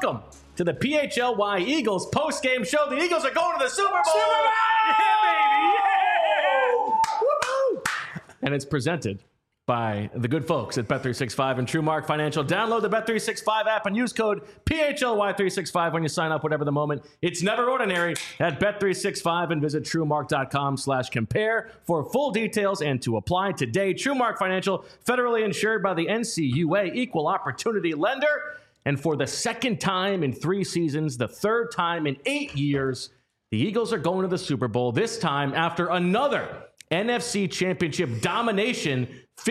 welcome to the PHLY Eagles post-game show. The Eagles are going to the Super Bowl! Yeah, baby! Yeah! Woo-hoo! And it's presented by the good folks at Bet365 and TrueMark Financial. Download the Bet365 app and use code PHLY365 when you sign up, whatever the moment. It's never ordinary at Bet365 and visit TrueMark.com/compare for full details and to apply today. TrueMark Financial, federally insured by the NCUA, equal opportunity lender. And for the second time in 3 seasons, the third time in 8 years, the Eagles are going to the Super Bowl, this time after another NFC Championship domination,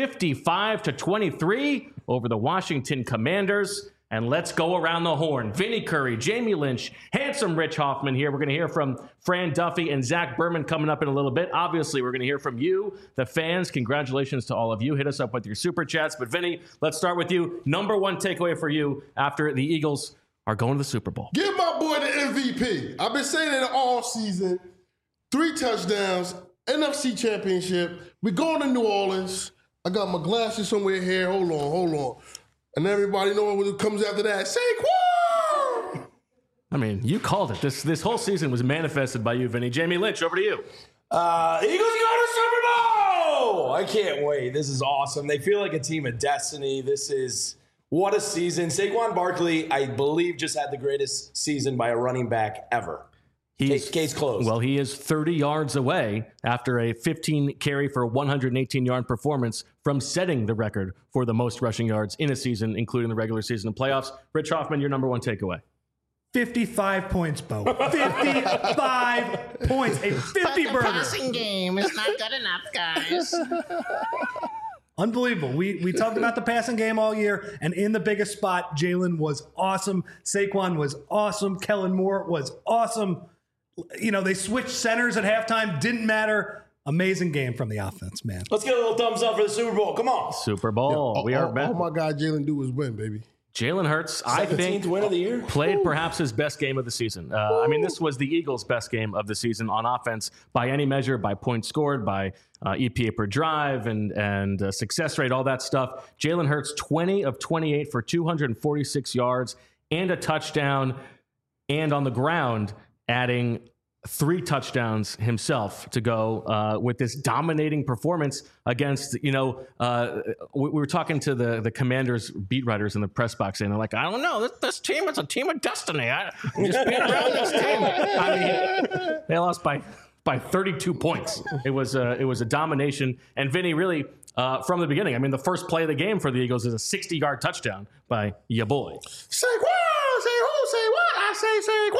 55-23 over the Washington Commanders. And let's go around the horn. Vinny Curry, Jamie Lynch, handsome Rich Hoffman here. We're going to hear from Fran Duffy and Zach Berman coming up in a little bit. Obviously, we're going to hear from you, the fans. Congratulations to all of you. Hit us up with your super chats. But Vinny, let's start with you. Number one takeaway for you after the Eagles are going to the Super Bowl. Give my boy the MVP. I've been saying it all season. 3 touchdowns, NFC Championship. We're going to New Orleans. I got my glasses somewhere here. Hold on. And everybody know what comes after that. Saquon! I mean, you called it. This whole season was manifested by you, Vinny. Jamie Lynch, over to you. Eagles go to Super Bowl! I can't wait. This is awesome. They feel like a team of destiny. What a season. Saquon Barkley, I believe, just had the greatest season by a running back ever. Case closed. Well, he is 30 yards away after a 15 carry for 118-yard performance from setting the record for the most rushing yards in a season, including the regular season and playoffs. Rich Hoffman, your number one takeaway. 55 points, Bo. 55 points. A 50-burger. Passing game is not good enough, guys. Unbelievable. We talked about the passing game all year, and in the biggest spot, Jalen was awesome. Saquon was awesome. Kellen Moore was awesome. You know, they switched centers at halftime. Didn't matter. Amazing game from the offense, man. Let's get a little thumbs up for the Super Bowl. Come on. Super Bowl. We are back. All my guy Jalen do is win, baby. Jalen Hurts, I think, win of the year. played perhaps his best game of the season. I mean, this was the Eagles' best game of the season on offense by any measure, by points scored, by EPA per drive and success rate, all that stuff. Jalen Hurts, 20 of 28 for 246 yards and a touchdown, and on the ground, adding 3 touchdowns himself to go with this dominating performance against, we were talking to the Commanders beat writers in the press box, and they're like, I don't know, this team is a team of destiny. I'm just being around this team. I mean, they lost by 32 points. It was a domination. And Vinny, really, from the beginning, I mean, the first play of the game for the Eagles is a 60-yard touchdown by ya boy. Saquon! Say who? Say what? I say Saquon!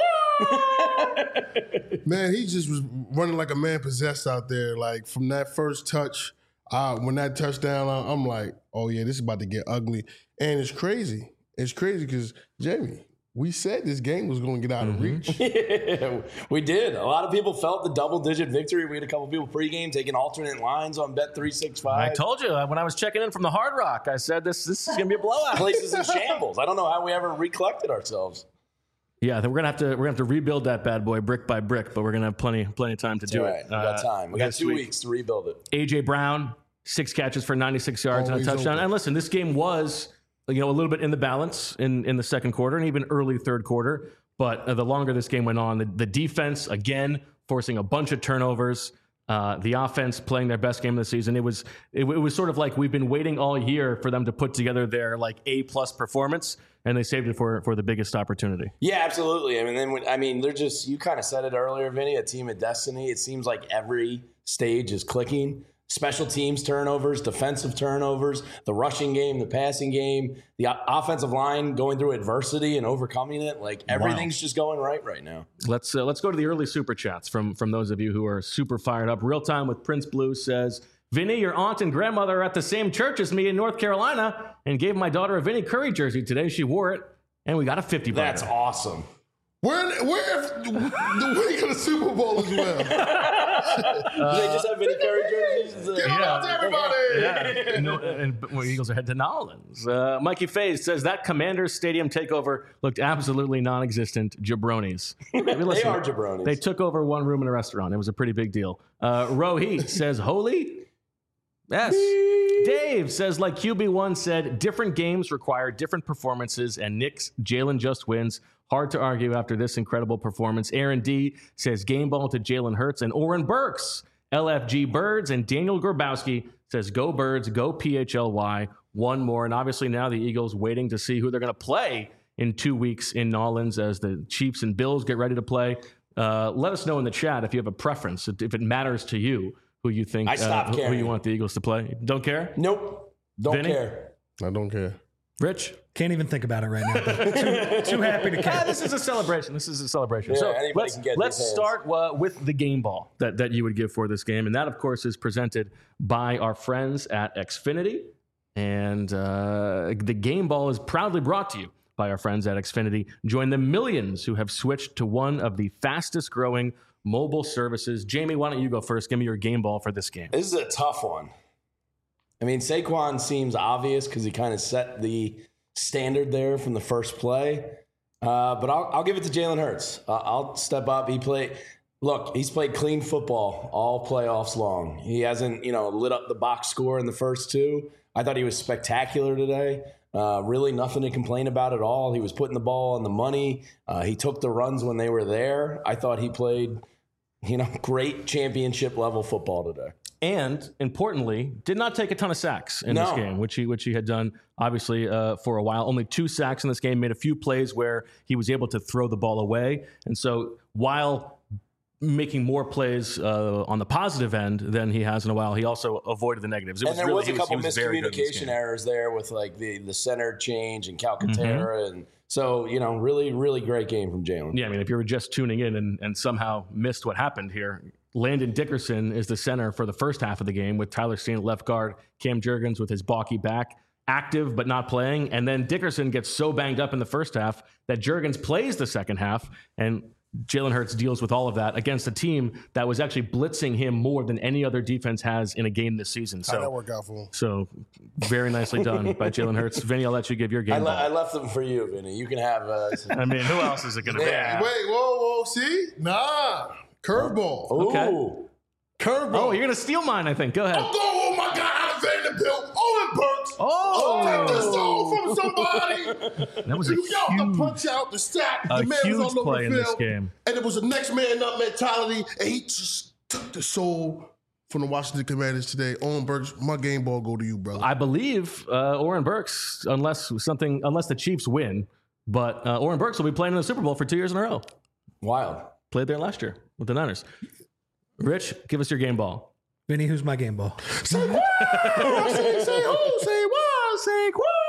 Man, he just was running like a man possessed out there. Like, from that first touch, when that touchdown, I'm like, oh, yeah, this is about to get ugly. And it's crazy. It's crazy because, Jamie, we said this game was going to get out of reach. Yeah, we did. A lot of people felt the double-digit victory. We had a couple people pregame taking alternate lines on Bet365. I told you when I was checking in from the Hard Rock, I said this is going to be a blowout. Places in shambles. I don't know how we ever recollected ourselves. Yeah, we're gonna have to rebuild that bad boy brick by brick, but we're gonna have plenty of time to do it. We got time. We got 2 weeks to rebuild it. AJ Brown, 6 catches for 96 yards and a touchdown. Open. And listen, this game was a little bit in the balance in the second quarter and even early third quarter. But the longer this game went on, the defense again forcing a bunch of turnovers. The offense playing their best game of the season. It was sort of like we've been waiting all year for them to put together their like A+ performance, and they saved it for the biggest opportunity. Yeah, absolutely. They're just, you kind of said it earlier, Vinny, a team of destiny. It seems like every stage is clicking. Special teams turnovers, defensive turnovers, the rushing game, the passing game, the offensive line going through adversity and overcoming it. Like everything's just going right now. Let's go to the early super chats from those of you who are super fired up. Real Time with Prince Blue says, Vinny, your aunt and grandmother are at the same church as me in North Carolina and gave my daughter a Vinny Curry jersey today. She wore it, and we got a 50 That's awesome. Where the week of the Super Bowl as well? Do they just have Vinny Curry jerseys? Get out to everybody! Yeah. And Eagles are headed to New Orleans. Mikey Faze says that Commanders Stadium takeover looked absolutely non-existent. Jabronis. They are jabronis. They took over one room in a restaurant. It was a pretty big deal. Rohit says, holy. Yes. Dave says, like QB1 said, different games require different performances, and Nick's Jalen just wins. Hard to argue after this incredible performance. Aaron D says, game ball to Jalen Hurts. And Oren Burks, LFG Birds, and Daniel Grabowski says, go Birds, go PHLY. One more. And obviously now the Eagles waiting to see who they're going to play in 2 weeks in Nolans as the Chiefs and Bills get ready to play. Let us know in the chat if you have a preference, if it matters to you who you think who you want the Eagles to play. Don't care? Nope. Don't Vinny? care. I don't care. Rich? Can't even think about it right now. But too happy to care. This is a celebration. Yeah, So anybody can get let's these hands. start with the game ball that you would give for this game. And that, of course, is presented by our friends at Xfinity. And the game ball is proudly brought to you by our friends at Xfinity. Join the millions who have switched to one of the fastest growing mobile services. Jamie, why don't you go first? Give me your game ball for this game. This is a tough one. I mean, Saquon seems obvious because he kind of set the standard there from the first play. But I'll give it to Jalen Hurts. I'll step up. He's played clean football all playoffs long. He hasn't, lit up the box score in the first two. I thought he was spectacular today. Really nothing to complain about at all. He was putting the ball on the money. He took the runs when they were there. I thought he played, great championship level football today. And importantly, did not take a ton of sacks in this game, which he had done obviously for a while. Only 2 sacks in this game. Made a few plays where he was able to throw the ball away. And so while making more plays on the positive end than he has in a while, he also avoided the negatives. And there was a couple miscommunication errors there with like the center change and Calcaterra, and so really really great game from Jalen. Yeah, I mean, if you were just tuning in and somehow missed what happened here, Landon Dickerson is the center for the first half of the game with Tyler Steen at left guard, Cam Jurgens with his balky back, active but not playing, and then Dickerson gets so banged up in the first half that Jurgens plays the second half, and Jalen Hurts deals with all of that against a team that was actually blitzing him more than any other defense has in a game this season. So How'd that work out for him? So very nicely done by Jalen Hurts. Vinny, I'll let you give your game. I left them for you, Vinny. You can have. I mean, who else is it going to be? Yeah. Wait, whoa, see? Nah. Curveball. Okay. Ooh. Curveball. Oh, you're going to steal mine, I think. Go ahead. I'm going, oh my God, out of Vanderbilt. Owen Burks. Oh. Take this song from somebody. That was a You got to huge, punch out the sack. a The man huge was all over play the in this field. game. And it was a next man up mentality, and he just took the soul from the Washington Commanders today. Owen Burks, my game ball go to you, brother. I believe Oren Burks, unless the Chiefs win, but Oren Burks will be playing in the Super Bowl for 2 years in a row. Wild. Played there last year with the Niners. Rich, give us your game ball. Vinny, who's my game ball? Say what? Say who? Say what? Say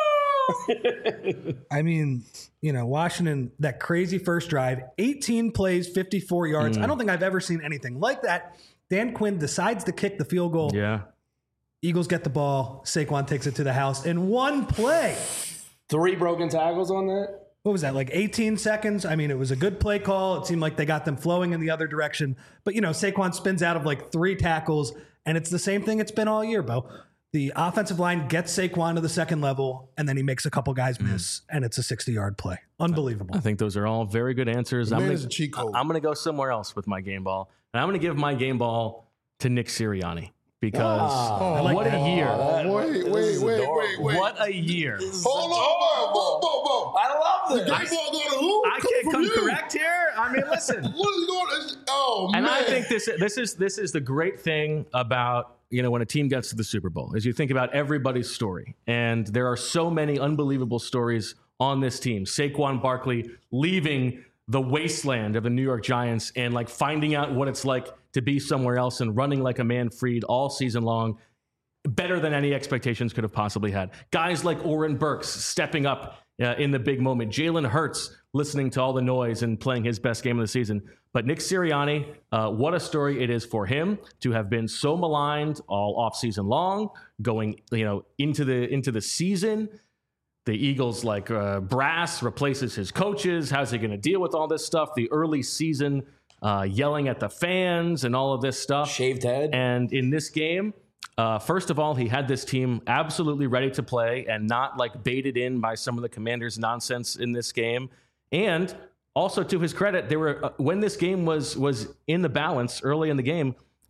I mean, Washington, that crazy first drive, 18 plays, 54 yards. I don't think I've ever seen anything like that. Dan Quinn decides to kick the field goal. Yeah. Eagles get the ball. Saquon takes it to the house in one play. 3 broken tackles on that. What was that, like 18 seconds? I mean, it was a good play call. It seemed like they got them flowing in the other direction. But, Saquon spins out of like 3 tackles, and it's the same thing it's been all year, Bo. The offensive line gets Saquon to the second level, and then he makes a couple guys miss, and it's a 60-yard play. Unbelievable. I think those are all very good answers. Man, I'm it's a cheat code. going to go somewhere else with my game ball. And I'm going to give my game ball to Nick Sirianni because what a year. Wait. What a year. Hold on, whoa. I love this. Game ball going to who? I can't from come you. correct here. I mean, listen. What is going on? Oh, man. And I think this is the great thing about, when a team gets to the Super Bowl, is you think about everybody's story. And there are so many unbelievable stories on this team. Saquon Barkley leaving the wasteland of the New York Giants and like finding out what it's like to be somewhere else and running like a man freed all season long, better than any expectations could have possibly had. Guys like Oren Burks stepping up in the big moment. Jalen Hurts listening to all the noise and playing his best game of the season. But Nick Sirianni, what a story it is for him to have been so maligned all offseason long, going into the season. The Eagles brass replaces his coaches. How's he going to deal with all this stuff? The early season yelling at the fans and all of this stuff. Shaved head. And in this game, first of all, he had this team absolutely ready to play and not baited in by some of the Commanders' nonsense in this game. And also, to his credit, there were when this game was in the balance early in the game,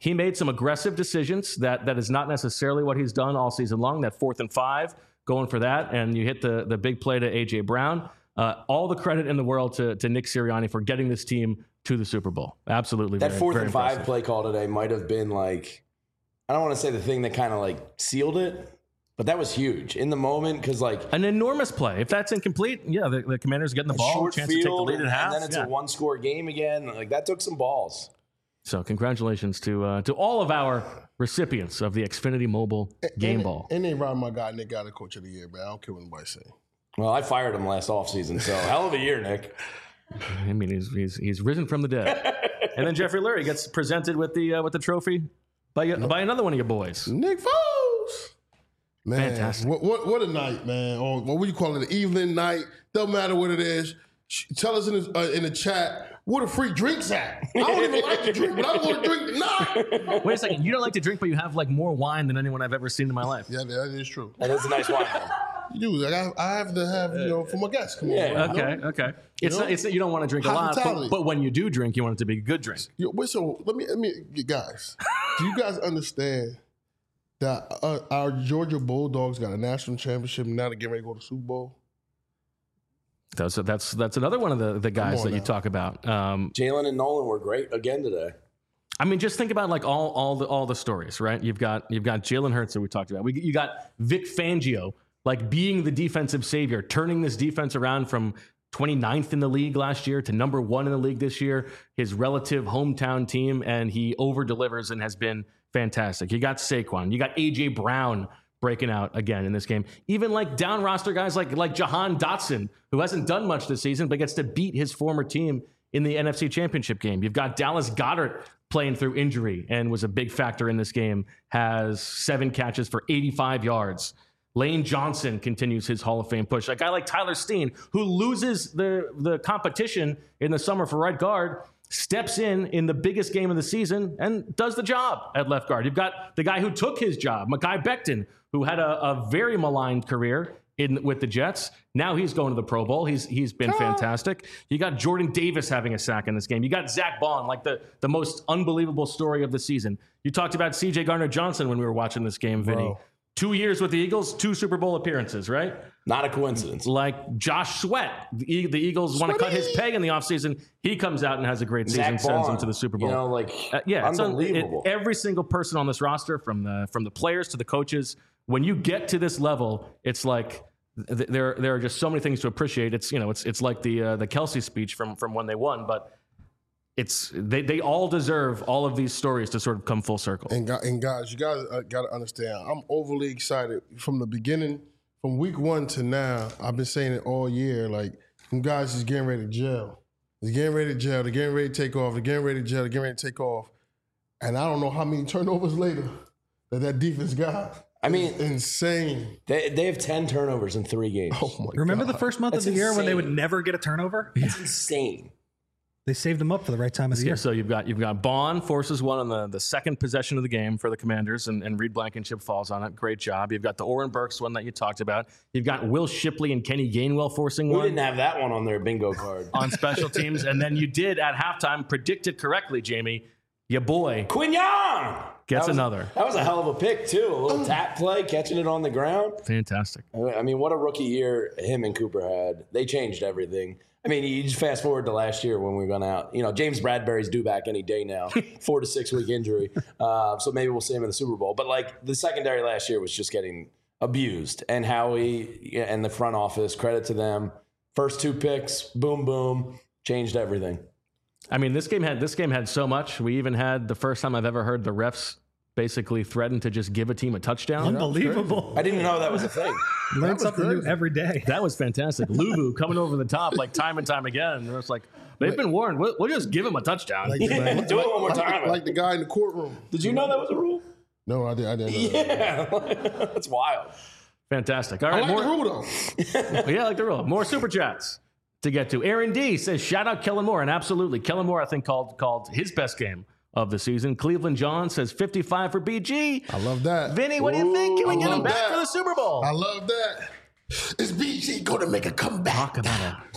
he made some aggressive decisions that is not necessarily what he's done all season long. That 4th and 5, going for that, and you hit the big play to A.J. Brown. All the credit in the world to Nick Sirianni for getting this team to the Super Bowl. Absolutely. That very, 4th very and 5 impressive. play call today might have been like, I don't want to say the thing that kind of like sealed it, but that was huge in the moment because like An enormous play. If that's incomplete, yeah, the Commanders getting the ball, short chance to take the field, lead at half. and then it's a 1-score game again. Like that took some balls. So congratulations to all of our recipients of the Xfinity Mobile Game Ball. And they robbed my guy, Nick, got the coach of the year, man. I don't care what anybody say. Well, I fired him last offseason, so hell of a year, Nick. I mean, he's risen from the dead. And then Jeffrey Lurie gets presented with the trophy by another one of your boys. Nick Foles. Man, Fantastic. What a night, man. Or what would you call it? An evening night. Don't matter what it is. Tell us in the chat where the free drinks at. I don't even like to drink, but I want to drink tonight. Wait a second. You don't like to drink, but you have like more wine than anyone I've ever seen in my life. Yeah, that is true. That is a nice wine. You do. Like, I have to have, for my guests. Come on. Bro. Okay. It's not, you don't want to drink a lot, but when you do drink, you want it to be a good drink. Yo, wait, so let me, guys. Do you guys understand that our Georgia Bulldogs got a national championship and now they're getting ready to go to the Super Bowl? That's another one of the guys that you talk about. Jalen and Nolan were great again today. I mean, just think about like all the stories, right? You've got Jalen Hurts that we talked about. You got Vic Fangio like being the defensive savior, turning this defense around from 29th in the league last year to number 1 in the league this year. His relative hometown team, and he over delivers and has been fantastic. You got Saquon, you got A.J. Brown breaking out again in this game. Even like down roster guys like Jahan Dotson, who hasn't done much this season, but gets to beat his former team in the NFC Championship game. You've got Dallas Goedert playing through injury and was a big factor in this game, has 7 catches for 85 yards. Lane Johnson continues his Hall of Fame push. A guy like Tyler Steen, who loses the competition in the summer for right guard, steps in the biggest game of the season and does the job at left guard. You've got the guy who took his job, Mekhi Becton, who had a very maligned career with the Jets. Now he's going to the Pro Bowl. He's been fantastic. You got Jordan Davis having a sack in this game. You got Zach Bond, like the most unbelievable story of the season. You talked about C.J. Gardner-Johnson when we were watching this game, Vinny. Bro. 2 years with the Eagles, 2 Super Bowl appearances, right? Not a coincidence. Like Josh Sweat, the Eagles want to cut his pay in the offseason. He comes out and has a great season, sends them to the Super Bowl. It's unbelievable. Every single person on this roster, from the players to the coaches, when you get to this level, it's like there are just so many things to appreciate. It's like the Kelsey speech from when they won, but they all deserve all of these stories to sort of come full circle. And guys, you guys got to understand, I'm overly excited from the beginning, from week 1 to now. I've been saying it all year. Like, them guys is getting ready to gel. They're getting ready to gel. They're getting ready to take off. They're getting ready to gel. They're getting ready to take off. And I don't know how many turnovers later that defense got. I mean, it's insane. They have 10 turnovers in 3 games. Oh my Remember God. the first month of the year when they would never get a turnover? It's insane. They saved them up for the right time of the year. So you've got Bond forces one on the second possession of the game for the Commanders, and Reed Blankenship falls on it. Great job. You've got the Oren Burks one that you talked about. You've got Will Shipley and Kenny Gainwell forcing We one. didn't have that one on their bingo card. On special teams, and then you did at halftime predict it correctly, Jamie. Your boy Quignon gets another. That was a hell of a pick, too. A little tap play, catching it on the ground. Fantastic. I mean, what a rookie year him and Cooper had. They changed everything. I mean, you just fast forward to last year when we went out. James Bradbury's due back any day now, 4 to 6 week injury. So maybe we'll see him in the Super Bowl. But like the secondary last year was just getting abused. And Howie and the front office, credit to them. First 2 picks, boom, boom, changed everything. I mean, this game had so much. We even had the first time I've ever heard the refs basically threaten to just give a team a touchdown. Unbelievable. I didn't know that was a thing. Learn something new every day. That was fantastic. Luvu coming over the top like time and time again. And it's like, they've been warned. We'll just give him a touchdown. Like, Do it one more time. Like the guy in the courtroom. Did you know that was a rule? No, I didn't know that. Yeah. That's wild. Fantastic. All I right, like the rule, though. Yeah, I like the rule. More super chats to get to. Aaron D says, shout out Kellen Moore. And absolutely, Kellen Moore, I think, called his best game of the season. Cleveland John says 55 for BG. I love that. Vinny, what do you think? Can we get him back that. for the Super Bowl? I love that. Is BG going to make a comeback? Talk about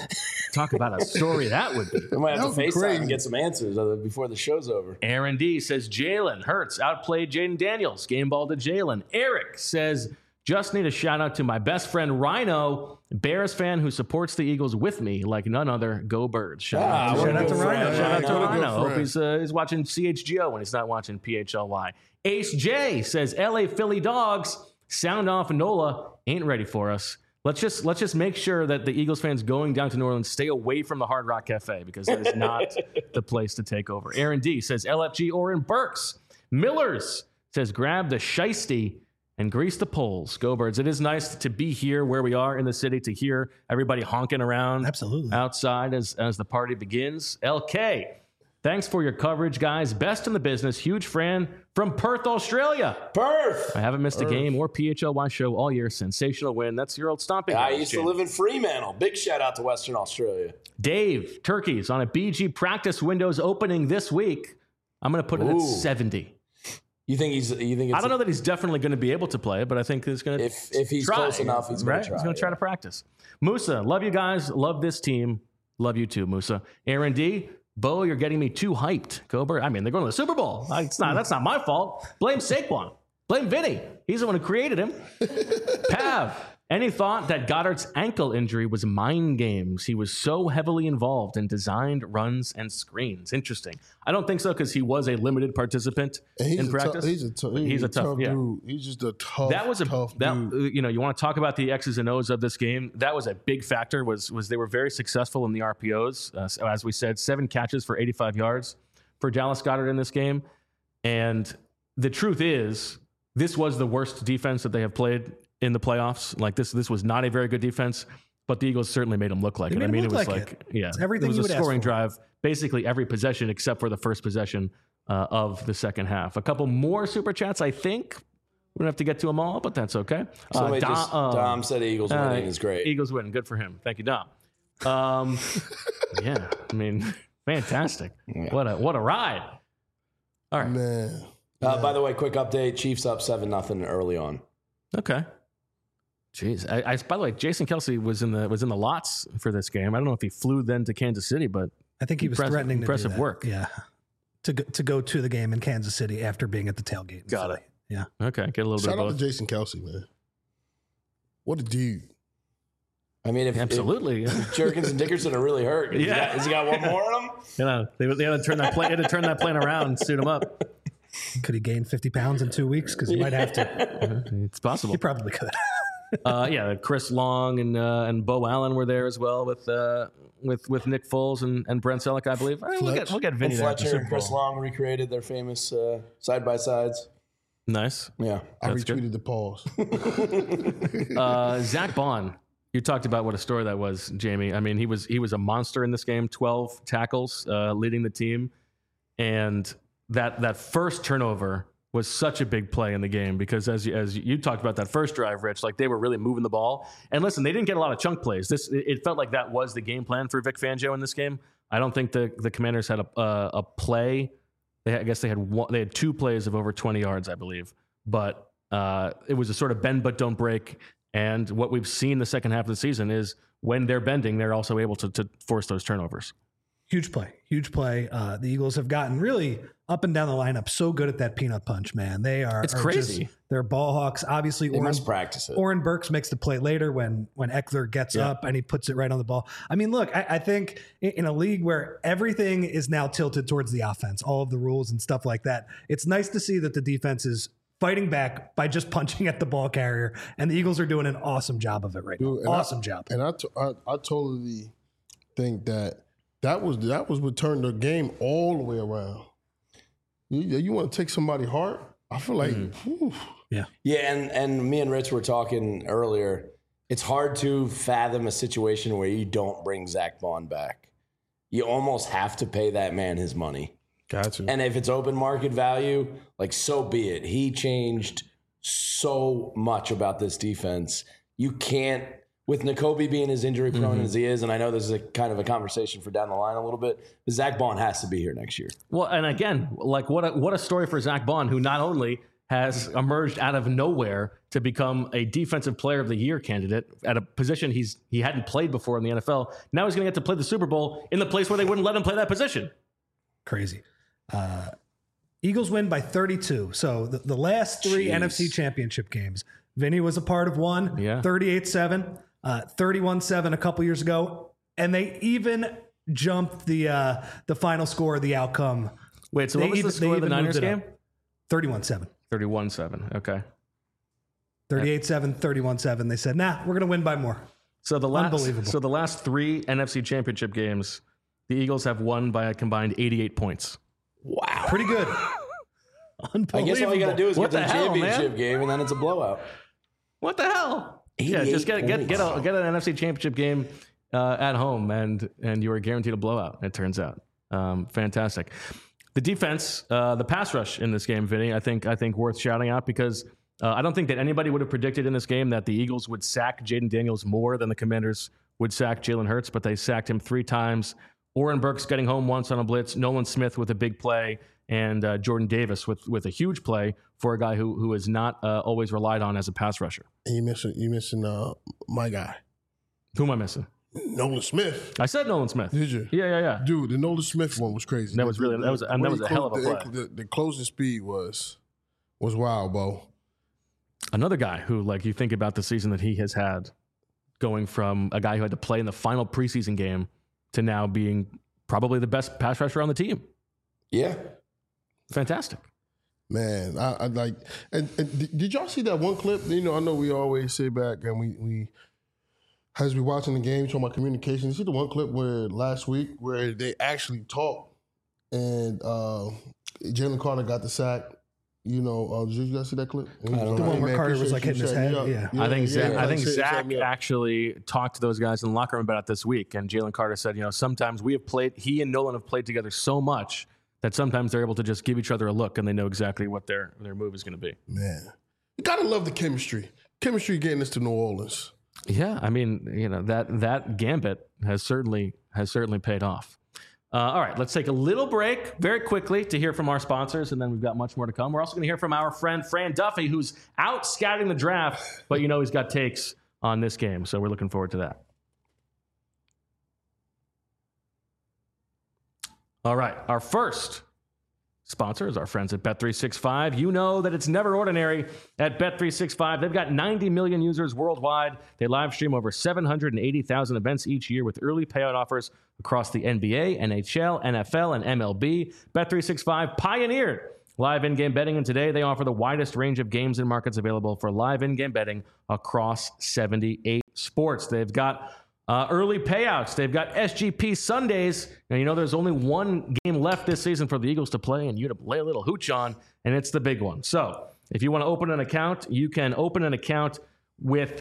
Talk about a story that would be. We might have That to would be FaceTime crazy. and get some answers before the show's over. Aaron D says Jalen Hurts outplayed Jaden Daniels. Game ball to Jalen. Eric says, just need a shout out to my best friend Rhino, Bears fan who supports the Eagles with me like none other. Go Birds. Shout out what a out to good Rhino. friend, Shout out to Rhino. Rhino. Hope Friend. he's watching CHGO when he's not watching PHLY. Ace J says LA Philly Dogs sound off NOLA ain't ready for us. Let's just make sure that the Eagles fans going down to New Orleans stay away from the Hard Rock Cafe because that is not the place to take over. Aaron D says LFG Oren Burks. Millers says grab the shiesty and grease the poles. Go Birds. It is nice to be here where we are in the city to hear everybody honking around Absolutely. outside as the party begins. LK, thanks for your coverage, guys. Best in the business. Huge fan from Perth, Australia. Perth! I haven't missed a game or PHLY show all year. Sensational win. That's your old stomping I grounds, used to Jim. live in Fremantle. Big shout out to Western Australia. Dave, Turkeys on a BG practice windows opening this week. I'm going to put it at Ooh. 70. You think it's I don't know that he's definitely going to be able to play, but I think he's going to if he's close enough, he's going right? to try. He's going to try to practice. Musa, love you guys. Love this team. Love you too, Musa. Aaron D, Bo, you're getting me too hyped. Cobra, I mean, they're going to the Super Bowl. That's not my fault. Blame Saquon. Blame Vinny. He's the one who created him. Pav, any thought that Goddard's ankle injury was mind games? He was so heavily involved in designed runs and screens. Interesting. I don't think so because he was a limited participant And in practice. He's a tough yeah. dude. He's just a tough. That was tough dude. you want to talk about the X's and O's of this game. That was a big factor. Was they were very successful in the RPOs. So as we said, 7 catches for 85 yards for Dallas Goedert in this game. And the truth is, this was the worst defense that they have played in the playoffs. Like this was not a very good defense, but the Eagles certainly made them look like They it. made I them mean, it look was like like It's everything it was you a would ask scoring for. drive, basically every possession except for the first possession of the second half. A couple more super chats, I think. We don't have to get to them all, but that's okay. Dom said Eagles winning is great. Eagles winning. Good for him. Thank you, Dom. Yeah, I mean, fantastic. What a ride. All right. Man. By the way, quick update: Chiefs up 7-0 early on. Okay. Jeez. By the way, Jason Kelsey was in the lots for this game. I don't know if he flew then to Kansas City, but I think he was Impressive- threatening to impressive do that. work. Yeah. To go to the game in Kansas City after being at the tailgate. in Got Philly. Yeah. okay, get a little Shout bit out of to both. Jason Kelsey, man. What a dude. I mean, if Absolutely. Jerkins and Dickerson are really hurt, has he got one more in him? You know, they had to turn that plane. Had to turn that plane around and suit him up. Could he gain 50 pounds in 2 weeks? Because he might have to. It's possible. He probably could. Yeah, Chris Long and Bo Allen were there as well with Nick Foles and Brent Selleck, I believe. I mean, we'll get Vinny And there at the Fletcher Super and Chris Bowl. Long recreated their famous side by sides. Nice. Yeah, I That's retweeted the pause. Zach Bond. You talked about what a story that was, Jamie. I mean, he was a monster in this game. 12 tackles, leading the team, and that first turnover was such a big play in the game because as you talked about that first drive, Rich, like they were really moving the ball. And listen, they didn't get a lot of chunk plays. It felt like that was the game plan for Vic Fangio in this game. I don't think the Commanders had a play. I guess they had 2 plays of over 20 yards, I believe. But it was a sort of bend but don't break. And what we've seen the second half of the season is when they're bending, they're also able to force those turnovers. Huge play. The Eagles have gotten really up and down the lineup so good at that peanut punch, man. It's crazy. They're ball hawks. Obviously, they must practice it. Oren Burks makes the play later when Eckler gets up and he puts it right on the ball. I mean, look, I think in a league where everything is now tilted towards the offense, all of the rules and stuff like that, it's nice to see that the defense is fighting back by just punching at the ball carrier, and the Eagles are doing an awesome job of it right now. Awesome job. And I totally think that was what turned the game all the way around. You want to take somebody's heart? I feel like, whew. Yeah, and me and Rich were talking earlier. It's hard to fathom a situation where you don't bring Zach Bond back. You almost have to pay that man his money. Gotcha. And if it's open market value, like so be it. He changed so much about this defense. You can't, with Nakobe being as injury prone as he is, and I know this is a kind of a conversation for down the line a little bit, but Zach Bond has to be here next year. Well, and again, like what a story for Zach Bond, who not only has emerged out of nowhere to become a Defensive Player of the Year candidate at a position he hadn't played before in the NFL. Now he's going to get to play the Super Bowl in the place where they wouldn't let him play that position. Crazy. Eagles win by 32. So the last three NFC Championship games, Vinny was a part of one, 38-7, 31-7 a couple years ago, and they even jumped the final score of the outcome. Wait, so what was the score of the Niners game? 31-7. 31-7. Okay. 38-7, 31-7. They said, nah, we're going to win by more. So the last, Unbelievable. So the last three NFC Championship games, the Eagles have won by a combined 88 points. Wow. Pretty good. Unbelievable. I guess all you got to do is What get to the the hell, championship man? game, and then it's a blowout. What the hell? Yeah, just get an NFC Championship game at home, and you are guaranteed a blowout, it turns out. Fantastic. The defense, the pass rush in this game, Vinny, I think worth shouting out because I don't think that anybody would have predicted in this game that the Eagles would sack Jaden Daniels more than the Commanders would sack Jalen Hurts, but they sacked him 3 times. Oren Burks getting home once on a blitz, Nolan Smith with a big play, and Jordan Davis with a huge play for a guy who is not always relied on as a pass rusher. And you missing my guy. Who am I missing? Nolan Smith. I said Nolan Smith. Did you? Yeah. Dude, the Nolan Smith one was crazy. That was a hell of a play. The closing speed was wild, Bo. Another guy who, like, you think about the season that he has had, going from a guy who had to play in the final preseason game to now being probably the best pass rusher on the team. Yeah. Fantastic. Man, I like. And did y'all see that one clip? You know, I know we always sit back and we as we watching the game, talking about communication. You see the one clip where last week where they actually talked and Jalen Carter got the sack. You know, did you guys see that clip? The one where Carter was like hitting his head. Yeah. I think Zach actually talked to those guys in the locker room about it this week, and Jalen Carter said, sometimes he and Nolan have played together so much that sometimes they're able to just give each other a look and they know exactly what their move is going to be. Man, you gotta love the chemistry. Chemistry getting us to New Orleans. Yeah, I mean, that gambit has certainly paid off. All right, let's take a little break very quickly to hear from our sponsors, and then we've got much more to come. We're also going to hear from our friend Fran Duffy, who's out scouting the draft, but he's got takes on this game, so we're looking forward to that. All right, our first sponsor is our friends at Bet365. You know that it's never ordinary at Bet365. They've got 90 million users worldwide. They live stream over 780,000 events each year with early payout offers across the NBA, NHL, NFL, and MLB. Bet365 pioneered live in-game betting, and today they offer the widest range of games and markets available for live in-game betting across 78 sports. They've got early payouts. They've got SGP Sundays. Now, there's only one game left this season for the Eagles to play and you to lay a little hooch on, and it's the big one. So if you want to open an account, you can open an account with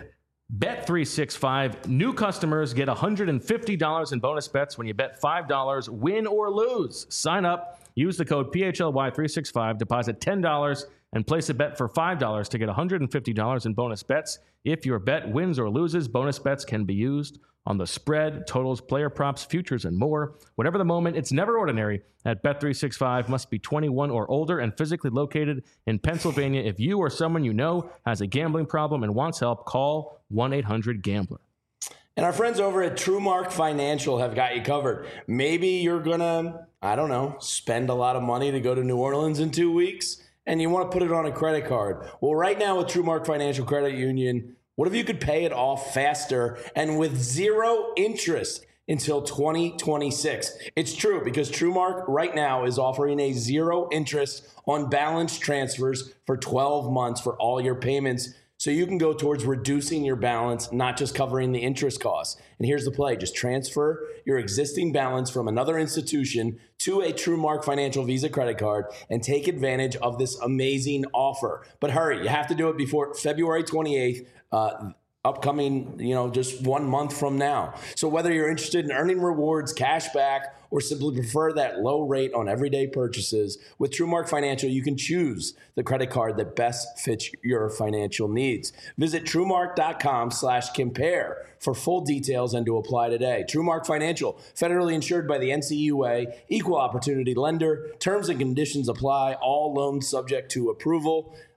Bet365. New customers get $150 in bonus bets when you bet $5, win or lose. Sign up, use the code PHLY365, deposit $10, and place a bet for $5 to get $150 in bonus bets. If your bet wins or loses, bonus bets can be used on the spread, totals, player props, futures, and more. Whatever the moment, it's never ordinary at Bet365. Must be 21 or older and physically located in Pennsylvania. If you or someone you know has a gambling problem and wants help, call 1-800-GAMBLER. And our friends over at TrueMark Financial have got you covered. Maybe you're going to, spend a lot of money to go to New Orleans in 2 weeks, and you want to put it on a credit card. Well, right now with TrueMark Financial Credit Union, what if you could pay it off faster and with zero interest until 2026? It's true because TrueMark right now is offering a zero interest on balance transfers for 12 months for all your payments. So you can go towards reducing your balance, not just covering the interest costs. And here's the play. Just transfer your existing balance from another institution to a TrueMark Financial Visa credit card and take advantage of this amazing offer. But hurry, you have to do it before February 28th, upcoming, just 1 month from now. So whether you're interested in earning rewards, cash back, or simply prefer that low rate on everyday purchases, with TrueMark Financial, you can choose the credit card that best fits your financial needs. Visit TrueMark.com/compare for full details and to apply today. TrueMark Financial, federally insured by the NCUA, equal opportunity lender. Terms and conditions apply. All loans subject to approval.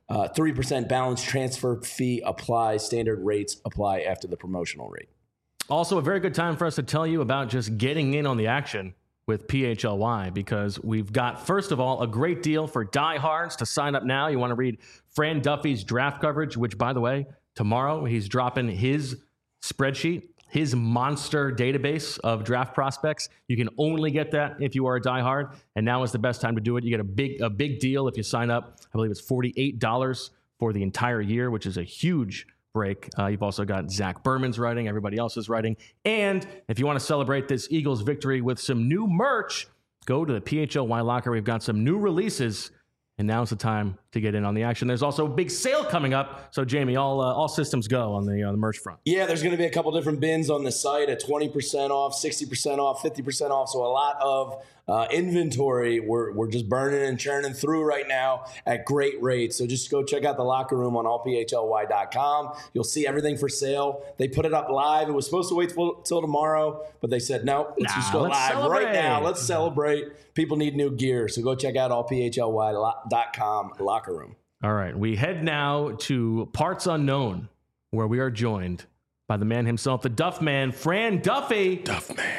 3% balance transfer fee applies. Standard rates apply after the promotional rate. Also, a very good time for us to tell you about just getting in on the action with PHLY, because we've got, first of all, a great deal for diehards to sign up now. You want to read Fran Duffy's draft coverage, which, by the way, tomorrow he's dropping his spreadsheet, his monster database of draft prospects. You can only get that if you are a diehard, and now is the best time to do it. You get a big deal if you sign up. I believe it's $48 for the entire year, which is a huge break. You've also got Zach Berman's writing, everybody else is writing. And if you want to celebrate this Eagles victory with some new merch, go to the PHLY locker. We've got some new releases, and now's the time to get in on the action. There's also a big sale coming up. So, Jamie, all systems go on the merch front. Yeah, there's going to be a couple different bins on the site at 20% off, 60% off, 50% off. So a lot of inventory we're just burning and churning through right now at great rates. So just go check out the locker room on allphly.com. You'll see everything for sale. They put it up live. It was supposed to wait till tomorrow, but they said, no, let's just go live right now. Let's celebrate. People need new gear. So go check out allphly.com locker room. All right. We head now to Parts Unknown, where we are joined by the man himself, the Duff Man, Fran Duffy. Duff Man.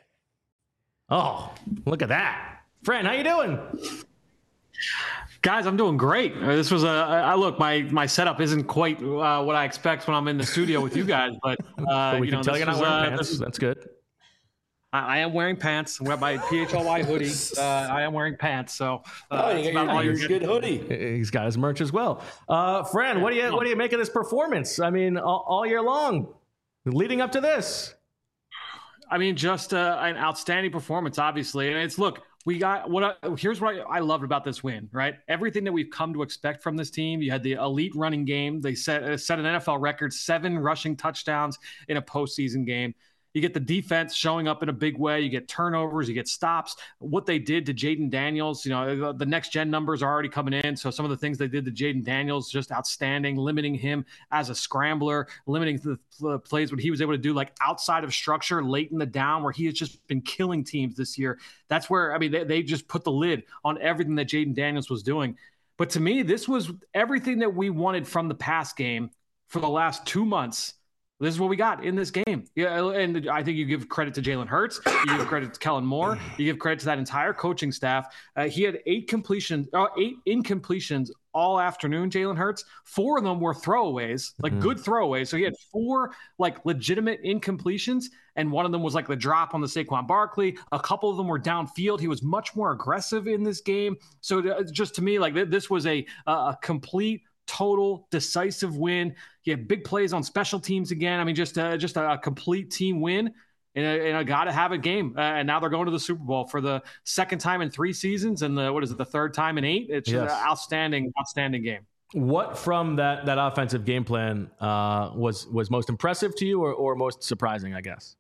Oh, look at that. Fran, how you doing? Guys, I'm doing great. This was look, my setup isn't quite what I expect when I'm in the studio with you guys, but we can tell you're not wearing pants. That's good. I am wearing pants. I wear my PHLY hoodie. I am wearing pants. So you got your good hoodie. He's got his merch as well. Fran, what do you make of this performance? I mean, all year long, leading up to this. I mean, just an outstanding performance, obviously. And it's, look, here's what I loved about this win, right? Everything that we've come to expect from this team. You had the elite running game. They set an NFL record, 7 rushing touchdowns in a postseason game. You get the defense showing up in a big way. You get turnovers. You get stops. What they did to Jaden Daniels, the next gen numbers are already coming in. So some of the things they did to Jaden Daniels, just outstanding, limiting him as a scrambler, limiting the plays what he was able to do, like outside of structure, late in the down, where he has just been killing teams this year. That's where, I mean, they just put the lid on everything that Jaden Daniels was doing. But to me, this was everything that we wanted from the pass game for the last 2 months. This is what we got in this game. Yeah, and I think you give credit to Jalen Hurts. You give credit to Kellen Moore. You give credit to that entire coaching staff. He had 8 incompletions all afternoon, Jalen Hurts. 4 of them were throwaways, good throwaways. So he had 4 legitimate incompletions, and one of them was the drop on the Saquon Barkley. A couple of them were downfield. He was much more aggressive in this game. So just to me, this was a complete, total, decisive win. He had big plays on special teams again. I mean, just a complete team win in a gotta-have it game. And now they're going to the Super Bowl for the second time in 3 seasons, and the third time in 8. It's just an outstanding game. What from that offensive game plan was most impressive to you, or most surprising, I guess?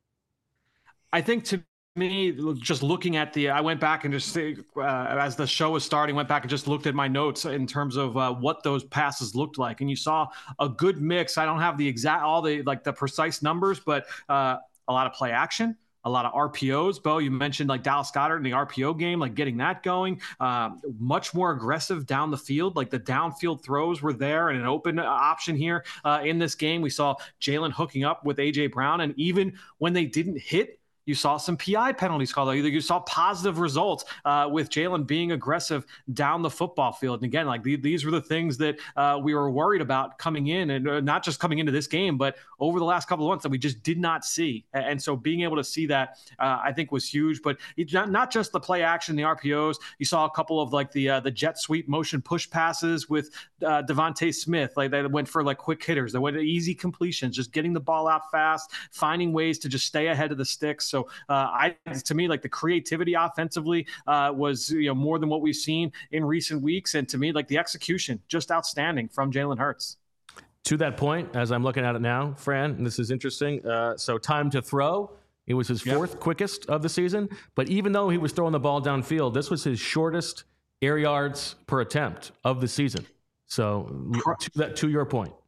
I think to me, just looking at I went back and just as the show was starting, went back and just looked at my notes in terms of what those passes looked like, and you saw a good mix. I don't have the precise numbers, but a lot of play action, a lot of RPOs. Bo, you mentioned Dallas Goedert in the RPO game, getting that going. Much more aggressive down the field. The downfield throws were there, and an open option here in this game. We saw Jalen hooking up with A.J. Brown, and even when they didn't hit, you saw some PI penalties called. You saw positive results with Jalen being aggressive down the football field. And again, these were the things that we were worried about coming in, and not just coming into this game, but over the last couple of months that we just did not see. And so being able to see that, I think, was huge. But not just the play action, the RPOs. You saw a couple of the jet sweep motion push passes with Devontae Smith. They went for quick hitters. They went to easy completions, just getting the ball out fast, finding ways to just stay ahead of the sticks. So to me, the creativity offensively was more than what we've seen in recent weeks, and to me, the execution just outstanding from Jalen Hurts. To that point, as I'm looking at it now, Fran, and this is interesting. So time to throw, it was his 4th quickest of the season, but even though he was throwing the ball downfield, this was his shortest air yards per attempt of the season. So to your point.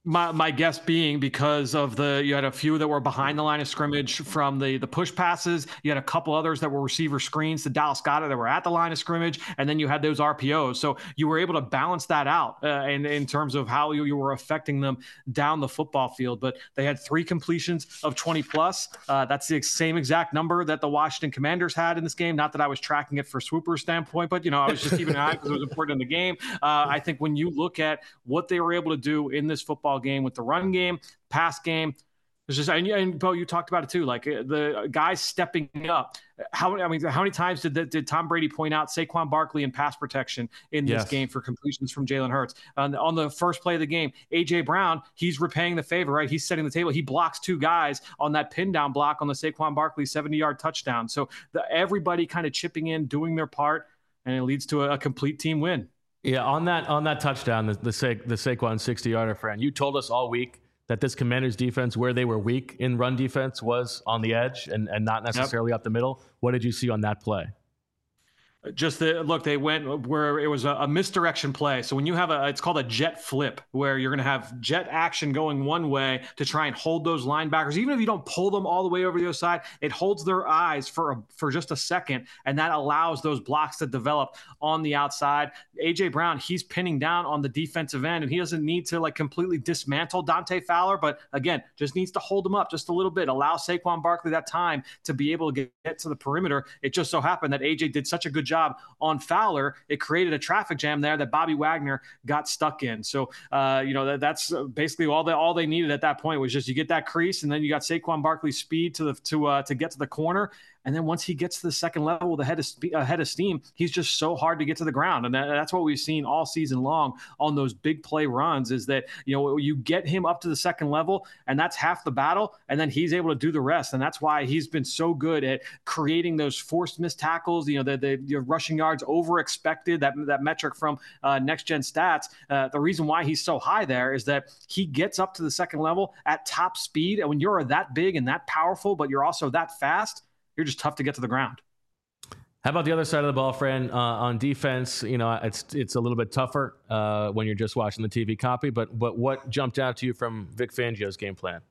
My guess being because of you had a few that were behind the line of scrimmage from the push passes. You had a couple others that were receiver screens to Dallas Goedert that were at the line of scrimmage, and then you had those RPOs. So you were able to balance that out in terms of how you were affecting them down the football field. But they had 3 completions of 20 plus. That's the same exact number that the Washington Commanders had in this game. Not that I was tracking it for Swooper's standpoint, but I was just keeping an eye because it was important in the game. I think when you look at what they were able to do in this football game with the run game, pass game, there's just, and Bo, you talked about it too, like the guys stepping up. How many times did Tom Brady point out Saquon Barkley in pass protection in this game for completions from Jalen Hurts? On the first play of the game, A.J. Brown, he's repaying the favor, right? He's setting the table. He blocks 2 guys on that pin down block on the Saquon Barkley 70-yard touchdown. So everybody kind of chipping in, doing their part, and it leads to a complete team win. Yeah, on that touchdown, the Saquon 60-yarder, Fran, you told us all week that this Commanders defense, where they were weak in run defense, was on the edge and not necessarily up the middle. What did you see on that play? Just they went where it was a misdirection play. So when you have it's called a jet flip, where you're going to have jet action going one way to try and hold those linebackers. Even if you don't pull them all the way over the other side, it holds their eyes for just a second, and that allows those blocks to develop on the outside. A.J. Brown, he's pinning down on the defensive end, and he doesn't need to completely dismantle Dante Fowler, but again, just needs to hold him up just a little bit, allow Saquon Barkley that time to be able to get to the perimeter. It just so happened that A.J. did such a good job on Fowler, it created a traffic jam there that Bobby Wagner got stuck in. So, that's basically all they needed at that point was just you get that crease, and then you got Saquon Barkley's speed to get to the corner. And then once he gets to the second level with a head of steam, he's just so hard to get to the ground. And that's what we've seen all season long on those big play runs is that, you get him up to the second level, and that's half the battle. And then he's able to do the rest. And that's why he's been so good at creating those forced missed tackles, the rushing yards over expected, that metric from Next Gen Stats. The reason why he's so high there is that he gets up to the second level at top speed. And when you're that big and that powerful, but you're also that fast, you're just tough to get to the ground. How about the other side of the ball, Fran? On defense, it's a little bit tougher when you're just watching the TV copy. But what jumped out to you from Vic Fangio's game plan?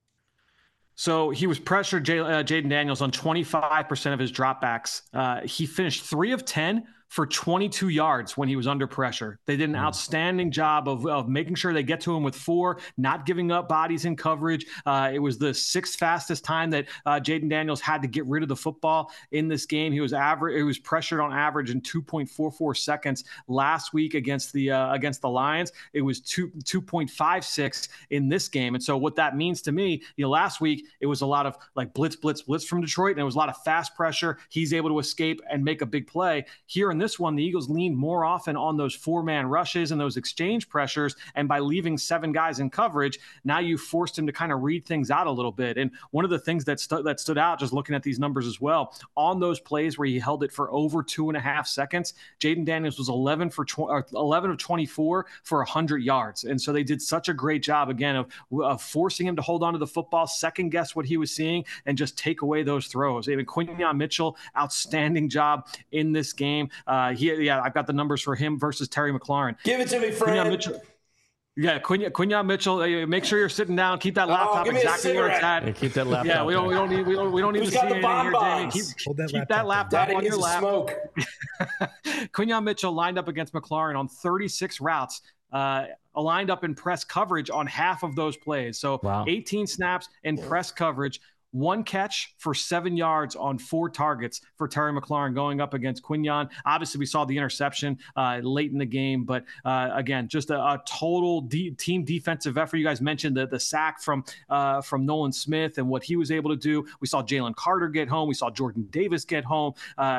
So he was pressured Jaden Daniels on 25% of his dropbacks. He finished 3 of 10 for 22 yards when he was under pressure. They did an outstanding job of making sure they get to him with 4, not giving up bodies in coverage. It was the 6th fastest time that Jaden Daniels had to get rid of the football in this game. He was pressured on average in 2.44 seconds last week against the Lions. It was 2.56 in this game. And so what that means to me, last week it was a lot of blitz from Detroit, and it was a lot of fast pressure. He's able to escape and make a big play. Here in this one, the Eagles leaned more often on those 4-man rushes and those exchange pressures. And by leaving 7 guys in coverage, now you forced him to kind of read things out a little bit. And one of the things that stood out, just looking at these numbers as well, on those plays where he held it for over 2.5 seconds, Jaden Daniels was 11 of 24 for 100 yards. And so they did such a great job, again, of forcing him to hold on to the football, second guess what he was seeing, and just take away those throws. Even Quinyon Mitchell, outstanding job in this game. I've got the numbers for him versus Terry McLaurin. Give it to me, Fran. Quinyon Mitchell. Make sure you're sitting down. Keep that laptop exactly where it's at. Yeah, keep that laptop. Yeah, we don't need to see anything here, Jamie. Keep that laptop on your lap. Quinyon Mitchell lined up against McLaurin on 36 routes. Lined up in press coverage on half of those plays. So 18 snaps in press coverage. 1 catch for 7 yards on 4 targets for Terry McLaurin going up against Quinyon. Obviously, we saw the interception late in the game, but again, just a total team defensive effort. You guys mentioned the sack from Nolan Smith and what he was able to do. We saw Jalen Carter get home. We saw Jordan Davis get home.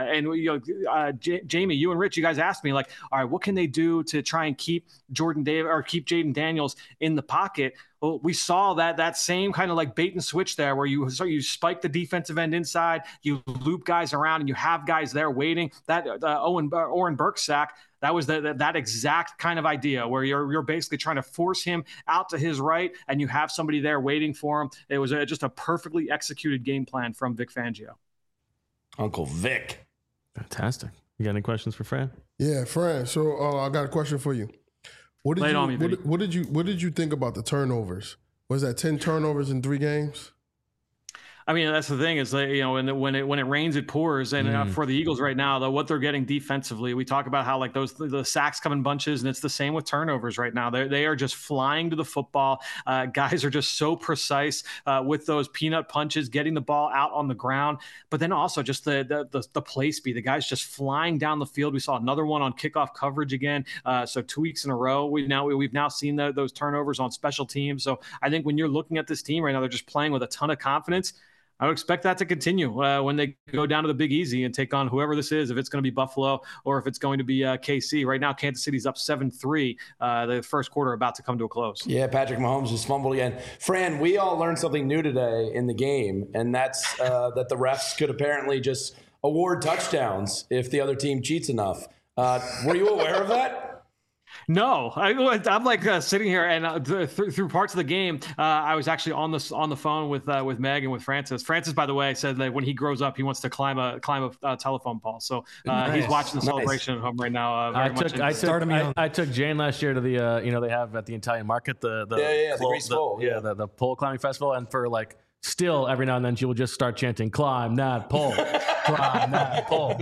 Jamie, you and Rich, you guys asked me all right, what can they do to try and keep Jordan Davis or keep Jaden Daniels in the pocket? Well, we saw that same kind of bait and switch there where you spike the defensive end inside, you loop guys around, and you have guys there waiting. That Oren Burke sack, that was that exact kind of idea where you're basically trying to force him out to his right, and you have somebody there waiting for him. It was just a perfectly executed game plan from Vic Fangio. Uncle Vic. Fantastic. You got any questions for Fran? Yeah, Fran. So I got a question for you. What did Lay it you on me, Vinny. what did you think about the turnovers? Was that 10 turnovers in 3 games? I mean, that's the thing is that, you know, when it rains, it pours. And for the Eagles right now, though, what they're getting defensively, we talk about how like the sacks come in bunches, and it's the same with turnovers right now. They are just flying to the football. Guys are just so precise with those peanut punches, getting the ball out on the ground. But then also just the play speed. The guys just flying down the field. We saw another one on kickoff coverage again. So 2 weeks in a row, we've now seen those turnovers on special teams. So I think when you're looking at this team right now, they're just playing with a ton of confidence. I would expect that to continue when they go down to the Big Easy and take on whoever this is, if it's going to be Buffalo or if it's going to be KC. Right now, Kansas City's up 7-3. The first quarter about to come to a close. Yeah, Patrick Mahomes just fumbled again. Fran, we all learned something new today in the game, and that's that the refs could apparently just award touchdowns if the other team cheats enough. Were you aware of that? No, I'm like sitting here, and through parts of the game, I was actually on the phone with Meg and with Francis. Francis, by the way, said that when he grows up, he wants to climb a telephone pole. So he's watching the celebration at home right now. I took Jane last year to the they have at the Italian market the Grease Pole, the pole climbing festival, and for like still every now and then she will just start chanting "Climb that pole." Climb that pole.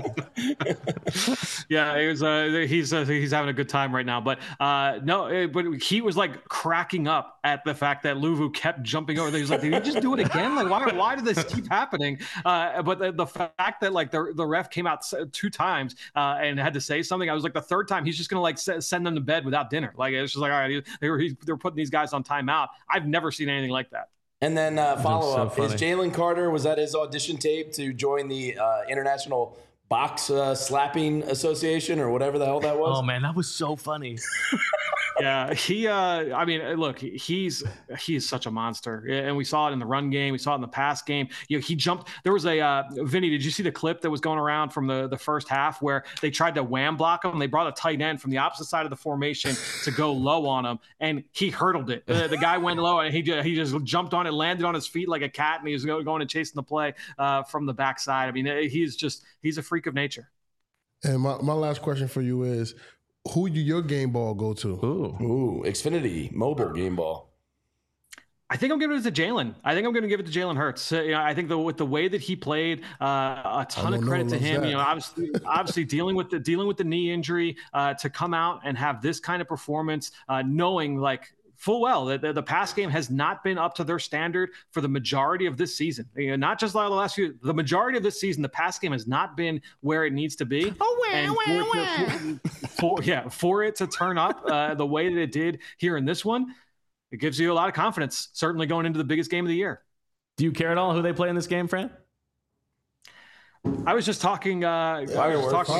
Yeah, he's having a good time right now. But but he was like cracking up at the fact that Luvu kept jumping over there. He's like, did he just do it again? Like, why did this keep happening? But the fact that like the ref came out 2 times and had to say something, I was like, the third time he's just gonna like send them to bed without dinner. Like it's just like, all right, they're putting these guys on timeout. I've never seen anything like that. And then follow-up, is Jalen Carter, was that his audition tape to join the International Box Slapping Association or whatever the hell that was? Oh, man, that was so funny. Yeah, I mean, look, he is such a monster, and we saw it in the run game, we saw it in the pass game. You know, he jumped. There was a Vinny. Did you see the clip that was going around from the first half where they tried to wham block him? They brought a tight end from the opposite side of the formation to go low on him, and he hurdled it. The guy went low, and he just jumped on it, landed on his feet like a cat, and he was going and chasing the play from the backside. I mean, he's a freak of nature. And my last question for you is, who do your game ball go to? Ooh, Xfinity mobile game ball. I think I'm giving it to Jalen. I think I'm going to give it to Jalen Hurts. I think with the way that he played, a ton of credit to him. That. You know, obviously dealing with the knee injury, to come out and have this kind of performance, knowing like full well that the pass game has not been up to their standard for the majority of this season. You know, not just like the last few. The majority of this season, the pass game has not been where it needs to be. For it to turn up the way that it did here in this one, it gives you a lot of confidence, certainly going into the biggest game of the year. Do you care at all who they play in this game, Fran? I was just talking. Fireworks.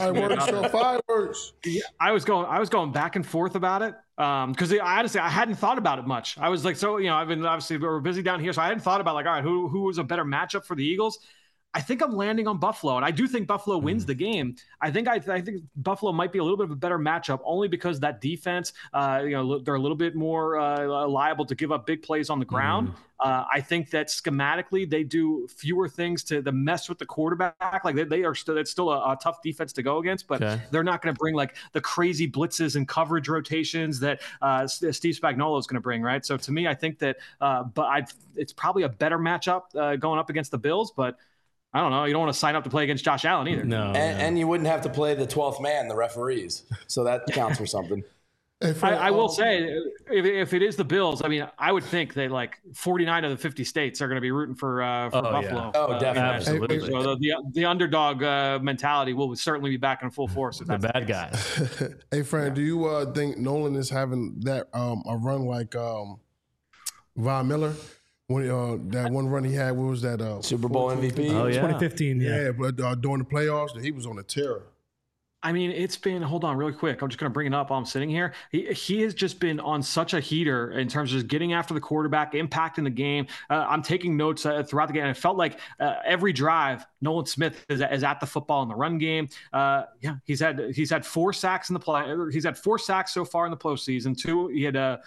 I was going back and forth about it because honestly, I hadn't thought about it much. I was like, I've been obviously we're busy down here, so I hadn't thought about like, all right, who was a better matchup for the Eagles? I think I'm landing on Buffalo, and I do think Buffalo wins the game. I think Buffalo might be a little bit of a better matchup, only because that defense, they're a little bit more liable to give up big plays on the ground. I think that schematically they do fewer things to mess with the quarterback. Like it's still a tough defense to go against, but they're not going to bring like the crazy blitzes and coverage rotations that Steve Spagnuolo is going to bring, right? So to me, I think that, it's probably a better matchup going up against the Bills, but I don't know. You don't want to sign up to play against Josh Allen either. No. And you wouldn't have to play the 12th man, the referees. So that counts for something. I will say, if it is the Bills, I mean, I would think that like 49 of the 50 states are going to be rooting for Buffalo. Yeah. Oh, definitely. Absolutely. So the underdog mentality will certainly be back in full force. The bad guys. Hey, Fran, do you think Nolan is having that a run like Von Miller? When that one run he had, what was that? Super Bowl MVP? Oh, yeah. 2015, Yeah, but during the playoffs, he was on a tear. I mean, it's been, hold on really quick. I'm just going to bring it up while I'm sitting here. He has just been on such a heater in terms of just getting after the quarterback, impacting the game. I'm taking notes throughout the game. And it felt like every drive, Nolan Smith is at the football in the run game. He's had 4 sacks in the play. He's had 4 sacks so far in the postseason. 2, he had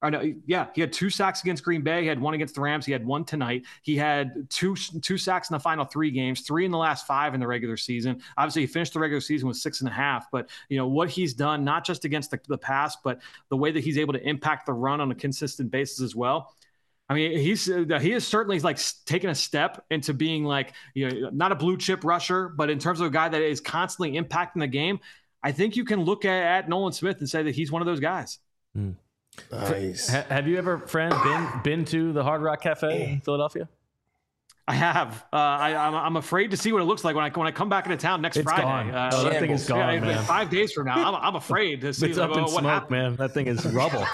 Or no, yeah, he had 2 sacks against Green Bay. He had 1 against the Rams. He had 1 tonight. He had two sacks in the final 3 games, 3 in the last 5 in the regular season. Obviously, he finished the regular season with 6.5. But what he's done, not just against the pass, but the way that he's able to impact the run on a consistent basis as well. I mean, he is certainly like taking a step into being like not a blue chip rusher, but in terms of a guy that is constantly impacting the game. I think you can look at Nolan Smith and say that he's one of those guys. Nice. Have you ever, friend, been to the Hard Rock Cafe in Philadelphia? I have. I'm afraid to see what it looks like when I come back into town next Friday. Gone. That thing is gone, man. 5 days from now, I'm afraid to see it's up in what smoke, happened. man. That thing is rubble.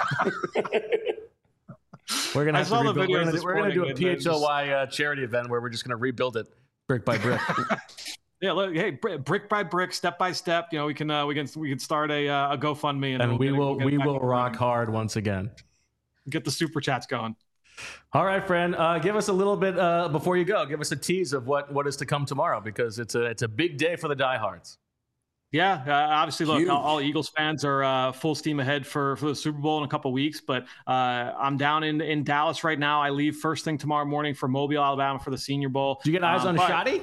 We're gonna have to rebuild. We're gonna do a PHLY charity event where we're just gonna rebuild it brick by brick. Yeah, look, hey, brick by brick, step by step. We can start a GoFundMe, and we will rock hard once again. Get the super chats going. All right, friend. Give us a little bit before you go. Give us a tease of what is to come tomorrow, because it's a big day for the diehards. Yeah, obviously, look, all Eagles fans are full steam ahead for the Super Bowl in a couple weeks. But I'm down in Dallas right now. I leave first thing tomorrow morning for Mobile, Alabama for the Senior Bowl. Do you get eyes on Shoddy?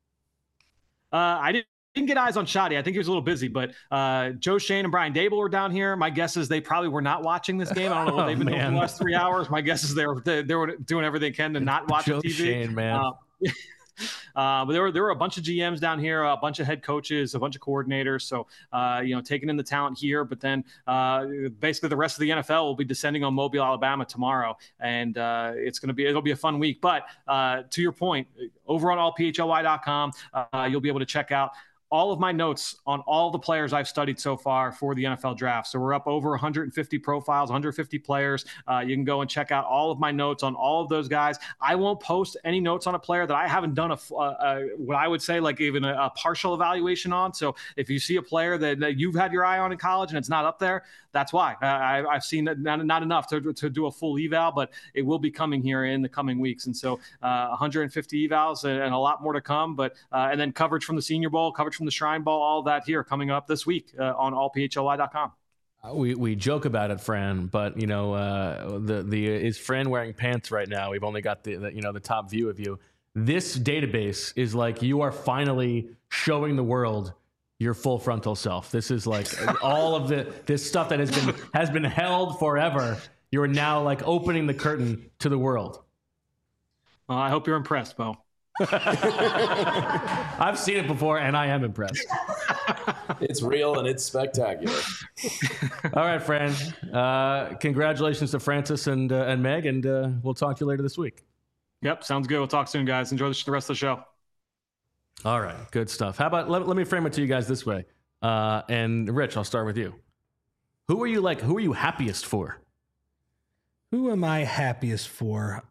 I didn't get eyes on Shoddy. I think he was a little busy, but Joe Shane and Brian Dable were down here. My guess is they probably were not watching this game. I don't know what they've been doing for the last 3 hours. My guess is they were doing everything they can to not watch Joe TV. Shane, man. But there were a bunch of GMs down here, a bunch of head coaches, a bunch of coordinators. So, taking in the talent here, but then basically the rest of the NFL will be descending on Mobile, Alabama tomorrow. And it'll be a fun week. But to your point, over on allphly.com, you'll be able to check out all of my notes on all the players I've studied so far for the NFL draft. So we're up over 150 profiles, 150 players. You can go and check out all of my notes on all of those guys. I won't post any notes on a player that I haven't done what I would say like even a partial evaluation on. So if you see a player that you've had your eye on in college and it's not up there, that's why. I've seen not enough to do a full eval, but it will be coming here in the coming weeks. And so 150 evals and a lot more to come. But and then coverage from the Senior Bowl, coverage from the Shrine Bowl, all that here coming up this week on allphly.com. We joke about it, Fran, but is Fran wearing pants right now? We've only got the top view of you. This database is like you are finally showing the world your full frontal self. This is like all of this stuff that has been held forever. You're now like opening the curtain to the world. Well, I hope you're impressed, Bo. I've seen it before, and I am impressed. It's real and it's spectacular. All right, Fran. Congratulations to Francis and Meg, and we'll talk to you later this week. Yep, sounds good. We'll talk soon, guys. Enjoy the rest of the show. All right, good stuff. How about let me frame it to you guys this way. And Rich, I'll start with you. Who are you happiest for? Who am I happiest for?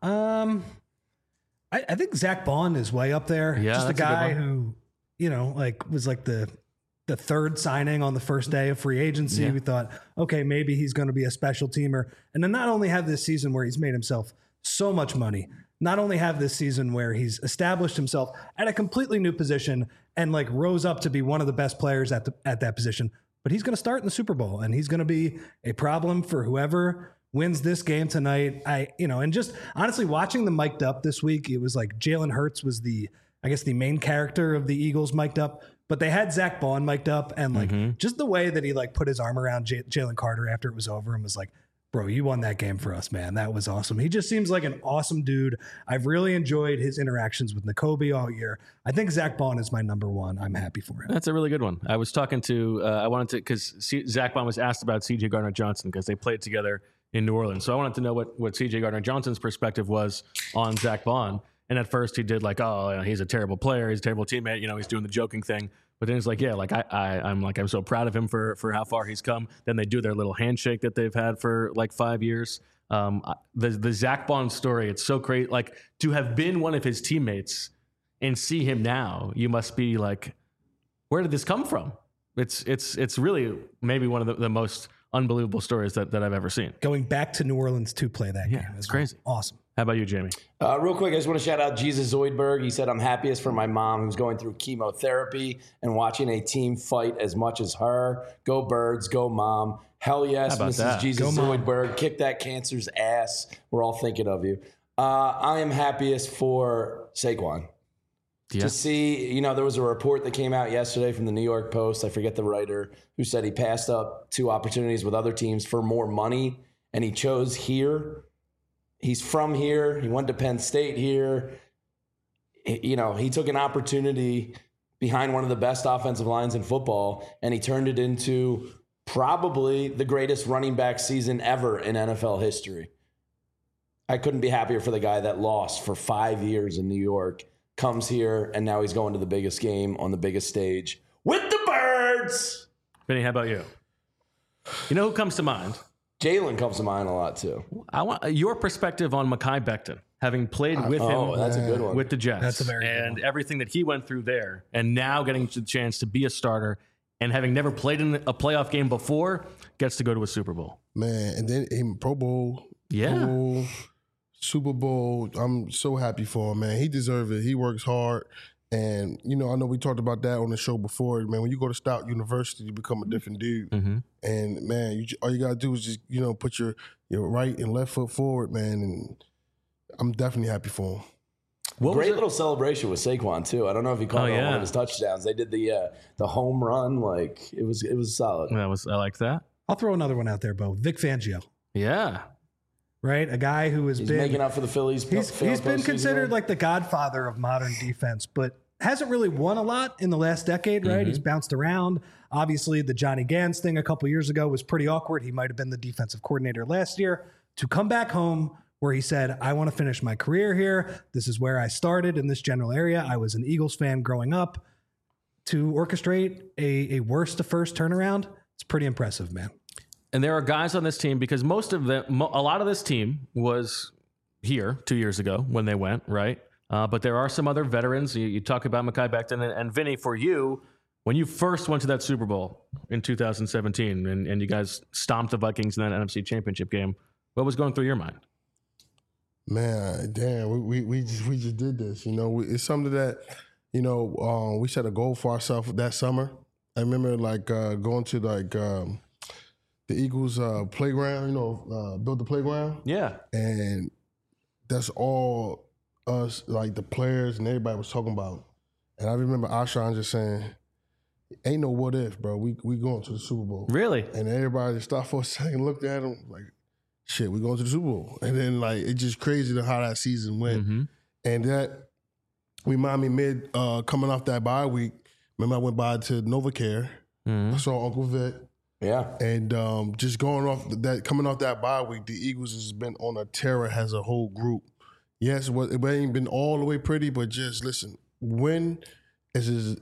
I think Zach Bond is way up there. Yeah, just a guy who, was like the third signing on the first day of free agency. Yeah. We thought, okay, maybe he's going to be a special teamer. And then not only have this season where he's made himself so much money, not only have this season where he's established himself at a completely new position and like rose up to be one of the best players at that position, but he's going to start in the Super Bowl and he's going to be a problem for whoever wins this game tonight. And just honestly watching them mic'd up this week, it was like Jalen Hurts was the main character of the Eagles mic'd up, but they had Zach Bond mic'd up and like just the way that he like put his arm around Jalen Carter after it was over and was like, bro, you won that game for us, man. That was awesome. He just seems like an awesome dude. I've really enjoyed his interactions with Nakobe all year. I think Zach Bond is my number one. I'm happy for him. That's a really good one. I was talking to, because Zach Bond was asked about C.J. Gardner-Johnson because they played together in New Orleans. So I wanted to know what C.J. Gardner-Johnson's perspective was on Zach Bond. And at first he did like, he's a terrible player. He's a terrible teammate. He's doing the joking thing. But then it's like, yeah, like I'm so proud of him for how far he's come. Then they do their little handshake that they've had for like 5 years. The Zach Bond story, it's so crazy. Like to have been one of his teammates and see him now, you must be like, where did this come from? It's really maybe one of the most unbelievable stories that I've ever seen. Going back to New Orleans to play that game. It's crazy. Awesome. How about you, Jamie? Real quick, I just want to shout out Jesus Zoidberg. He said, I'm happiest for my mom who's going through chemotherapy and watching a team fight as much as her. Go Birds, go Mom. Hell yes, How about Mrs. that? Jesus Zoidberg. Kick that cancer's ass. We're all thinking of you. I am happiest for Saquon. Yeah. To see, there was a report that came out yesterday from the New York Post. I forget the writer who said he passed up 2 opportunities with other teams for more money, and he chose here. He's from here. He went to Penn State here. He took an opportunity behind one of the best offensive lines in football, and he turned it into probably the greatest running back season ever in NFL history. I couldn't be happier for the guy that lost for 5 years in New York, comes here, and now he's going to the biggest game on the biggest stage with the Birds. Vinny, how about you? You know who comes to mind? Jalen comes to mind a lot, too. I want your perspective on Mekhi Becton, having played with him that's a good one. with the Jets. That's a very good and one. everything that he went through there, and now getting the chance to be a starter and having never played in a playoff game before, gets to go to a Super Bowl. Man, and then in Pro Bowl, Yeah. Pro Bowl, Super Bowl. I'm so happy for him, man. He deserves it. He works hard. And, I know we talked about that on the show before, man. When you go to Stout University, you become a different dude. Mm-hmm. And, man, all you got to do is just, put your right and left foot forward, man. And I'm definitely happy for him. Great little celebration with Saquon, too. I don't know if he caught it on one of his touchdowns. They did the home run. It was solid. I like that. I'll throw another one out there, Bo. Vic Fangio, Yeah. right? A guy who has He's been making up for the Phillies. He's been considered like the godfather of modern defense, but hasn't really won a lot in the last decade, right? He's bounced around. Obviously, the Johnny Gans thing a couple years ago was pretty awkward. He might have been the defensive coordinator last year. To come back home where he said, I want to finish my career here. This is where I started in this general area. I was an Eagles fan growing up. To orchestrate a worst to first turnaround, it's pretty impressive, man. And there are guys on this team because a lot of this team was here 2 years ago when they went, right? But there are some other veterans. You talk about Mekhi Becton and Vinny, for you, when you first went to that Super Bowl in 2017 and you guys stomped the Vikings in that NFC Championship game, what was going through your mind? Man, damn, we just did this. It's something that, we set a goal for ourselves that summer. I remember going to the Eagles playground, build the playground. Yeah. And that's all us, the players and everybody was talking about. And I remember Ashan just saying, ain't no what if, bro. We going to the Super Bowl. Really? And everybody just stopped for a second, looked at him like, shit, we going to the Super Bowl. And then it's just crazy how that season went. Mm-hmm. And that reminded me coming off that bye week, remember I went by to NovaCare. I saw Uncle Vic. Yeah. And just coming off that bye week, the Eagles has been on a tear as a whole group. Yes, it ain't been all the way pretty, but just listen, win is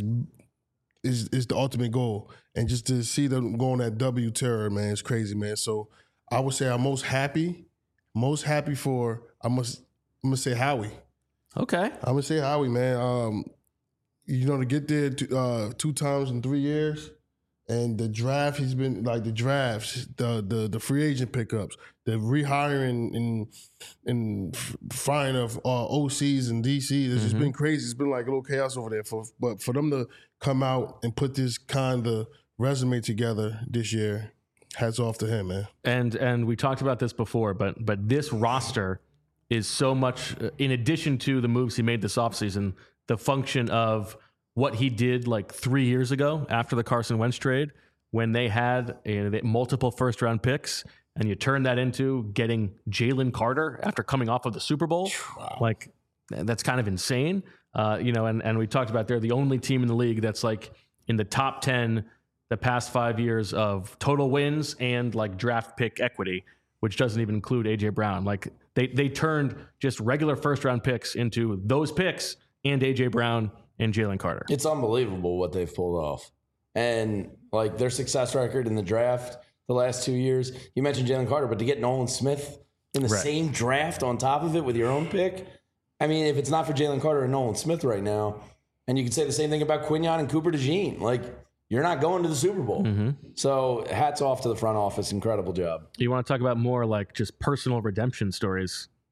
the ultimate goal. And just to see them go on that W terror, man, it's crazy, man. So I would say I'm most happy for, I'm gonna say Howie. Okay. I'm gonna say Howie, man. To get there 2 times in 3 years, and the draft, he's been the drafts, the free agent pickups, the rehiring and firing of OCs and DCs. It's just been crazy. It's been like a little chaos over there. But for them to come out and put this kind of resume together this year, hats off to him, man. And we talked about this before, but this roster is so much, in addition to the moves he made this offseason, the function of what he did 3 years ago after the Carson Wentz trade, when they had multiple first-round picks, and you turn that into getting Jalen Carter after coming off of the Super Bowl. Wow. That's kind of insane. And we talked about they're the only team in the league that's in the top 10 the past 5 years of total wins and draft pick equity, which doesn't even include A.J. Brown. They turned just regular first-round picks into those picks and A.J. Brown and Jalen Carter. It's unbelievable what they've pulled off. And their success record in the draft the last 2 years, you mentioned Jalen Carter, but to get Nolan Smith in the same draft on top of it with your own pick, I mean, if it's not for Jalen Carter and Nolan Smith right now, and you could say the same thing about Quinyon and Cooper DeJean, you're not going to the Super Bowl. Mm-hmm. So hats off to the front office. Incredible job. You want to talk about more just personal redemption stories?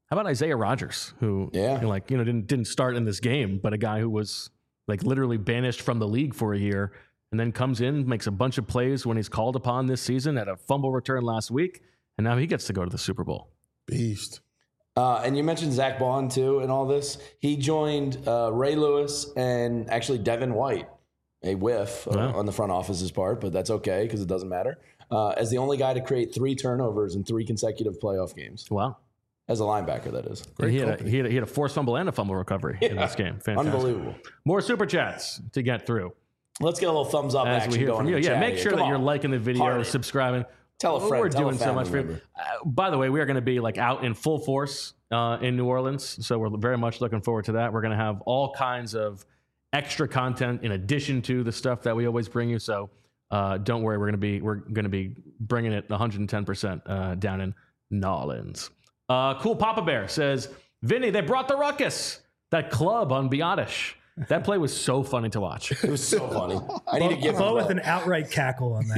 How about Isaiah Rodgers, who didn't start in this game, but a guy who was like literally banished from the league for a year, and then comes in, makes a bunch of plays when he's called upon this season, had a fumble return last week, and now he gets to go to the Super Bowl. Beast. And you mentioned Zach Bond too in all this. He joined Ray Lewis and actually Devin White, a whiff on the front office's part, but that's okay because it doesn't matter, as the only guy to create 3 turnovers in 3 consecutive playoff games. Wow. As a linebacker, that is. He had a forced fumble and a fumble recovery in this game. Fantastic. Unbelievable. More super chats to get through. Let's get a little thumbs up As action we hear going from you. in the Yeah, chat make here. sure Come that on. you're liking the video, Heart it. subscribing. Tell a friend. We're tell doing a so much family for you. member. By the way, we are going to be like out in full force in New Orleans, so we're very much looking forward to that. We're going to have all kinds of extra content in addition to the stuff that we always bring you. So don't worry, we're going to be bringing it 110% down in New Orleans. Cool Papa Bear says, Vinny, they brought the ruckus. That club on Biotish. That play was so funny to watch. It was so funny. I need to give Bo him with that. an outright cackle on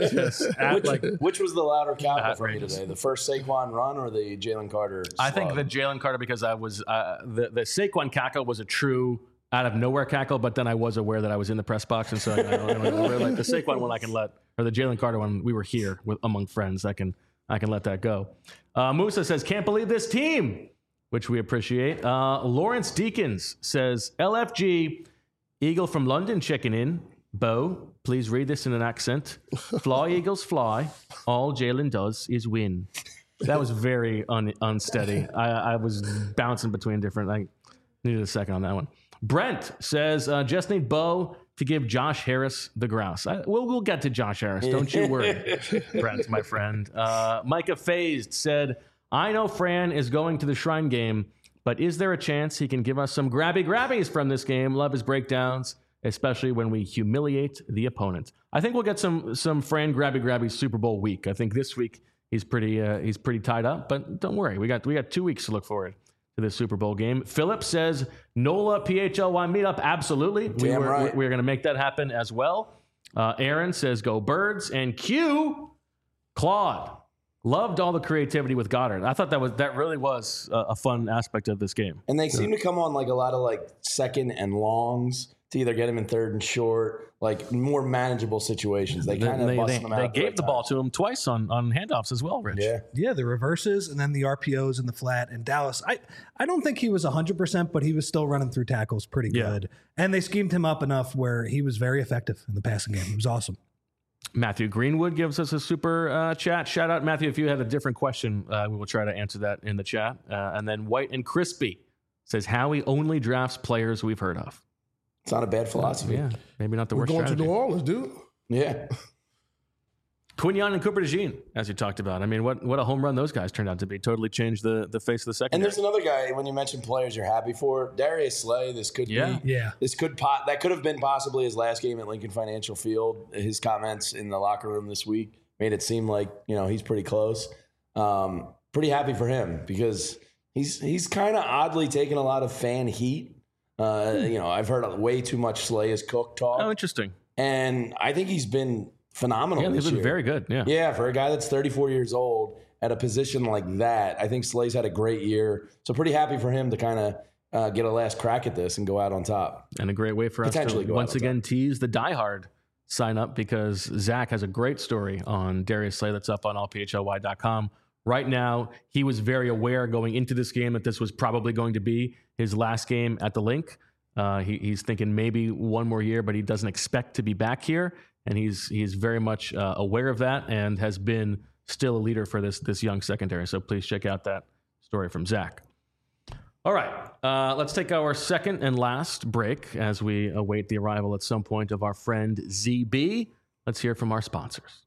that one. Which was the louder cackle for me outrageous. today? The first Saquon run or the Jalen Carter slug? I think the Jalen Carter, because I was the Saquon cackle was a true out of nowhere cackle, but then I was aware that I was in the press box, and so I like the Saquon one I can let, or the Jalen Carter one, we were here among friends. I can let that go. Musa says, can't believe this team, which we appreciate. Lawrence Deacons says, LFG, Eagle from London checking in. Bo, please read this in an accent. Fly, Eagles, fly. All Jalen does is win. That was very unsteady. I was bouncing between different. I needed a second on that one. Brent says, just need Bo to give Josh Harris the grouse. We'll get to Josh Harris. Don't you worry, Brent, my friend. Micah Phased said, I know Fran is going to the Shrine game, but is there a chance he can give us some grabbies from this game? Love his breakdowns, especially when we humiliate the opponent. I think we'll get some Fran grabbies Super Bowl week. I think this week he's pretty tied up, but don't worry, we got 2 weeks to look forward to this Super Bowl game. Philip says NOLA PHLY meetup. Absolutely, we're going to make that happen as well. Aaron says go Birds, and Q Claude. Loved all the creativity with Goddard. I thought that really was a fun aspect of this game. And they seem to come on like a lot of like second and longs to either get him in third and short, like more manageable situations. They kind of bust them out. They gave the ball to him twice on handoffs as well, Rich. Yeah, the reverses and then the RPOs in the flat. And Dallas, I don't think he was 100%, but he was still running through tackles pretty good. And they schemed him up enough where he was very effective in the passing game. It was awesome. Matthew Greenwood gives us a super chat. Shout out, Matthew. If you had a different question, we will try to answer that in the chat. And then White and Crispy says Howie only drafts players we've heard of. It's not a bad philosophy. Yeah, maybe not the We're worst going strategy. to New Orleans, dude. Yeah. Quinyon and Cooper DeJean, as you talked about. I mean, what a home run those guys turned out to be. Totally changed the face of the And secondary. there's another guy, when you mentioned players you're happy for, Darius Slay. This could be. That could have been possibly his last game at Lincoln Financial Field. His comments in the locker room this week made it seem like, he's pretty close. Pretty happy for him because he's kind of oddly taken a lot of fan heat. I've heard way too much Slay is cooked talk. Oh, interesting. And I think he's been phenomenal Yeah, this he's been year. very good. Yeah. Yeah, for a guy that's 34 years old at a position like that, I think Slay's had a great year. So pretty happy for him to kind of get a last crack at this and go out on top. And a great way for us Potentially to go out once on again tease the diehard sign up, because Zach has a great story on Darius Slay that's up on allphly.com. Right now, he was very aware going into this game that this was probably going to be his last game at the Link. He's thinking maybe one more year, but he doesn't expect to be back here. And he's very much aware of that and has been still a leader for this young secondary. So please check out that story from Zach. All right, let's take our second and last break as we await the arrival at some point of our friend ZB. Let's hear from our sponsors.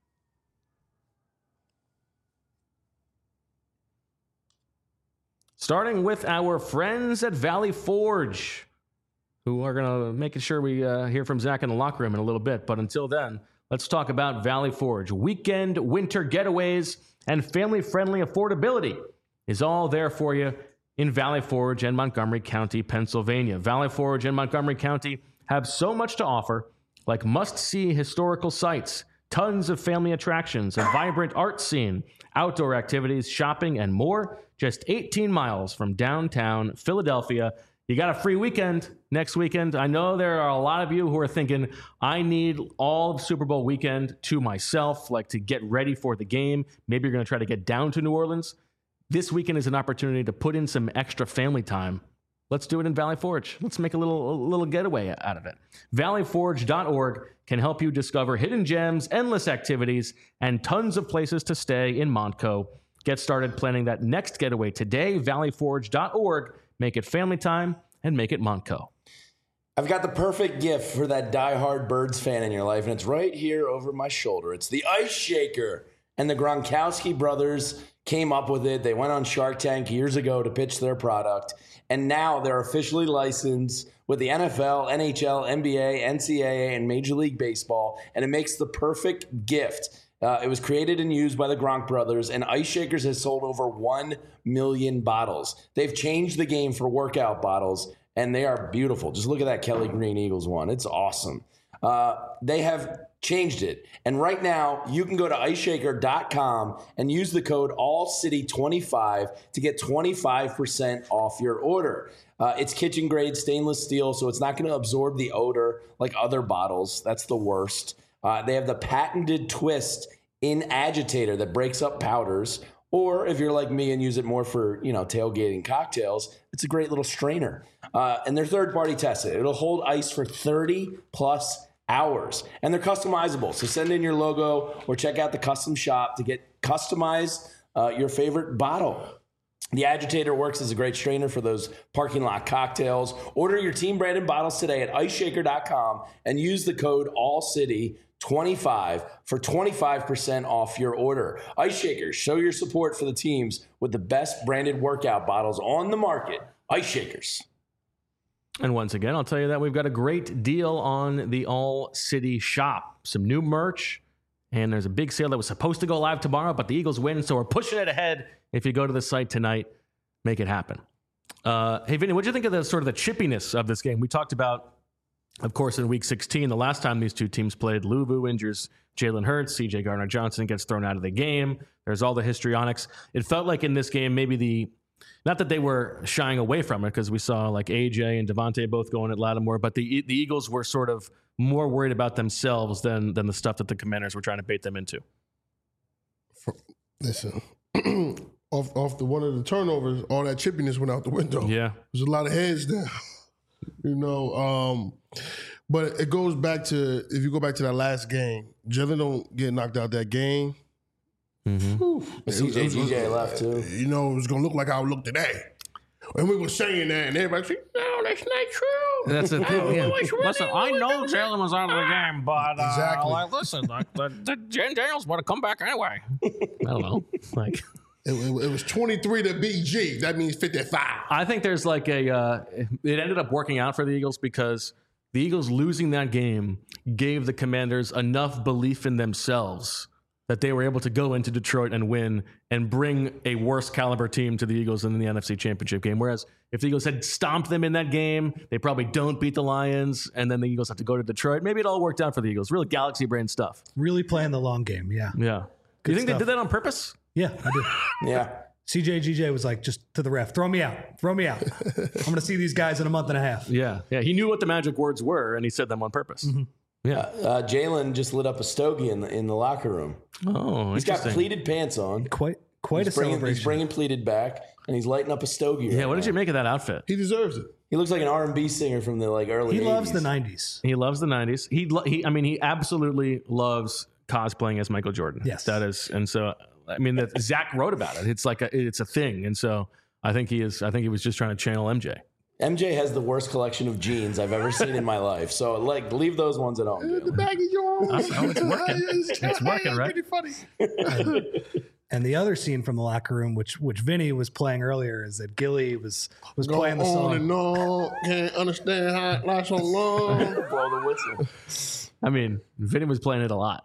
Starting with our friends at Valley Forge, who are going to make sure we hear from Zach in the locker room in a little bit. But until then, let's talk about Valley Forge. Weekend winter getaways and family-friendly affordability is all there for you in Valley Forge and Montgomery County, Pennsylvania. Valley Forge and Montgomery County have so much to offer, like must-see historical sites, tons of family attractions, a vibrant art scene, outdoor activities, shopping, and more. just 18 miles from downtown Philadelphia. You got a free weekend next weekend. I know there are a lot of you who are thinking, I need all of Super Bowl weekend to myself, like to get ready for the game. Maybe you're going to try to get down to New Orleans. This weekend is an opportunity to put in some extra family time. Let's do it in Valley Forge. Let's make a little getaway out of it. ValleyForge.org can help you discover hidden gems, endless activities, and tons of places to stay in Montco. Get started planning that next getaway today. ValleyForge.org. Make it family time and make it Montco. I've got the perfect gift for that diehard Birds fan in your life, and it's right here over my shoulder. It's the Ice Shaker. And the Gronkowski brothers came up with it. They went on Shark Tank years ago to pitch their product, and now they're officially licensed with the NFL, NHL, NBA, NCAA, and Major League Baseball, and it makes the perfect gift. It was created and used by the Gronk brothers, and Ice Shakers has sold over 1 million bottles. They've changed the game for workout bottles, and they are beautiful. Just look at that Kelly Green Eagles one. It's awesome. They have changed it. And right now, you can go to iceshaker.com and use the code ALLCITY25 to get 25% off your order. It's kitchen grade stainless steel, so it's not going to absorb the odor like other bottles. That's the worst. They have the patented twist in agitator that breaks up powders. Or if you're like me and use it more for, tailgating cocktails, it's a great little strainer. And they're third-party tested. It'll hold ice for 30-plus hours. And they're customizable. So send in your logo or check out the custom shop to customize your favorite bottle. The agitator works as a great strainer for those parking lot cocktails. Order your team branded bottles today at iceshaker.com and use the code ALLCITY25 for 25% off your order. Ice Shakers, show your support for the teams with the best branded workout bottles on the market. Ice Shakers. And once again, I'll tell you that we've got a great deal on the All City shop. Some new merch, and there's a big sale that was supposed to go live tomorrow, but the Eagles win, so we're pushing it ahead. If you go to the site tonight, make it happen. Hey, Vinny, what do you think of the sort of the chippiness of this game? We talked about, of course, in Week 16, the last time these two teams played, Luvu injures Jalen Hurts, C.J. Gardner-Johnson gets thrown out of the game. There's all the histrionics. It felt like in this game, maybe not that they were shying away from it, because we saw like AJ and Devontae both going at Lattimore, but the Eagles were sort of more worried about themselves than the stuff that the Commanders were trying to bait them into. Listen, off the one of the turnovers, all that chippiness went out the window. Yeah. There's a lot of heads down, but it goes back to, if you go back to that last game, Jalen don't get knocked out that game. Mm-hmm. CJ left too. It was going to look like I would look today. And we were saying that, and everybody said, no, that's not true. That's the thing. Yeah. Listen, I know Jalen was out of the game, but Exactly. Jen Daniels would have come back anyway. I don't know. Like, it was 23 to BG. That means 55. I think there's like it ended up working out for the Eagles because the Eagles losing that game gave the Commanders enough belief in themselves that they were able to go into Detroit and win and bring a worse caliber team to the Eagles in the NFC Championship game. Whereas if the Eagles had stomped them in that game, they probably don't beat the Lions, and then the Eagles have to go to Detroit. Maybe it all worked out for the Eagles. Really galaxy brain stuff. Really playing the long game, yeah. Yeah. Do you think they did that on purpose? Yeah, I did. Yeah. CJ GJ was like, just to the ref, throw me out. I'm going to see these guys in a month and a half. Yeah. Yeah. He knew what the magic words were, and he said them on purpose. Mm-hmm. Yeah. Jalen just lit up a stogie in the locker room. Oh, he's got pleated pants on. Quite a celebration. He's bringing pleated back, and he's lighting up a stogie. Yeah, right what did you make of that outfit? He deserves it. He looks like an R&B singer from the early 80s. He loves the 90s. He loves the 90s. He absolutely loves cosplaying as Michael Jordan. Yes. That is, and so Zach wrote about it. It's like it's a thing, and so I think he was just trying to channel MJ. MJ has the worst collection of jeans I've ever seen in my life. So, leave those ones at home. The baggy Jones. Oh, it's working. It's working, right? Pretty funny. And the other scene from the locker room, which Vinny was playing earlier, is that Gilly was playing the song. On and on, can't understand how it lasts so long. Blow the whistle. I mean, Vinny was playing it a lot.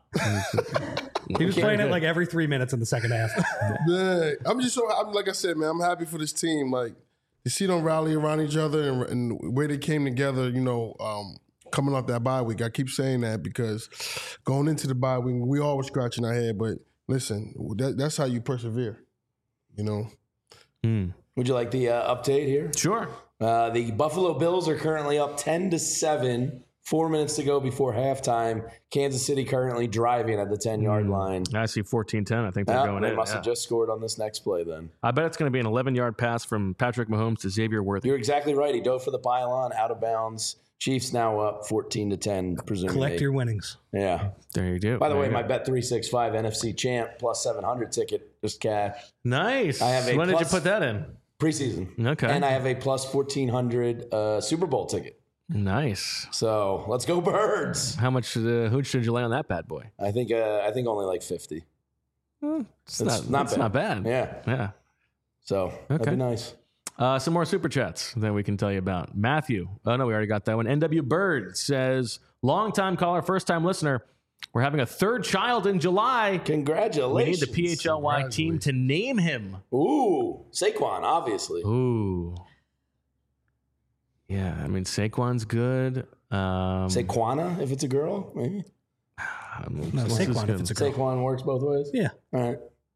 He was playing it like every 3 minutes in the second half. Man, I'm like I said, man, I'm happy for this team. Like, you see them rally around each other and the way they came together, coming off that bye week. I keep saying that because going into the bye week, we all were scratching our head. But listen, that's how you persevere, Would you like the update here? Sure. The Buffalo Bills are currently up 10-7. 4 minutes to go before halftime. Kansas City currently driving at the 10-yard line. I see 14-10. I think they're going They in. must have just scored on this next play then. I bet it's going to be an 11-yard pass from Patrick Mahomes to Xavier Worthy. You're exactly right. He dove for the pylon, out of bounds. Chiefs now up 14-10, presumably. Collect your winnings. Yeah. There you go. By the There way, you my go. Bet365 NFC champ plus 700 ticket just cashed. Nice. I have a when did you plus- put that in? Preseason. Okay. And I have a plus 1,400 Super Bowl ticket. Nice. So let's go Birds. How much should you lay on that bad boy? I think only like 50. It's not bad. Yeah. Yeah. So that'd be nice. Some more super chats that we can tell you about. Matthew. Oh, no, we already got that one. NW Bird says, long-time caller, first-time listener. We're having a third child in July. Congratulations. We need the PHLY team to name him. Ooh, Saquon, obviously. Ooh. Yeah, I mean, Saquon's good. Saquana, if it's a girl, maybe. No, Saquon if it's a girl. Saquon works both ways? Yeah. All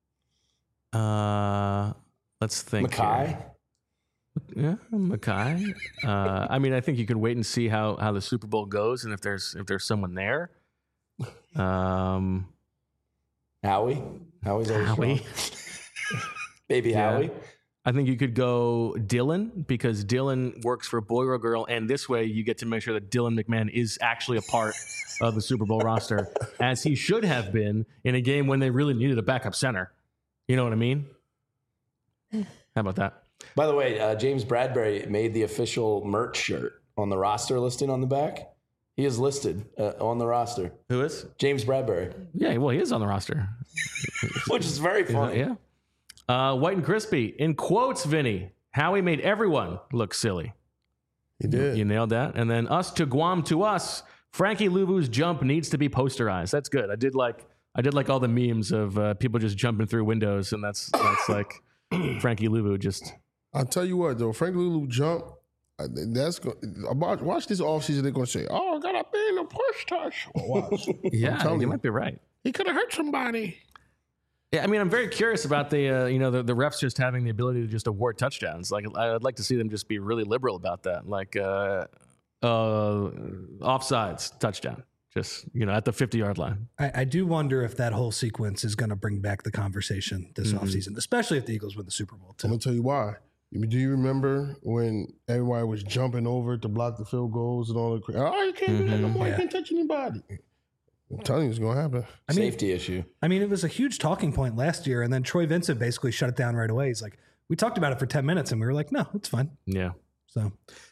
right. Let's think. Mackay? Here. Yeah, Mackay. I mean, I think you could wait and see how the Super Bowl goes, and if there's someone there. Howie? Howie's always Howie. strong. Baby Yeah. Howie? I think you could go Dylan because Dylan works for Boy or Girl, and this way you get to make sure that Dylan McMahon is actually a part of the Super Bowl roster, as he should have been in a game when they really needed a backup center. You know what I mean? How about that? By the way, James Bradbury made the official merch shirt on the roster listing on the back. He is listed on the roster. Who is? James Bradbury, Yeah, well, he is on the roster. which is very funny. Yeah. White and Crispy. In quotes, Vinny, Howie made everyone look silly. He did. You nailed that. And then us to Guam to us. Frankie Luvu's jump needs to be posterized. That's good. I did like all the memes of people just jumping through windows, and that's like Frankie Luvu just. I'll tell you what, though. Frank Lulu jump. Watch this offseason. They're going to say, "Oh, gotta be in a push touch." Well, watch. Yeah, telling you you. might be right. He could have hurt somebody. Yeah, I mean, I'm very curious about the refs just having the ability to just award touchdowns. Like, I'd like to see them just be really liberal about that. Like, offsides touchdown, just at the 50-yard line. I do wonder if that whole sequence is going to bring back the conversation this offseason, especially if the Eagles win the Super Bowl, I'm too. going to tell you why. Do you remember when everybody was jumping over to block the field goals and all the oh, you can't do that no more. You can't touch anybody. I'm telling you, it's going to happen. Safety issue. I mean, it was a huge talking point last year, and then Troy Vincent basically shut it down right away. He's like, we talked about it for 10 minutes, and we were like, no, it's fine. Yeah. So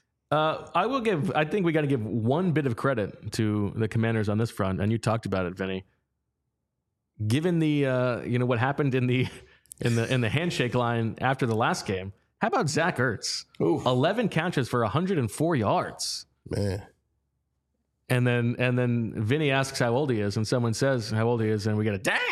I think we got to give one bit of credit to the Commanders on this front, and you talked about it, Vinny. Given the what happened in the handshake line after the last game, how about Zach Ertz? Ooh. 11 catches for 104 yards. Man. And then Vinny asks how old he is, and someone says how old he is, and we get a damn.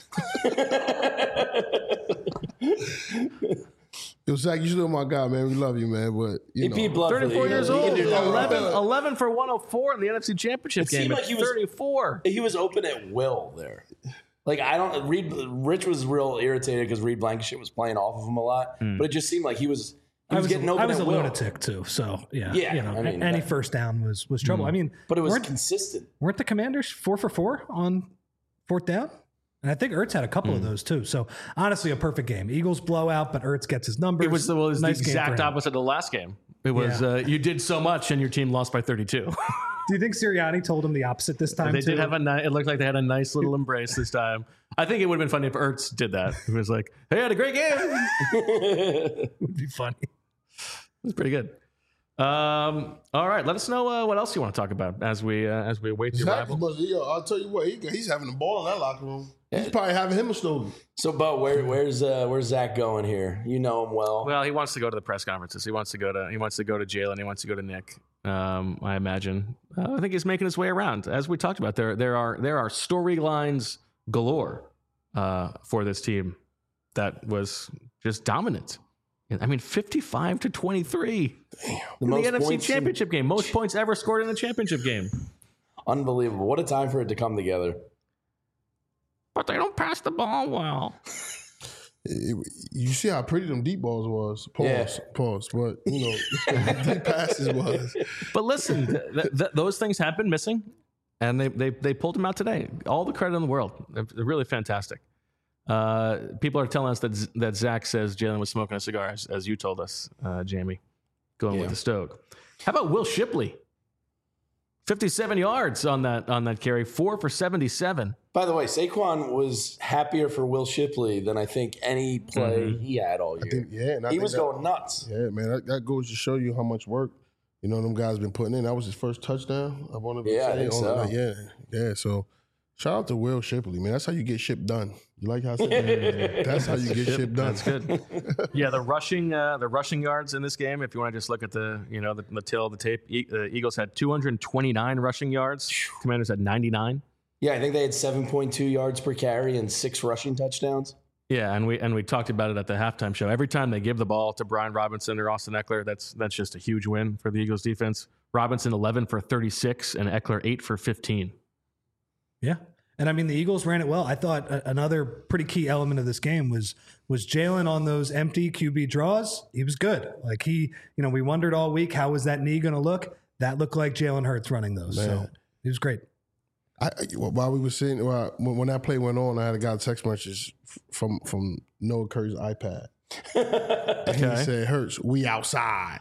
Yo, Zach, you still my guy, man. We love you, man. But He peed blood for the 34 years Eagles. He old. can do no wrong. 11 for 104 in the NFC Championship It seemed game. like At he was- 34. He was open at will there. Like, Rich was real irritated because Reed Blankenship was playing off of him a lot, but it just seemed like he was getting open I was at a will. lunatic too, so yeah. Yeah, I mean, any that- first down was trouble. I mean, But it was weren't, consistent. weren't the Commanders 4 for 4 on fourth down? And I think Ertz had a couple of those too. So honestly, a perfect game. Eagles blowout, but Ertz gets his numbers. It was the Nice game exact for him. opposite of the last game. It was you did so much and your team lost by 32. Do you think Sirianni totold him the opposite this time They too? did have it looked like they had a nice little embrace this time. I think it would have been funny if Ertz did that. It was like, hey, I had a great game. It would be funny. was pretty good. All right, let us know what else you want to talk about as we await the Zach, arrival. I'll tell you what, he's having a ball in that locker room. He's probably having him a stogie. So, Bo, where's Zach going here? You know him well. Well, he wants to go to the press conferences. He wants to go to Jalen. He wants to go to Nick. I imagine. I think he's making his way around. As we talked about, there are storylines galore for this team that was just dominant. I mean, 55-23 in the NFC Championship game. Most points ever scored in the championship game. Unbelievable. What a time for it to come together. But they don't pass the ball well. You see how pretty them deep balls was. Pause. But deep passes was. But listen, those things have been missing, and they pulled them out today. All the credit in the world. They're really fantastic. People are telling us that Zach says Jalen was smoking a cigar, as you told us, Jamie, going with the Stoke. How about Will Shipley? 57 yards on that carry, 4 for 77. By the way, Saquon was happier for Will Shipley than I think any play he had all year. He was going nuts. Yeah, man, that goes to show you how much work them guys been putting in. That was his first touchdown. I want to say. I think so. Yeah. So shout out to Will Shipley, man. That's how you get shit done. You like how I said that? That's how you get shit done. That's good. Yeah, the rushing yards in this game. If you want to just look at the tail of the tape, the Eagles had 229 rushing yards. Commanders had 99. Yeah, I think they had 7.2 yards per carry and 6 rushing touchdowns. Yeah, and we talked about it at the halftime show. Every time they give the ball to Brian Robinson or Austin Eckler, that's just a huge win for the Eagles defense. Robinson 11 for 36 and Eckler 8 for 15. Yeah. And I mean, the Eagles ran it well. I thought another pretty key element of this game was Jalen on those empty QB draws. He was good. Like we wondered all week, how was that knee going to look? That looked like Jalen Hurts running those. Man. So he was great. While we were sitting, when that play went on, I had got a text message from Noah Curry's iPad. And he said, "Hurts, we outside."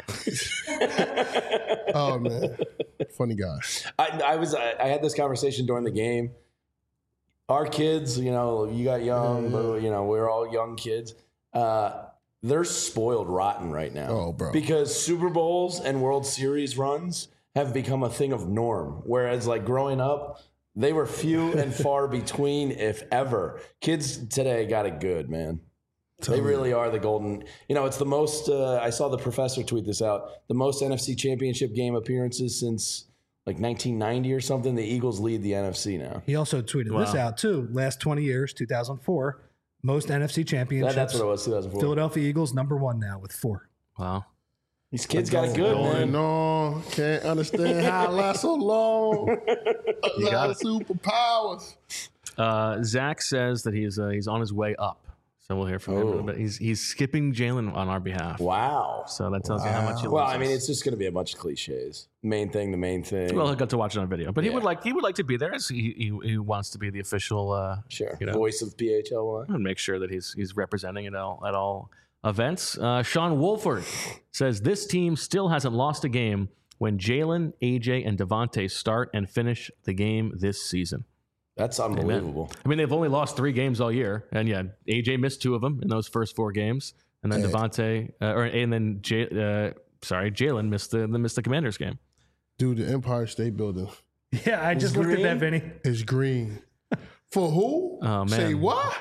Oh man, funny guy. I had this conversation during the game. Our kids, you got young, but we're all young kids. They're spoiled rotten right now. Oh, bro. Because Super Bowls and World Series runs have become a thing of norm. Whereas like growing up, they were few and far between, if ever. Kids today got it good, man. They really are the golden. It's the most. I saw the professor tweet this out. The most NFC Championship game appearances since like 1990 or something. The Eagles lead the NFC now. He also tweeted this out too. Last 20 years, 2004, most NFC championships. That's what it was. 2004. Philadelphia Eagles #1 now with 4. Wow. These kids got it good, man. No, can't understand how it lasts so long. You got it. Superpowers. Zach says that he's on his way up. So we'll hear from him in a bit. He's skipping Jalen on our behalf. Wow. So that tells you how much he loves Well, I us. mean, it's just going to be a bunch of cliches. The main thing. Well, he'll get to watch it on video, but he would like to be there. As he wants to be the official voice of PHLY. And make sure that he's representing it at all events. Sean Wolford says this team still hasn't lost a game when Jalen, AJ, and Devontae start and finish the game this season. That's unbelievable. Amen. I mean, they've only lost 3 games all year, and AJ missed 2 of them in those first 4 games, and then Jalen missed the Commanders game. Dude, the Empire State Building. Yeah, I just looked at that, Vinny. It's green. For who? Oh man. Say what?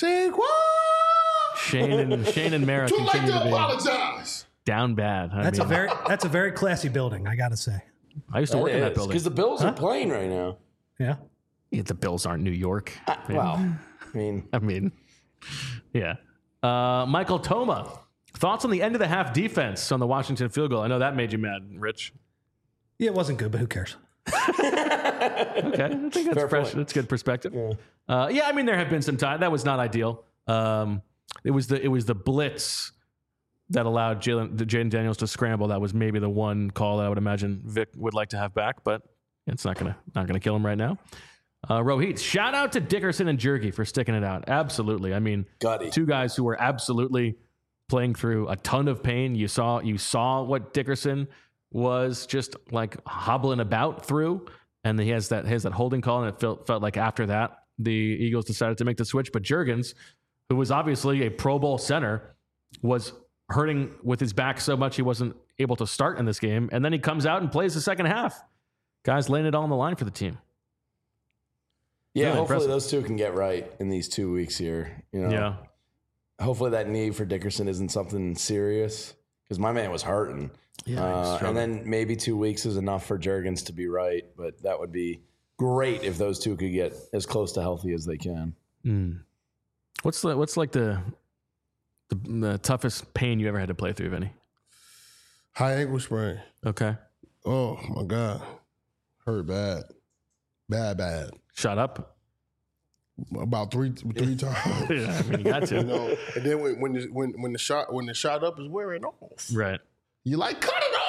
Shane and Mara Too late continue to to be apologize. down bad. That's a very classy building, I gotta say. I used to work in that building because the Bills are playing right now. Yeah. Yeah, the Bills aren't New York. Well, I mean, yeah. Michael Toma, thoughts on the end of the half defense on the Washington field goal? I know that made you mad, Rich. Yeah, it wasn't good, but who cares? Okay, I think that's fresh. That's good perspective. Yeah. I mean, there have been some time that was not ideal. It was the blitz that allowed Jaden Daniels to scramble. That was maybe the one call that I would imagine Vic would like to have back, but it's not gonna kill him right now. Rohit, shout out to Dickerson and Jergy for sticking it out. Absolutely. I mean, Gutty. 2 guys who were absolutely playing through a ton of pain. You saw what Dickerson was just like hobbling about through, and he has that holding call, and it felt like after that the Eagles decided to make the switch. But Juergens, who was obviously a Pro Bowl center, was hurting with his back so much he wasn't able to start in this game, and then he comes out and plays the second half. Guys laying it all on the line for the team. Yeah, really hopefully impressive. those 2 can get right in these 2 weeks here. Yeah. Hopefully that knee for Dickerson isn't something serious because my man was hurting. Yeah, and then maybe 2 weeks is enough for Juergens to be right, but that would be great if those 2 could get as close to healthy as they can. What's like the toughest pain you ever had to play through, Vinny? High ankle sprain. Okay. Oh my God. Hurt bad. Bad. Shut up. about three times. Yeah, I mean, you got to. You know, and then when the shot up is wearing off, Right. you like cut it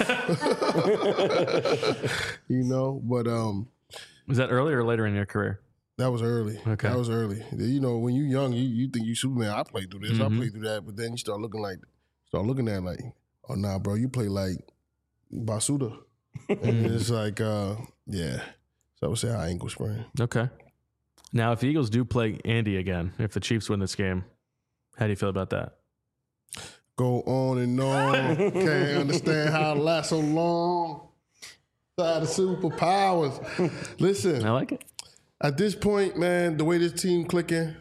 off. You know, but Was that earlier or later in your career? that was early. Okay. That was early. You know, when you're young, you think you Superman. I played through this. I played through that. But then you start looking at it like, oh nah, bro, you play like Basuda, and it's like, yeah. So I would say high ankle sprain. Okay. Now, if the Eagles do play Andy again, if the Chiefs win this game, how do you feel about that? Go on and on. Can't understand how it lasts so long. Side of superpowers. Listen, I like it. at this point, man, the way this team clicking,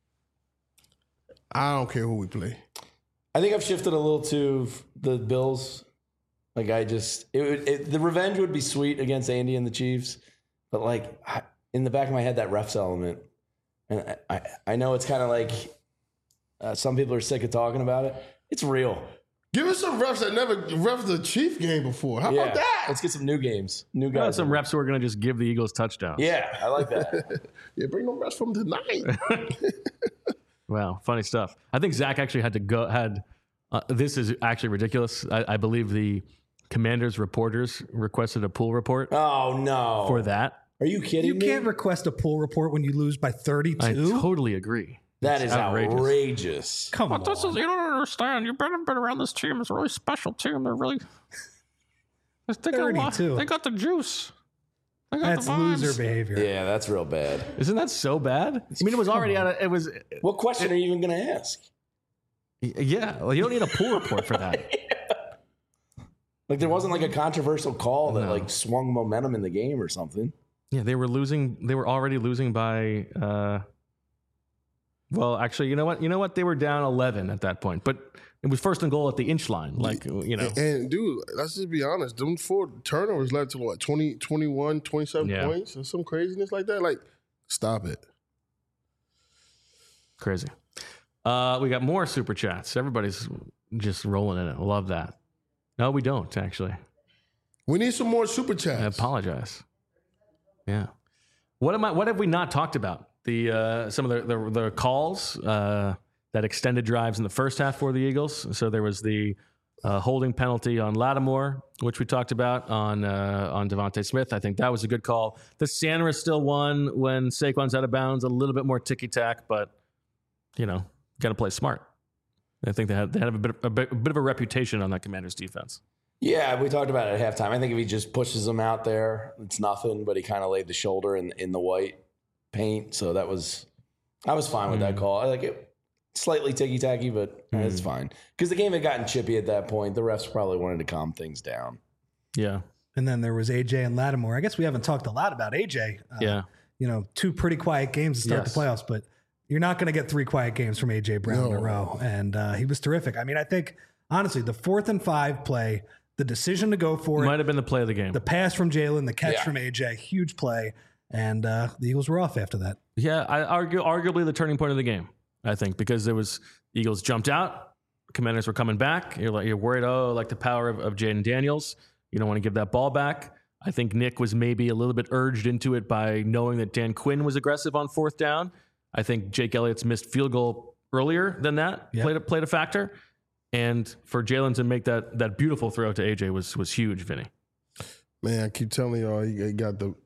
I don't care who we play. I think I've shifted a little to the Bills. Like the revenge would be sweet against Andy and the Chiefs, but like in the back of my head, that refs element, and I know it's kind of like some people are sick of talking about it. It's real. Give us some refs that never refed the Chief game before. How about that? Let's get some new games, new Got guys. some reps who are going to just give the Eagles touchdowns. Yeah, I like that. Yeah, bring no refs from tonight. Wow, funny stuff. I think Zach actually this is actually ridiculous. I believe the Commanders reporters requested a pool report Oh no! for that. Are you kidding You me? can't request a pool report when you lose by 32. I totally agree. That It's is outrageous. Come on. But this is, you don't understand. You've been around this team. It's a really special team. They're really. They got, 32. they got the juice. They got That's the vibes. loser behavior. Yeah, that's real bad. Isn't that so bad? I mean, it was already out of, it was, What question are you even going to ask? yeah, well, you don't need a pool report for that. Like there wasn't like a controversial call that No. like swung momentum in the game or something. Yeah, they were already losing by, well, actually, you know what? They were down 11 at that point, but it was first and goal at the inch line. Like, you know, And dude, let's just be honest. Them 4 turnovers led to what, 20, 21, 27 Yeah. points or some craziness like that? Like, stop it. crazy. We got more super chats. Everybody's just rolling in it. Love that. No, we don't actually. We need some more super I chats. apologize. Yeah. What have we not talked about? Some of the calls that extended drives in the first half for the Eagles. So there was the holding penalty on Lattimore, which we talked about on Devontae Smith. I think that was a good call. The Sanders still won when Saquon's out of bounds. A little bit more ticky tack, but you know, got to play smart. I think they have a bit of a reputation on that Commanders defense. Yeah, we talked about it at halftime. I think if he just pushes them out there, it's nothing. But he kind of laid the shoulder in the white paint, so I was fine with that call. I like it, slightly ticky tacky, but it's fine because the game had gotten chippy at that point. The refs probably wanted to calm things down. Yeah. And then there was AJ and Lattimore. I guess we haven't talked a lot about AJ. Yeah. You know, 2 pretty quiet games to start Yes. the playoffs, but you're not going to get 3 quiet games from AJ Brown in a row. And he was terrific. I mean, I think, honestly, the 4th and 5 play, the decision to go for Might it, have been the play of the game. the pass from Jalen, the catch Yeah. from AJ, huge play. And the Eagles were off after that. Yeah, I arguably the turning point of the game, I think, because there was Eagles jumped out, Commanders were coming back. You're worried, like the power of Jaden Daniels. You don't want to give that ball back. I think Nick was maybe a little bit urged into it by knowing that Dan Quinn was aggressive on 4th down. I think Jake Elliott's missed field goal earlier than that played a factor. And for Jalen to make that beautiful throw to AJ was huge, Vinny. Man, I keep telling y'all, he got the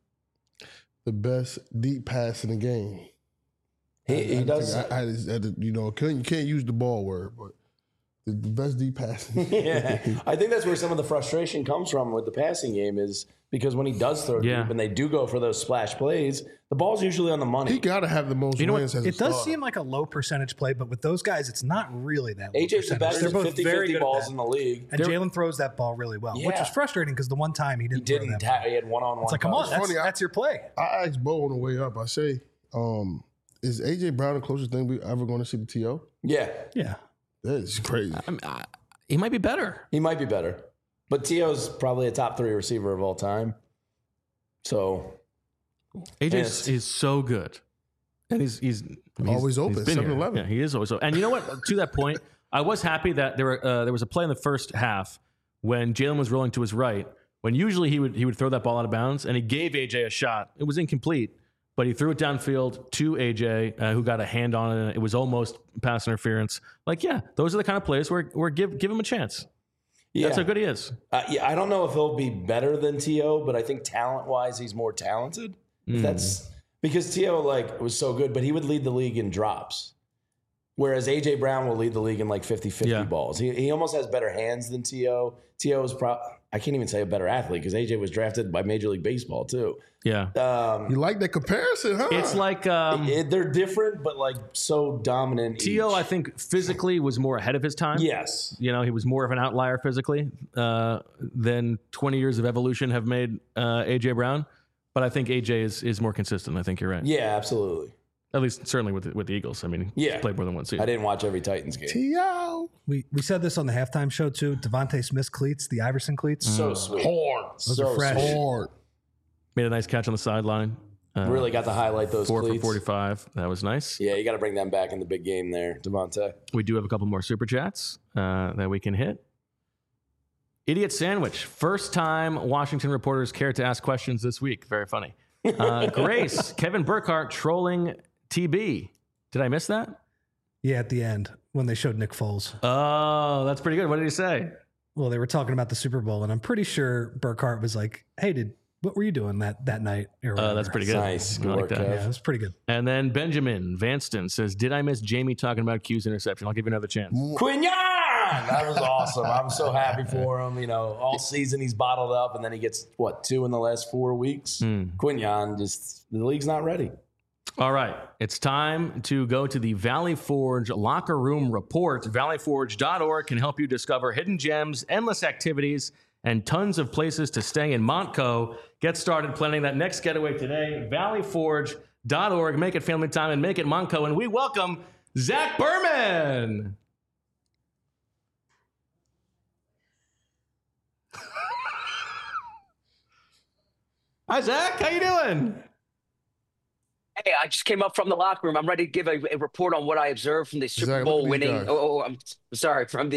best deep pass in the game. He does. You can't use the ball word, but the best deep pass. Yeah, I think that's where some of the frustration comes from with the passing game is because when he does throw deep and they do go for those splash plays, the ball's usually on the money. He got to have the most know what? wins as a It does starter. seem like a low percentage play, but with those guys, it's not really that low AJ's the percentage. best They're at both very 50-50 good at balls that. in the league. And Jalen throws that ball really well, which Yeah. was frustrating because the one time he didn't throw that ball. He had one-on-one. It's like, come on, touch. that's, funny, that's your play. I asked Bo on the way up. I say, is AJ Brown the closest thing we ever going to see to T.O.? Yeah, Yeah. That is crazy. He might be better. he might be better, but T.O.'s probably a top 3 receiver of all time. So AJ is so good. And he's Always open, been here. 7-Eleven. Yeah, he is always open. And you know what? To that point, I was happy that there was a play in the first half when Jalen was rolling to his right, when usually he would throw that ball out of bounds, and he gave AJ a shot. It was incomplete, but he threw it downfield to AJ, who got a hand on it. It was almost pass interference. Like, yeah, those are the kind of plays where give him a chance. That's how good he is. I don't know if he'll be better than T.O., but I think talent-wise, he's more talented. That's because T.O. was so good, but he would lead the league in drops. Whereas A.J. Brown will lead the league in 50-50 balls. He almost has better hands than T.O. T.O. is I can't even say a better athlete because A.J. was drafted by Major League Baseball too. Yeah. You like that comparison, huh? It's like they're different, but so dominant. T.O., I think, physically was more ahead of his time. Yes. He was more of an outlier physically than 20 years of evolution have made A.J. Brown. But I think A.J. is more consistent. I think you're right. Yeah, absolutely. At least, certainly with the Eagles. I mean, he's played more than one season. I didn't watch every Titans game. T.O. We said this on the halftime show too. Devontae Smith's cleats, the Iverson cleats. So sweet. Hard. Those are fresh. Hard. Made a nice catch on the sideline. Really got to highlight those 4 cleats. for 45. That was nice. Yeah, you got to bring them back in the big game there, Devontae. We do have a couple more super chats that we can hit. Idiot Sandwich. First time Washington reporters cared to ask questions this week. Very funny. Grace, Kevin Burkhardt trolling TB. Did I miss that? Yeah, at the end when they showed Nick Foles. Oh, that's pretty good. What did he say? Well, they were talking about the Super Bowl, and I'm pretty sure Burkhardt was like, "Hey, what were you doing that night?" That's pretty good. Nice. Good I like work, that. Kev. Yeah, it was pretty good. And then Benjamin Vanston says, "Did I miss Jamie talking about Q's interception?" I'll give you another chance. Quinyon! That was awesome. I'm so happy for him. All season he's bottled up, and then he gets, 2 in the last 4 weeks? Quinyon, the league's not ready. All right. It's time to go to the Valley Forge Locker Room Report. ValleyForge.org can help you discover hidden gems, endless activities, and tons of places to stay in Montco. Get started planning that next getaway today. ValleyForge.org. Make it family time and make it Montco. And we welcome Zach Berman. Hi, Zach. How you doing? Hey, I just came up from the locker room. I'm ready to give a report on what I observed from the Super Zach, Bowl look at these winning. guys. I'm sorry, from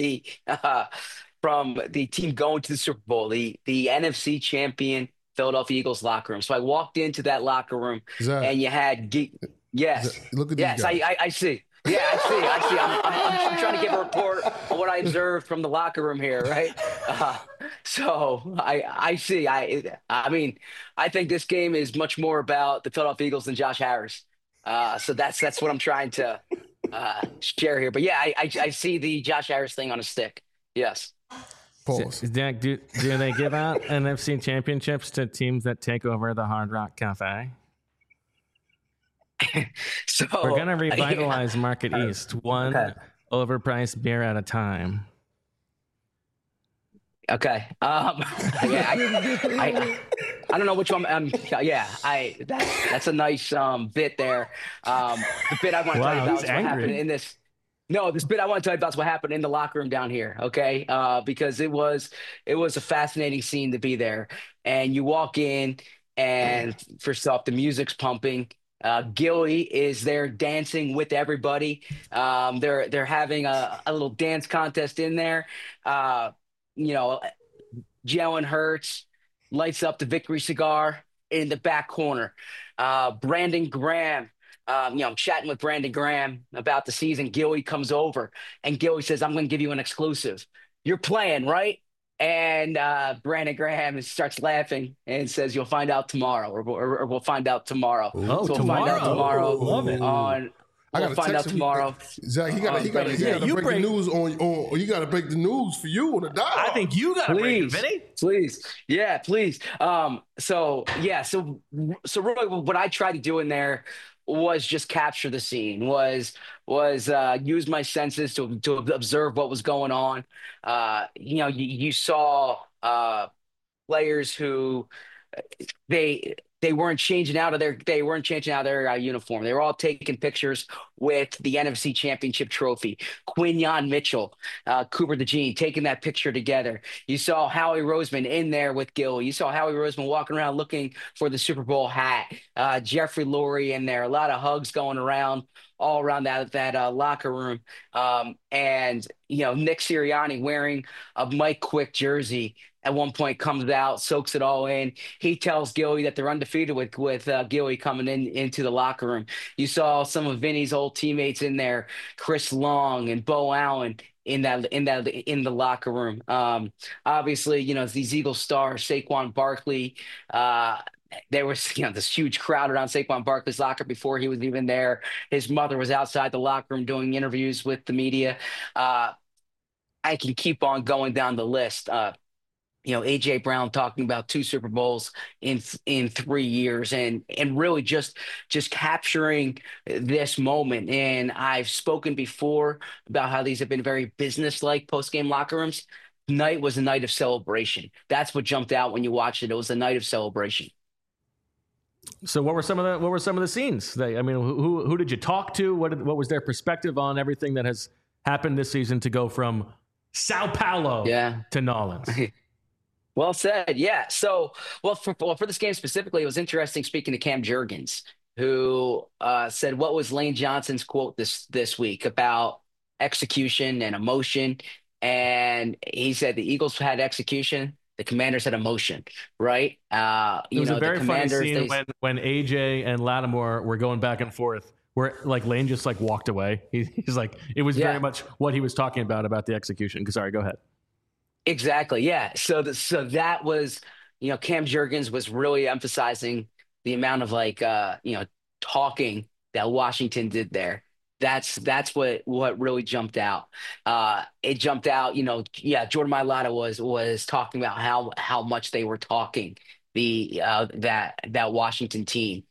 the team going to the Super Bowl, the NFC champion Philadelphia Eagles locker room. So I walked into that locker room, Zach. and you had yes, Zach, look at these yes, guys. I see. Yeah, I see. I'm trying to give a report on what I observed from the locker room here, right? So I see. I mean, I think this game is much more about the Philadelphia Eagles than Josh Harris. So that's what I'm trying to share here. But yeah, I see the Josh Harris thing on a stick. Yes. Pause. Zach, do they give out NFC championships to teams that take over the Hard Rock Cafe? So We're going to revitalize Market East, one overpriced beer at a time. Okay. Yeah, I don't know which one. Yeah, that's a nice bit there. The bit I want to tell you about is what happened in this. No, this bit I want to tell you about is what happened in the locker room down here. Okay, because it was a fascinating scene to be there, and you walk in, and first off, the music's pumping. Gilly is there dancing with everybody. They're having a little dance contest in there. Jalen Hurts lights up the victory cigar in the back corner. Brandon Graham, I'm chatting with Brandon Graham about the season. Gilly comes over, and Gilly says, "I'm going to give you an exclusive. You're playing, right?" And Brandon Graham starts laughing and says, "You'll find out tomorrow, or we'll find out tomorrow." Oh, so we'll find out tomorrow. Love it. We'll find out tomorrow. Zach, he got to break the news on. You got to break the news for you on the dial. I think you got to break it, Vinny. Please. Yeah, please. So really what I tried to do in there was just capture the scene, was use my senses to observe what was going on. You saw players who they weren't changing out of their uniform. They were all taking pictures with the NFC Championship trophy. Quinyon Mitchell, Cooper DeJean taking that picture together. You saw Howie Roseman in there with Gil. You saw Howie Roseman walking around looking for the Super Bowl hat. Jeffrey Lurie in there. A lot of hugs going around all around that locker room. And Nick Sirianni wearing a Mike Quick jersey at one point comes out, soaks it all in. He tells Gilly that they're undefeated with Gilly coming into the locker room. You saw some of Vinny's old teammates in there, Chris Long and Bo Allen in the locker room. Obviously, these Eagle stars, Saquon Barkley. There was this huge crowd around Saquon Barkley's locker before he was even there. His mother was outside the locker room doing interviews with the media. I can keep on going down the list. AJ Brown talking about 2 Super Bowls in 3 years, and really just capturing this moment. And I've spoken before about how these have been very business-like post-game locker rooms. Tonight was a night of celebration. That's what jumped out when you watched it. It was a night of celebration. So what were some of the scenes? Who did you talk to? What was their perspective on everything that has happened this season to go from Sao Paulo to Nolens? Well said. Yeah. So, for this game specifically, it was interesting speaking to Cam Jurgens, who said, what was Lane Johnson's quote this week about execution and emotion? And he said the Eagles had execution, the Commanders had emotion, right? It was a very funny scene when AJ and Lattimore were going back and forth, where Lane just walked away. He's like, it was very much what he was talking about the execution. Sorry, go ahead. Exactly. Yeah. So that was, Cam Jurgens was really emphasizing the amount of talking that Washington did there. That's what really jumped out. It jumped out, Jordan Mailata was talking about how much they were talking that Washington team.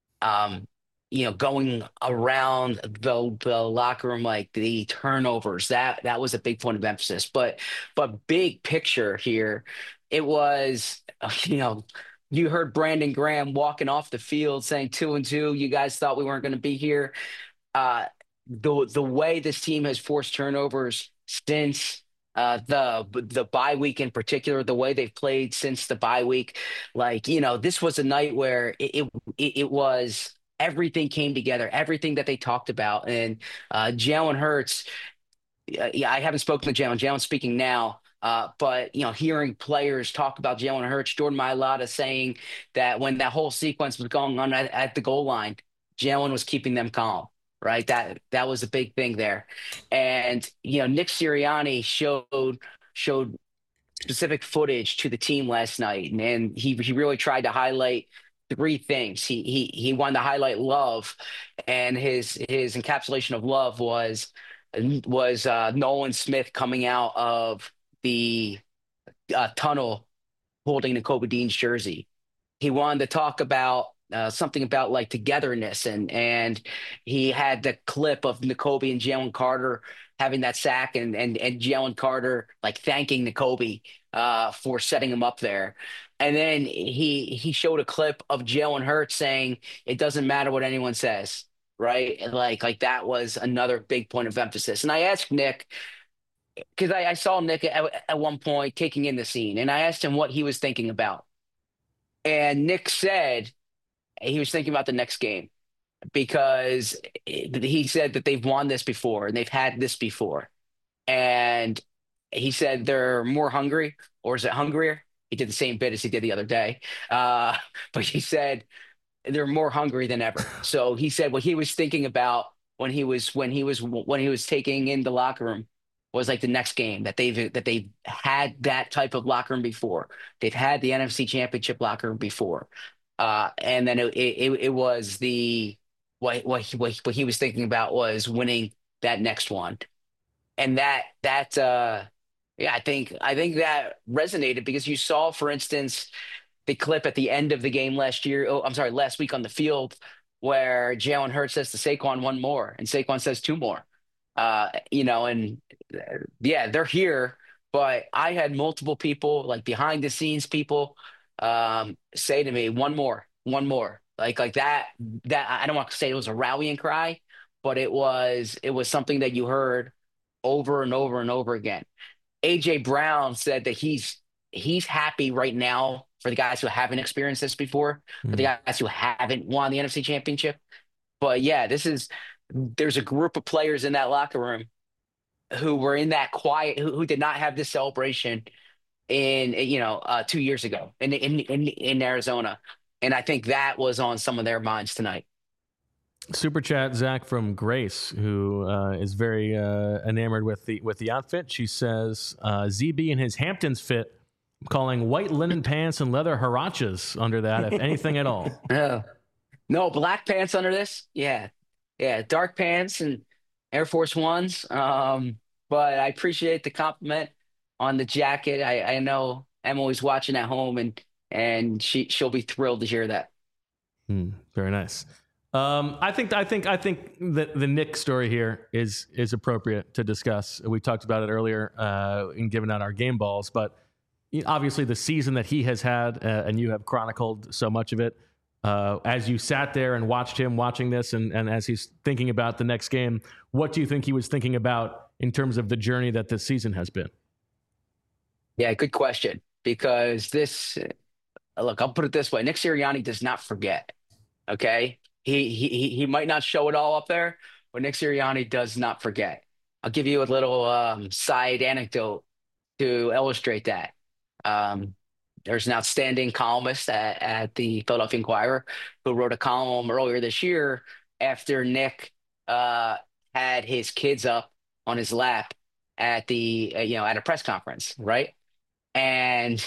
Going around the locker room, the turnovers, that was a big point of emphasis. But big picture here, it was, you heard Brandon Graham walking off the field saying 2-2. You guys thought we weren't going to be here. The way this team has forced turnovers since the bye week in particular, the way they've played since the bye week, this was a night where it was. Everything came together, everything that they talked about. And Jalen Hurts, I haven't spoken to Jalen. Jalen's speaking now. But, hearing players talk about Jalen Hurts, Jordan Mailata saying that when that whole sequence was going on at the goal line, Jalen was keeping them calm, right? That was a big thing there. And, Nick Sirianni showed specific footage to the team last night. And he really tried to highlight 3 things. He wanted to highlight love, and his encapsulation of love was Nolan Smith coming out of the tunnel holding Nakobe Dean's jersey. He wanted to talk about something about togetherness, and he had the clip of Nakobe and Jalen Carter having that sack, and Jalen Carter thanking Nakobe for setting him up there. And then he showed a clip of Jalen Hurts saying, it doesn't matter what anyone says, right? And that was another big point of emphasis. And I asked Nick, because I saw Nick at one point taking in the scene, and I asked him what he was thinking about. And Nick said he was thinking about the next game, because he said that they've won this before and they've had this before. And he said they're more hungry, or is it hungrier? He did the same bit as he did the other day. But he said they're more hungry than ever. So he said what he was thinking about when he was taking in the locker room was the next game, that they've had that type of locker room before. They've had the NFC Championship locker room before. And then it was what he was thinking about was winning that next one. And yeah, I think that resonated, because you saw, for instance, the clip at the end of the game last week on the field, where Jalen Hurts says to Saquon, 1 more, and Saquon says 2 more. They're here, but I had multiple people, behind the scenes people, say to me, 1 more, 1 more. That I don't want to say it was a rallying cry, but it was something that you heard over and over and over again. AJ Brown said that he's happy right now for the guys who haven't experienced this before, for the guys who haven't won the NFC Championship. But yeah, there's a group of players in that locker room who were in that quiet, who did not have this celebration in 2 years ago in Arizona, and I think that was on some of their minds tonight. Super chat, Zach from Grace, who is very enamored with the outfit. She says ZB in his Hamptons fit, calling white linen pants and leather huaraches under that, if anything at all. No, black pants under this. Yeah, dark pants and Air Force Ones. But I appreciate the compliment on the jacket. I know Emily's watching at home, and she'll be thrilled to hear that. Very nice. I think that the Nick story here is appropriate to discuss. We talked about it earlier in giving out our game balls, but obviously the season that he has had, and you have chronicled so much of it, as you sat there and watched him watching this, and as he's thinking about the next game, what do you think he was thinking about in terms of the journey that this season has been? Yeah, good question. Because look, I'll put it this way: Nick Sirianni does not forget. Okay, he might not show it all up there, but Nick Sirianni does not forget. I'll give you a little side anecdote to illustrate that. There's an outstanding columnist at the Philadelphia Inquirer who wrote a column earlier this year after Nick had his kids up on his lap at at a press conference, right? And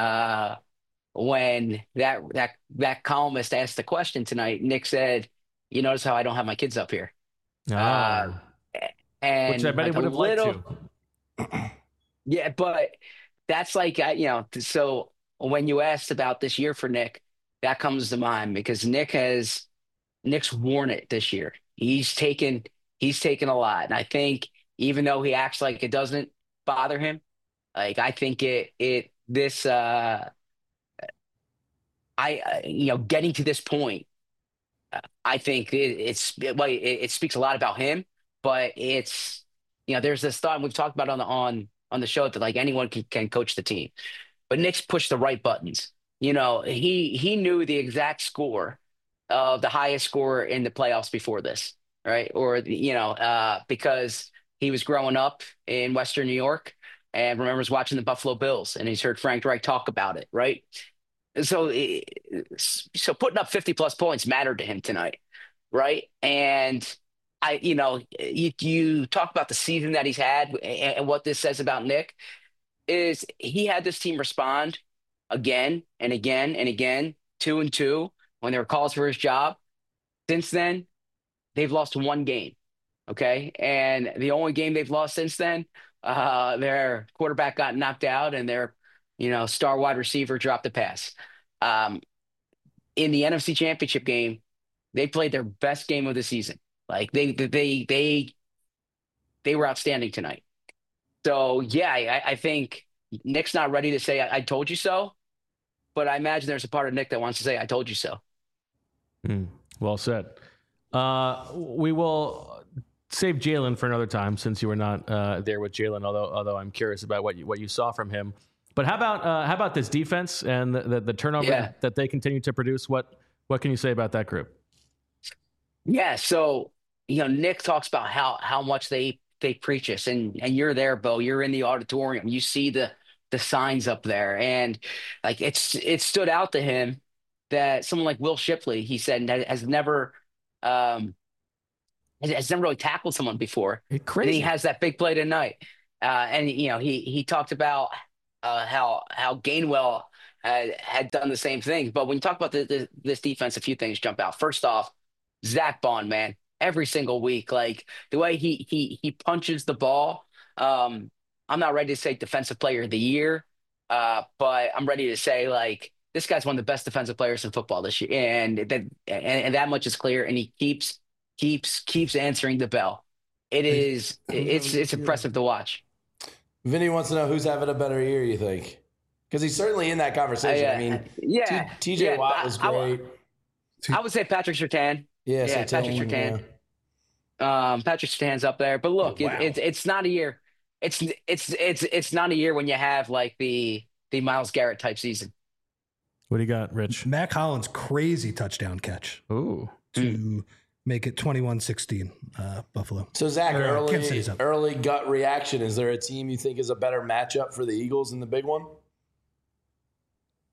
when that columnist asked the question tonight, Nick said, "You notice how I don't have my kids up here?" And which I bet he would have liked to. Yeah, but that's so when you asked about this year for Nick, that comes to mind because Nick's worn it this year. He's taken a lot. And I think even though he acts like it doesn't bother him, like I think getting to this point, I think it speaks a lot about him, but it's, there's this thought, and we've talked about on the show, that like anyone can coach the team, but Nick's pushed the right buttons. He knew the exact score of the highest score in the playoffs before this, right? Or because he was growing up in Western New York and remembers watching the Buffalo Bills, and he's heard Frank Reich talk about it, right? So putting up 50+ points mattered to him tonight, right? And you talk about the season that he's had, and what this says about Nick is he had this team respond again and again and again, 2-2 when there were calls for his job. Since then, they've lost one game. Okay. And the only game they've lost since then, their quarterback got knocked out and their, star wide receiver dropped the pass. In the NFC Championship game, they played their best game of the season. Like they were outstanding tonight. So yeah, I think Nick's not ready to say I told you so, but I imagine there's a part of Nick that wants to say I told you so. Well said. We will save Jalen for another time since you were not there with Jalen. Although I'm curious about what you saw from him. But how about this defense and the turnover that they continue to produce? What can you say about that group? Yeah, so Nick talks about how much they preach us, and you're there, Bo. You're in the auditorium. You see the signs up there, and like it stood out to him that someone like Will Shipley, he said, has never really tackled someone before. Crazy. And he has that big play tonight, and he talked about how Gainwell had done the same thing. But when you talk about this defense, a few things jump out. First off, Zach Bond, man, every single week, like the way he punches the ball. I'm not ready to say defensive player of the year, but I'm ready to say like this guy's one of the best defensive players in football this year, and that much is clear. And he keeps answering the bell. It's impressive to watch. Vinny wants to know who's having a better year, you think? Because he's certainly in that conversation. TJ Watt was great. I would say Patrick Surtain. Yeah, Patrick Surtain. Yeah. Patrick Surtain's up there. But look, it's not a year. It's not a year when you have like the Myles Garrett type season. What do you got, Rich? Mac Hollins' crazy touchdown catch. Ooh. To make it 21-16, Buffalo. So, Zach, early gut reaction. Is there a team you think is a better matchup for the Eagles in the big one?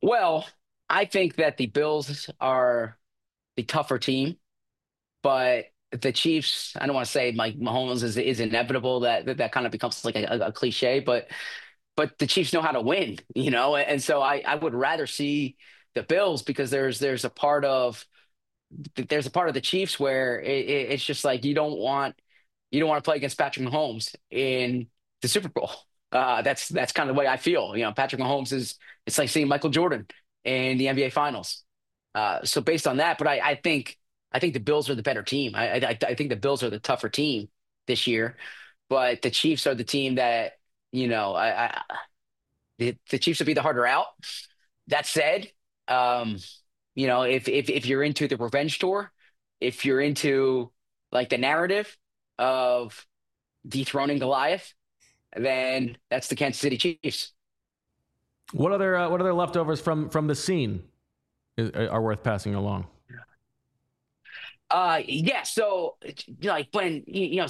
Well, I think that the Bills are the tougher team, but the Chiefs, I don't want to say Mike Mahomes is inevitable. That kind of becomes like a cliche, but the Chiefs know how to win, and so I would rather see the Bills because there's a part of the Chiefs where it's just like you don't want to play against Patrick Mahomes in the Super Bowl. That's kind of the way I feel. Patrick Mahomes it's like seeing Michael Jordan in the NBA Finals. So based on that, but I think the Bills are the better team. I think the Bills are the tougher team this year, but the Chiefs are the team that the Chiefs would be the harder out. That said, if you're into the revenge tour, if you're into like the narrative of dethroning Goliath, then that's the Kansas City Chiefs. What other leftovers from the scene are worth passing along? Yeah. So like when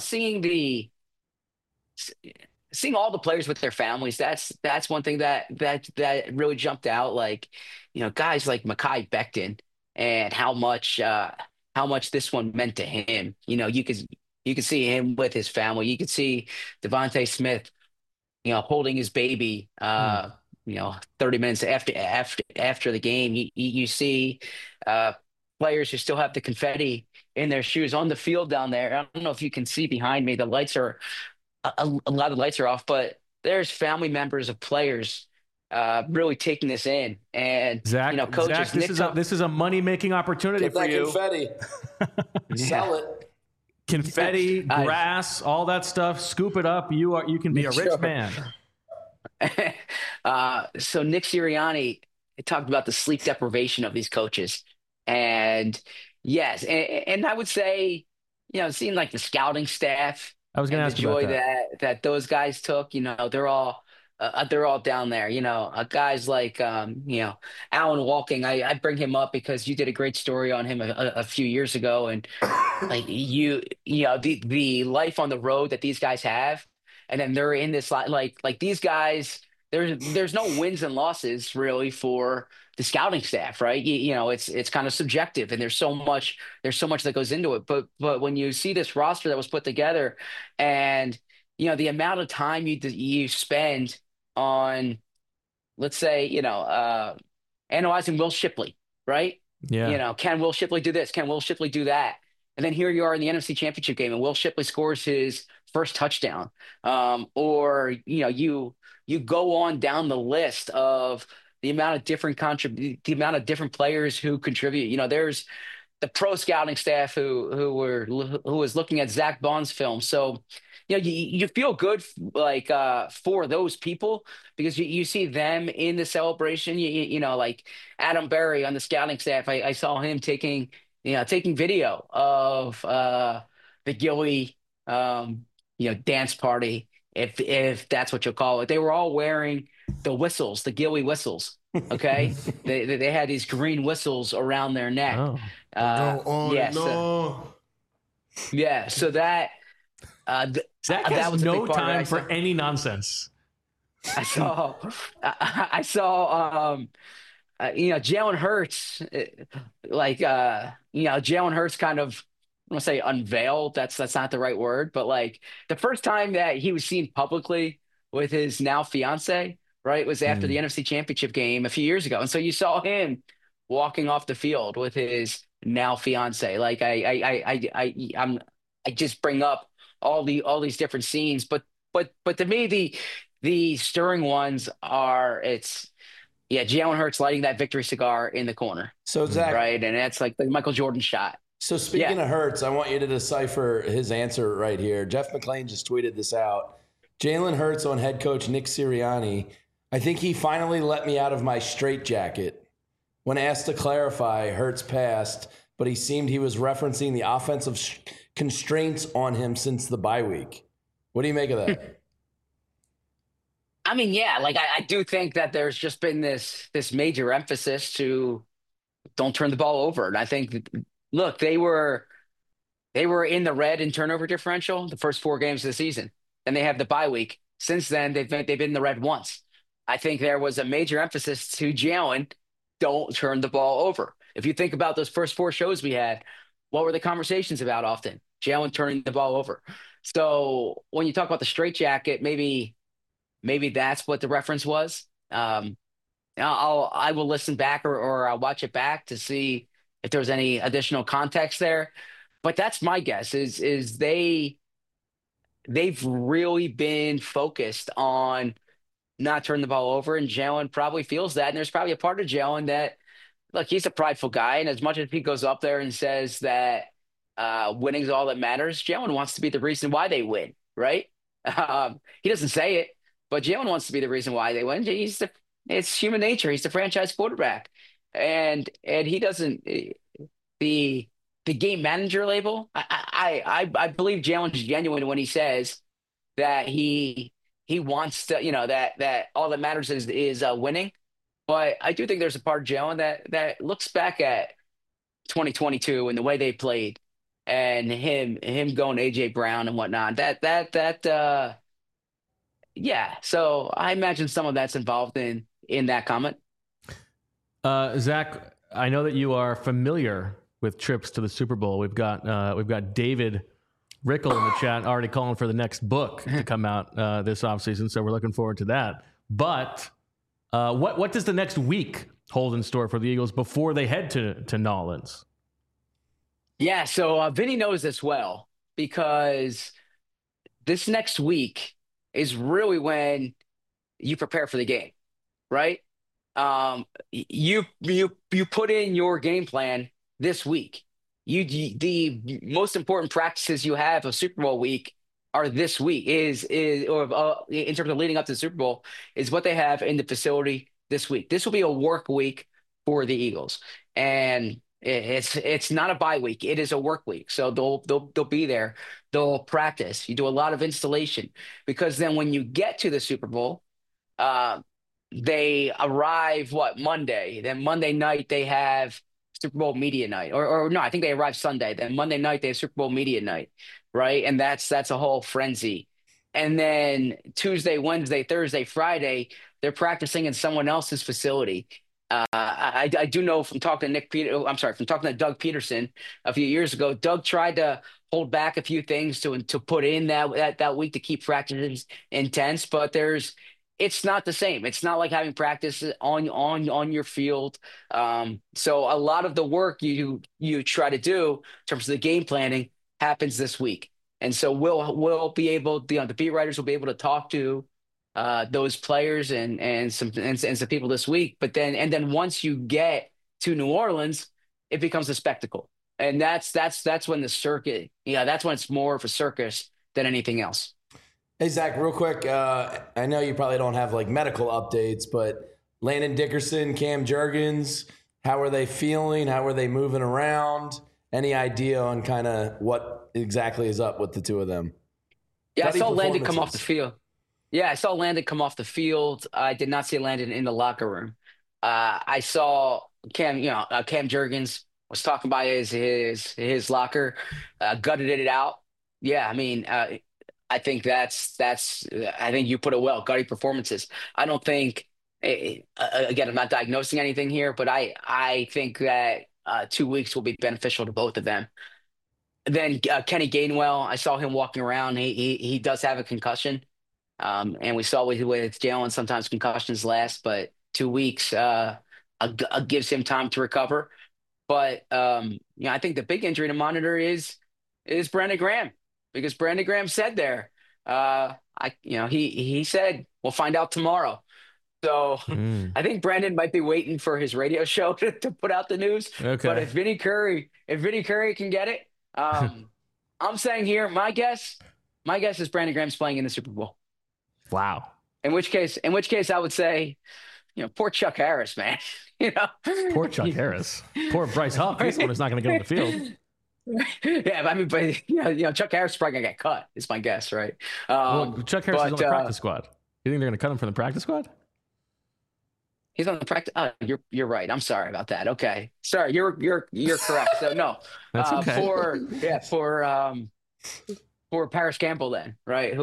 seeing all the players with their families, that's one thing that really jumped out. Like, guys like Mekhi Becton and how much this one meant to him. You could see him with his family. You could see Devontae Smith, holding his baby. 30 minutes after the game, you see players who still have the confetti in their shoes on the field down there. I don't know if you can see behind me. The lights are a lot of lights are off, but there's family members of players really taking this in. And Zach, coaches. Zach, this is a money making opportunity Get for that you. confetti. Sell it. Confetti, grass, all that stuff. Scoop it up. You can be a rich man. So Nick Sirianni talked about the sleep deprivation of these coaches, and yes, and I would say, seeing like the scouting staff. I was going to ask you about that those guys took. They're all down there. Guys like Alan Walking. I bring him up because you did a great story on him a few years ago, and like the life on the road that these guys have, and then they're in this like these guys. There's no wins and losses really for the scouting staff, right? It's kind of subjective, and there's so much that goes into it. But when you see this roster that was put together, and the amount of time you spend on, let's say, analyzing Will Shipley, right? Yeah. Can Will Shipley do this? Can Will Shipley do that? And then here you are in the NFC Championship game, and Will Shipley scores his first touchdown. Or you go on down the list of the amount of different players who contribute. There's the pro scouting staff who was looking at Zach Bond's film. So you feel good like for those people because you see them in the celebration. Like Adam Berry on the scouting staff. I saw him taking video of the Gilly dance party, if that's what you'll call it. They were all wearing the whistles, the Gilly whistles. Okay, they had these green whistles around their neck. Go on and on. Yeah, so that Zach that has was a no big part of it. time for any nonsense. I saw Jalen Hurts, Jalen Hurts kind of, I don't want to say unveiled. That's not the right word, but like the first time that he was seen publicly with his now fiance, right, was after the NFC Championship game a few years ago, and so you saw him walking off the field with his now fiance. Like I just bring up all these different scenes, but to me the stirring ones are Jalen Hurts lighting that victory cigar in the corner. So Zach, right, and that's like the Michael Jordan shot. So speaking of Hurts, I want you to decipher his answer right here. Jeff McClain just tweeted this out. Jalen Hurts on head coach Nick Sirianni. I think he finally let me out of my straitjacket. When asked to clarify, Hurts passed, but he seemed he was referencing the offensive constraints on him since the bye week. What do you make of that? I mean, yeah, like I do think that there's just been this major emphasis to don't turn the ball over. And I think, look, they were in the red in turnover differential the first 4 games of the season. Then they have the bye week. Since then, they've been in the red once. I think there was a major emphasis to Jalen don't turn the ball over. If you think about those first 4 shows we had, what were the conversations about often? Jalen turning the ball over. So when you talk about the straitjacket, maybe that's what the reference was. I will listen back or I'll watch it back to see if there's any additional context there. But that's my guess is they've really been focused on not turning the ball over, and Jalen probably feels that. And there's probably a part of Jalen that, look, he's a prideful guy, and as much as he goes up there and says that winning is all that matters, Jalen wants to be the reason why they win, right? He doesn't say it, but Jalen wants to be the reason why they win. It's human nature. He's the franchise quarterback, and he doesn't the game manager label. I believe Jalen's genuine when he says that he wants to, that all that matters is winning. But I do think there's a part of Jalen that looks back at 2022 and the way they played, and him going AJ Brown and whatnot. Yeah. So I imagine some of that's involved in that comment. Zach, I know that you are familiar with trips to the Super Bowl. We've got David Rickle in the chat already calling for the next book to come out this offseason, so we're looking forward to that. But what does the next week hold in store for the Eagles before they head to New Orleans? Yeah, so Vinny knows this well, because this next week is really when you prepare for the game, right? You put in your game plan this week. The most important practices you have of Super Bowl week are this week in terms of leading up to the Super Bowl is what they have in the facility this week. This will be a work week for the Eagles, and it's not a bye week. It is a work week. So they'll be there. They'll practice. You do a lot of installation, because then when you get to the Super Bowl, they arrive Monday. Then Monday night they have Super Bowl media night, or no, I think they arrive Sunday. Then Monday night they have Super Bowl media night, right? And that's a whole frenzy. And then Tuesday, Wednesday, Thursday, Friday, they're practicing in someone else's facility. I do know from talking to Doug Peterson a few years ago. Doug tried to hold back a few things to put in that week to keep practices intense, but it's not the same. It's not like having practice on your field. So a lot of the work you try to do in terms of the game planning happens this week. And so we'll be able, the beat writers will be able to talk to those players and some people this week. But then once you get to New Orleans, it becomes a spectacle. And that's when the circuit, that's when it's more of a circus than anything else. Hey, Zach, real quick. I know you probably don't have medical updates, but Landon Dickerson, Cam Jurgens, how are they feeling? How are they moving around? Any idea on kind of what exactly is up with the two of them? Yeah, I saw Landon come off the field. I did not see Landon in the locker room. I saw Cam, Cam Jurgens was talking about his locker, gutted it out. Yeah, I mean, I think I think you put it well. Gutty performances. I don't think. Again, I'm not diagnosing anything here, but I think that 2 weeks will be beneficial to both of them. Then Kenny Gainwell, I saw him walking around. He does have a concussion, and we saw with Jalen sometimes concussions last, but 2 weeks gives him time to recover. But I think the big injury to monitor is Brandon Graham, because Brandon Graham said there, he said we'll find out tomorrow. So I think Brandon might be waiting for his radio show to put out the news. Okay. But if Vinny Curry can get it, I'm saying here, my guess is Brandon Graham's playing in the Super Bowl. Wow. In which case I would say, poor Chuck Harris, man. Poor Chuck Harris. Poor Bryce Huff. He's the one who's not going to get on the field. Yeah, but Chuck Harris is probably gonna get cut. Is my guess, right? Chuck Harris is on the practice squad. You think they're gonna cut him from the practice squad? He's on the practice. You're right. I'm sorry about that. Okay, sorry. You're correct. So no, that's okay. For Paris Campbell then, right?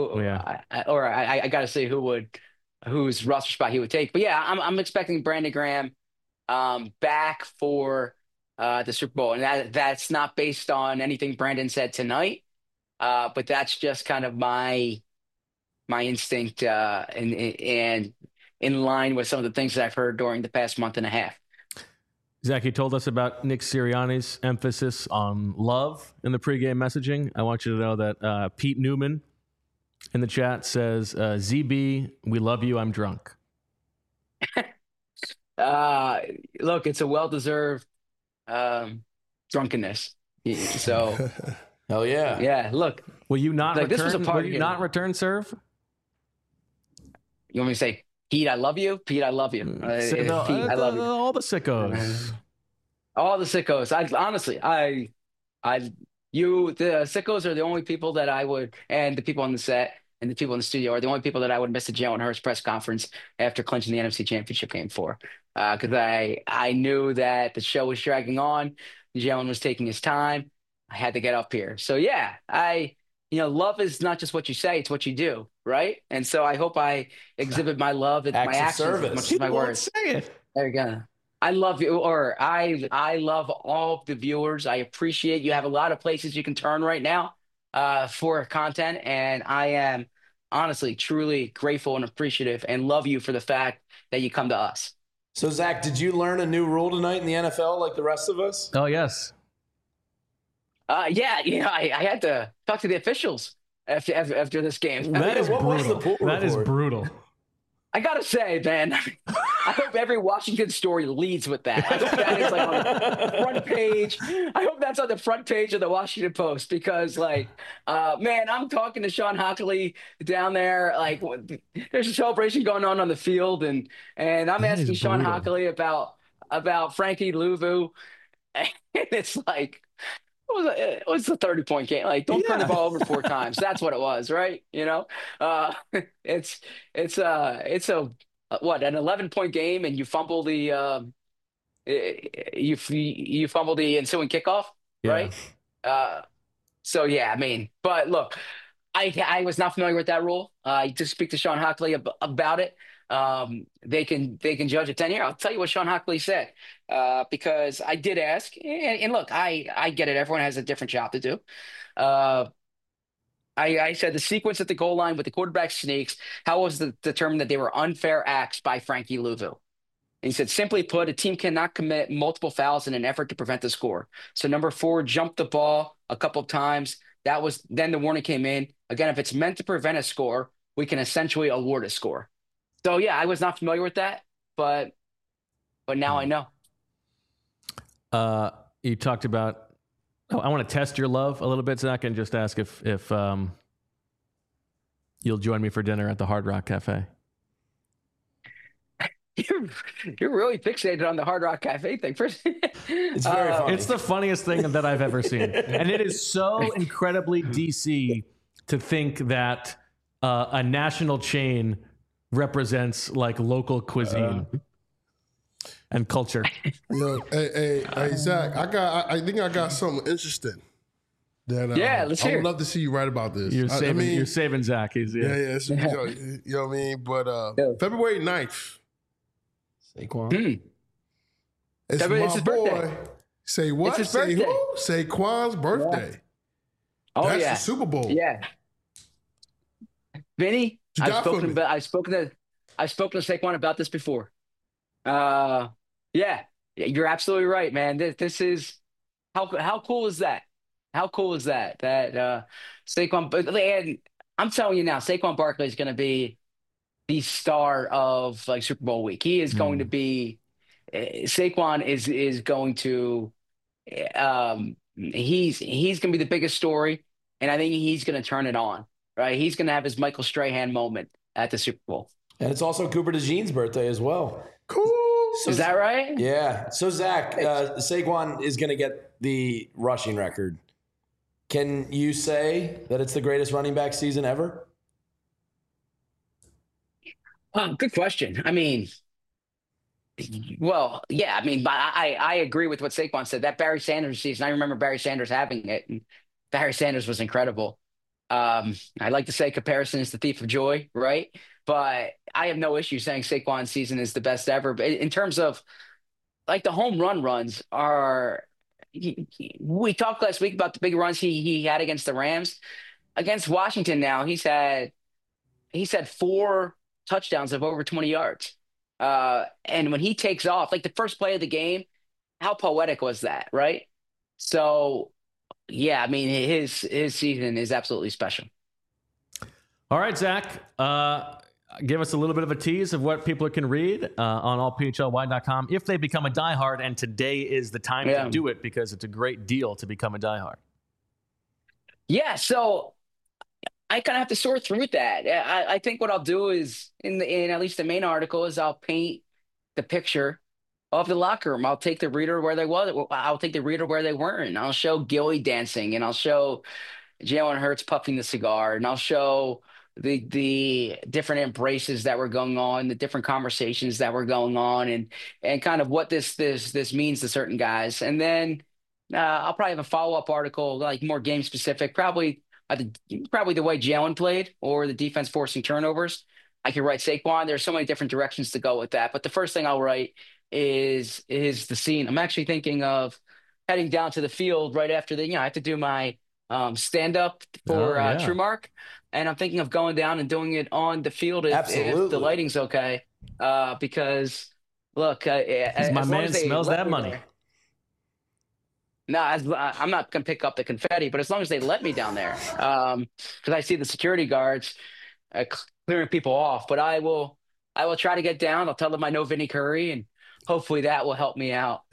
I got to see whose roster spot he would take. But yeah, I'm expecting Brandon Graham back for the Super Bowl. And that's not based on anything Brandon said tonight, but that's just kind of my instinct and in line with some of the things that I've heard during the past month and a half. Zach, you told us about Nick Sirianni's emphasis on love in the pregame messaging. I want you to know that Pete Newman in the chat says, ZB, we love you, I'm drunk. Look, it's a well-deserved drunkenness. So, hell yeah. Yeah, look. Will you not like, return, this was a will you not return serve? You want me to say, Pete, I love you? Pete, I love you. Pete, I love you. All the sickos. All the sickos. The sickos are the only people that I would, and the people on the set and the people in the studio are the only people that I would miss a Jalen Hurts press conference after clinching the NFC Championship game for. Because I knew that the show was dragging on. Jalen was taking his time. I had to get up here. So, yeah, love is not just what you say, it's what you do, right? And so I hope I exhibit my love and my actions as much as my words. Say it. There you go. I love you, or I love all of the viewers. I appreciate you have a lot of places you can turn right now for content, and I am honestly, truly grateful and appreciative and love you for the fact that you come to us. So, Zach, did you learn a new rule tonight in the NFL like the rest of us? Oh, yes. Yeah, I had to talk to the officials after this game. That is brutal. That is brutal. I gotta say, man, I hope every Washington story leads with that. I hope that is like on the front page. I hope that's on the front page of the Washington Post because, man, I'm talking to Sean Hockley down there. Like, there's a celebration going on the field, and I'm asking Sean Hockley about Frankie Louvu, and it's like, it was a 30-point game. Like, don't turn the ball over 4 times. That's what it was, right? It's an 11-point game, and you fumble the you fumble the ensuing kickoff, right? So yeah, I mean, but look, I was not familiar with that rule. I just speak to Sean Hockley about it. They can judge a 10-year. I'll tell you what Sean Hockley said, because I did ask, and look, I get it. Everyone has a different job to do. I said the sequence at the goal line with the quarterback sneaks, how was it determined that they were unfair acts by Frankie Louvu? And he said, simply put, a team cannot commit multiple fouls in an effort to prevent the score. So number 4 jumped the ball a couple of times. Then the warning came in. Again, if it's meant to prevent a score, we can essentially award a score. So, yeah, I was not familiar with that, but now I know. You talked about I want to test your love a little bit, Zach, and just ask if you'll join me for dinner at the Hard Rock Cafe. You're really fixated on the Hard Rock Cafe thing. It's very funny. It's the funniest thing that I've ever seen. And it is so incredibly DC to think that a national chain represents like local cuisine and culture. Hey, Zach, I think I got something interesting. That, let's hear. I would love to see you write about this. You're saving Zach. You know what I mean? But February 9th. Saquon. It's my boy. Say what? It's his Say birthday. who? Saquon's birthday. Oh, That's yeah. the Super Bowl. Yeah. Vinny, I've spoken to Saquon about this before. Yeah, you're absolutely right, man. This is how cool is that? How cool is that? That Saquon, and I'm telling you now, Saquon Barkley is going to be the star of like Super Bowl week. He is going to be. Saquon is going to. He's going to be the biggest story, and I think he's going to turn it on. Right, he's going to have his Michael Strahan moment at the Super Bowl, and it's also Cooper DeJean's birthday as well. Cool. Is that right? Yeah. So Zach, Saquon is going to get the rushing record. Can you say that it's the greatest running back season ever? Good question. I mean, well, yeah. I mean, I agree with what Saquon said. That Barry Sanders season, I remember Barry Sanders having it, and Barry Sanders was incredible. I like to say comparison is the thief of joy, right? But I have no issue saying Saquon's season is the best ever. But in terms of like the home runs are. We talked last week about the big runs he had against the Rams. Against Washington, now he's had 4 touchdowns of over 20 yards. And when he takes off, like the first play of the game, how poetic was that, right? So, yeah, I mean, his season is absolutely special. All right, Zach, give us a little bit of a tease of what people can read on allphlwide.com if they become a diehard, and today is the time to do it because it's a great deal to become a diehard. Yeah, so I kind of have to sort through that. I think what I'll do is, in at least the main article, is I'll paint the picture of the locker room. I'll take the reader where they was. I'll take the reader where they weren't. I'll show Gilly dancing, and I'll show Jalen Hurts puffing the cigar, and I'll show the different embraces that were going on, the different conversations that were going on, and kind of what this means to certain guys. And then I'll probably have a follow-up article, like more game specific, probably the way Jalen played or the defense forcing turnovers. I could write Saquon. There's so many different directions to go with that. But the first thing I'll write is the scene. I'm actually thinking of heading down to the field right after I have to do my stand-up for TrueMark. And I'm thinking of going down and doing it on the field if the lighting's okay. Because, look, my man smells that money. No, I'm not going to pick up the confetti, but as long as they let me down there, because I see the security guards clearing people off. But I will try to get down. I'll tell them I know Vinny Curry, and hopefully that will help me out.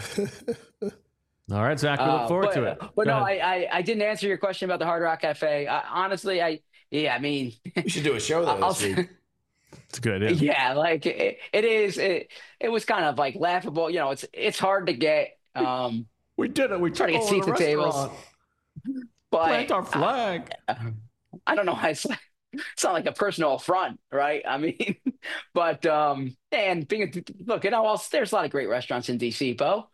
All right, Zach, we look forward to it. But no, I didn't answer your question about the Hard Rock Cafe. Honestly, I mean, we should do a show though this week. It's good. Yeah, like it is. It was kind of like laughable. It's hard to get. We did it. We tried to get seats at tables. But plant our flag. I don't know why it's not like a personal affront, right? I mean, but and there's a lot of great restaurants in DC, Bo.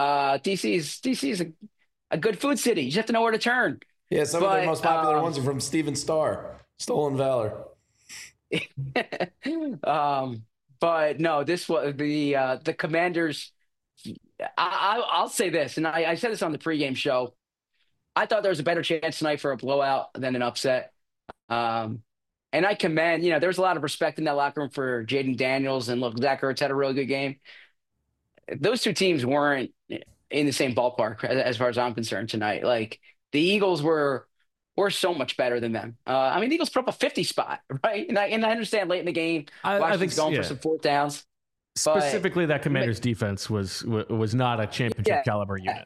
DC is a good food city. You just have to know where to turn. Yeah, some of their most popular ones are from Steven Starr, Stolen Valor. But no, this was the Commanders. I'll say this, and I said this on the pregame show. I thought there was a better chance tonight for a blowout than an upset. And I commend, there was a lot of respect in that locker room for Jaden Daniels, and look, Zach Ertz had a really good game. Those two teams weren't in the same ballpark as far as I'm concerned tonight. Like the Eagles were so much better than them. I mean, the Eagles put up a 50 spot, right? And I understand late in the game, Washington's going for some fourth downs. Specifically, that Commanders defense was not a championship caliber unit.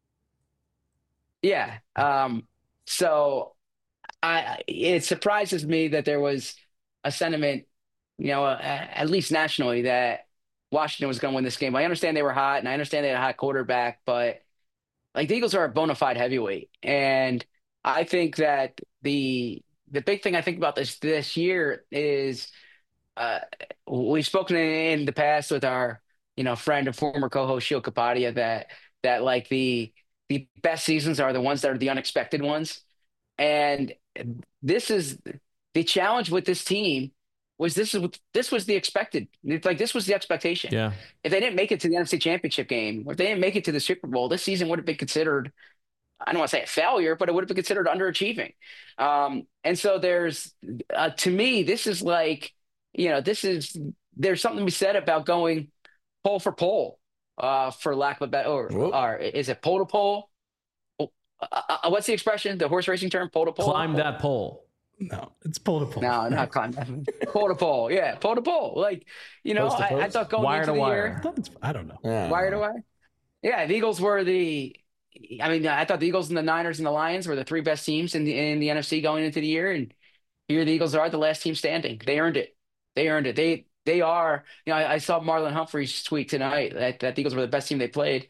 Yeah. So it surprises me that there was a sentiment, at least nationally, that Washington was going to win this game. I understand they were hot, and I understand they had a hot quarterback, but like the Eagles are a bona fide heavyweight, and I think that the big thing I think about this year is. We've spoken in the past with our, friend and former co-host Sheil Kapadia that like the best seasons are the ones that are the unexpected ones. And this is the challenge with this team this was the expected, like this was the expectation. Yeah. If they didn't make it to the NFC Championship game, or if they didn't make it to the Super Bowl, this season would have been considered, I don't want to say a failure, but it would have been considered underachieving. And so there's, to me, this is like, there's something to be said about going pole for pole, for lack of a better, or is it pole to pole? What's the expression? The horse racing term, pole to pole? Climb that pole. No, it's pole to pole. No, not climb that. Pole to pole. Yeah, pole to pole. Like, I thought going wire into to the wire. year. I don't know. Yeah. Wire to wire? Yeah, the Eagles were I thought the Eagles and the Niners and the Lions were the three best teams in the NFC going into the year. And here the Eagles are the last team standing. They earned it. They are, I saw Marlon Humphrey's tweet tonight that the Eagles were the best team they played.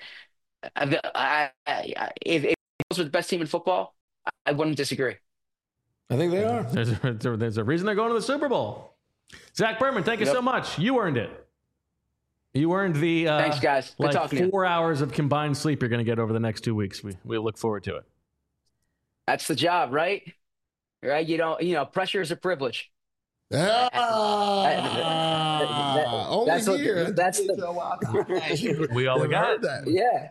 If Eagles were the best team in football, I wouldn't disagree. I think they are. There's a reason they're going to the Super Bowl. Zach Berman, thank you so much. You earned it. You earned the thanks, guys. Good talking to you. 4 hours of combined sleep you're going to get over the next 2 weeks. We look forward to it. That's the job, right? Right? Pressure is a privilege. We all got that.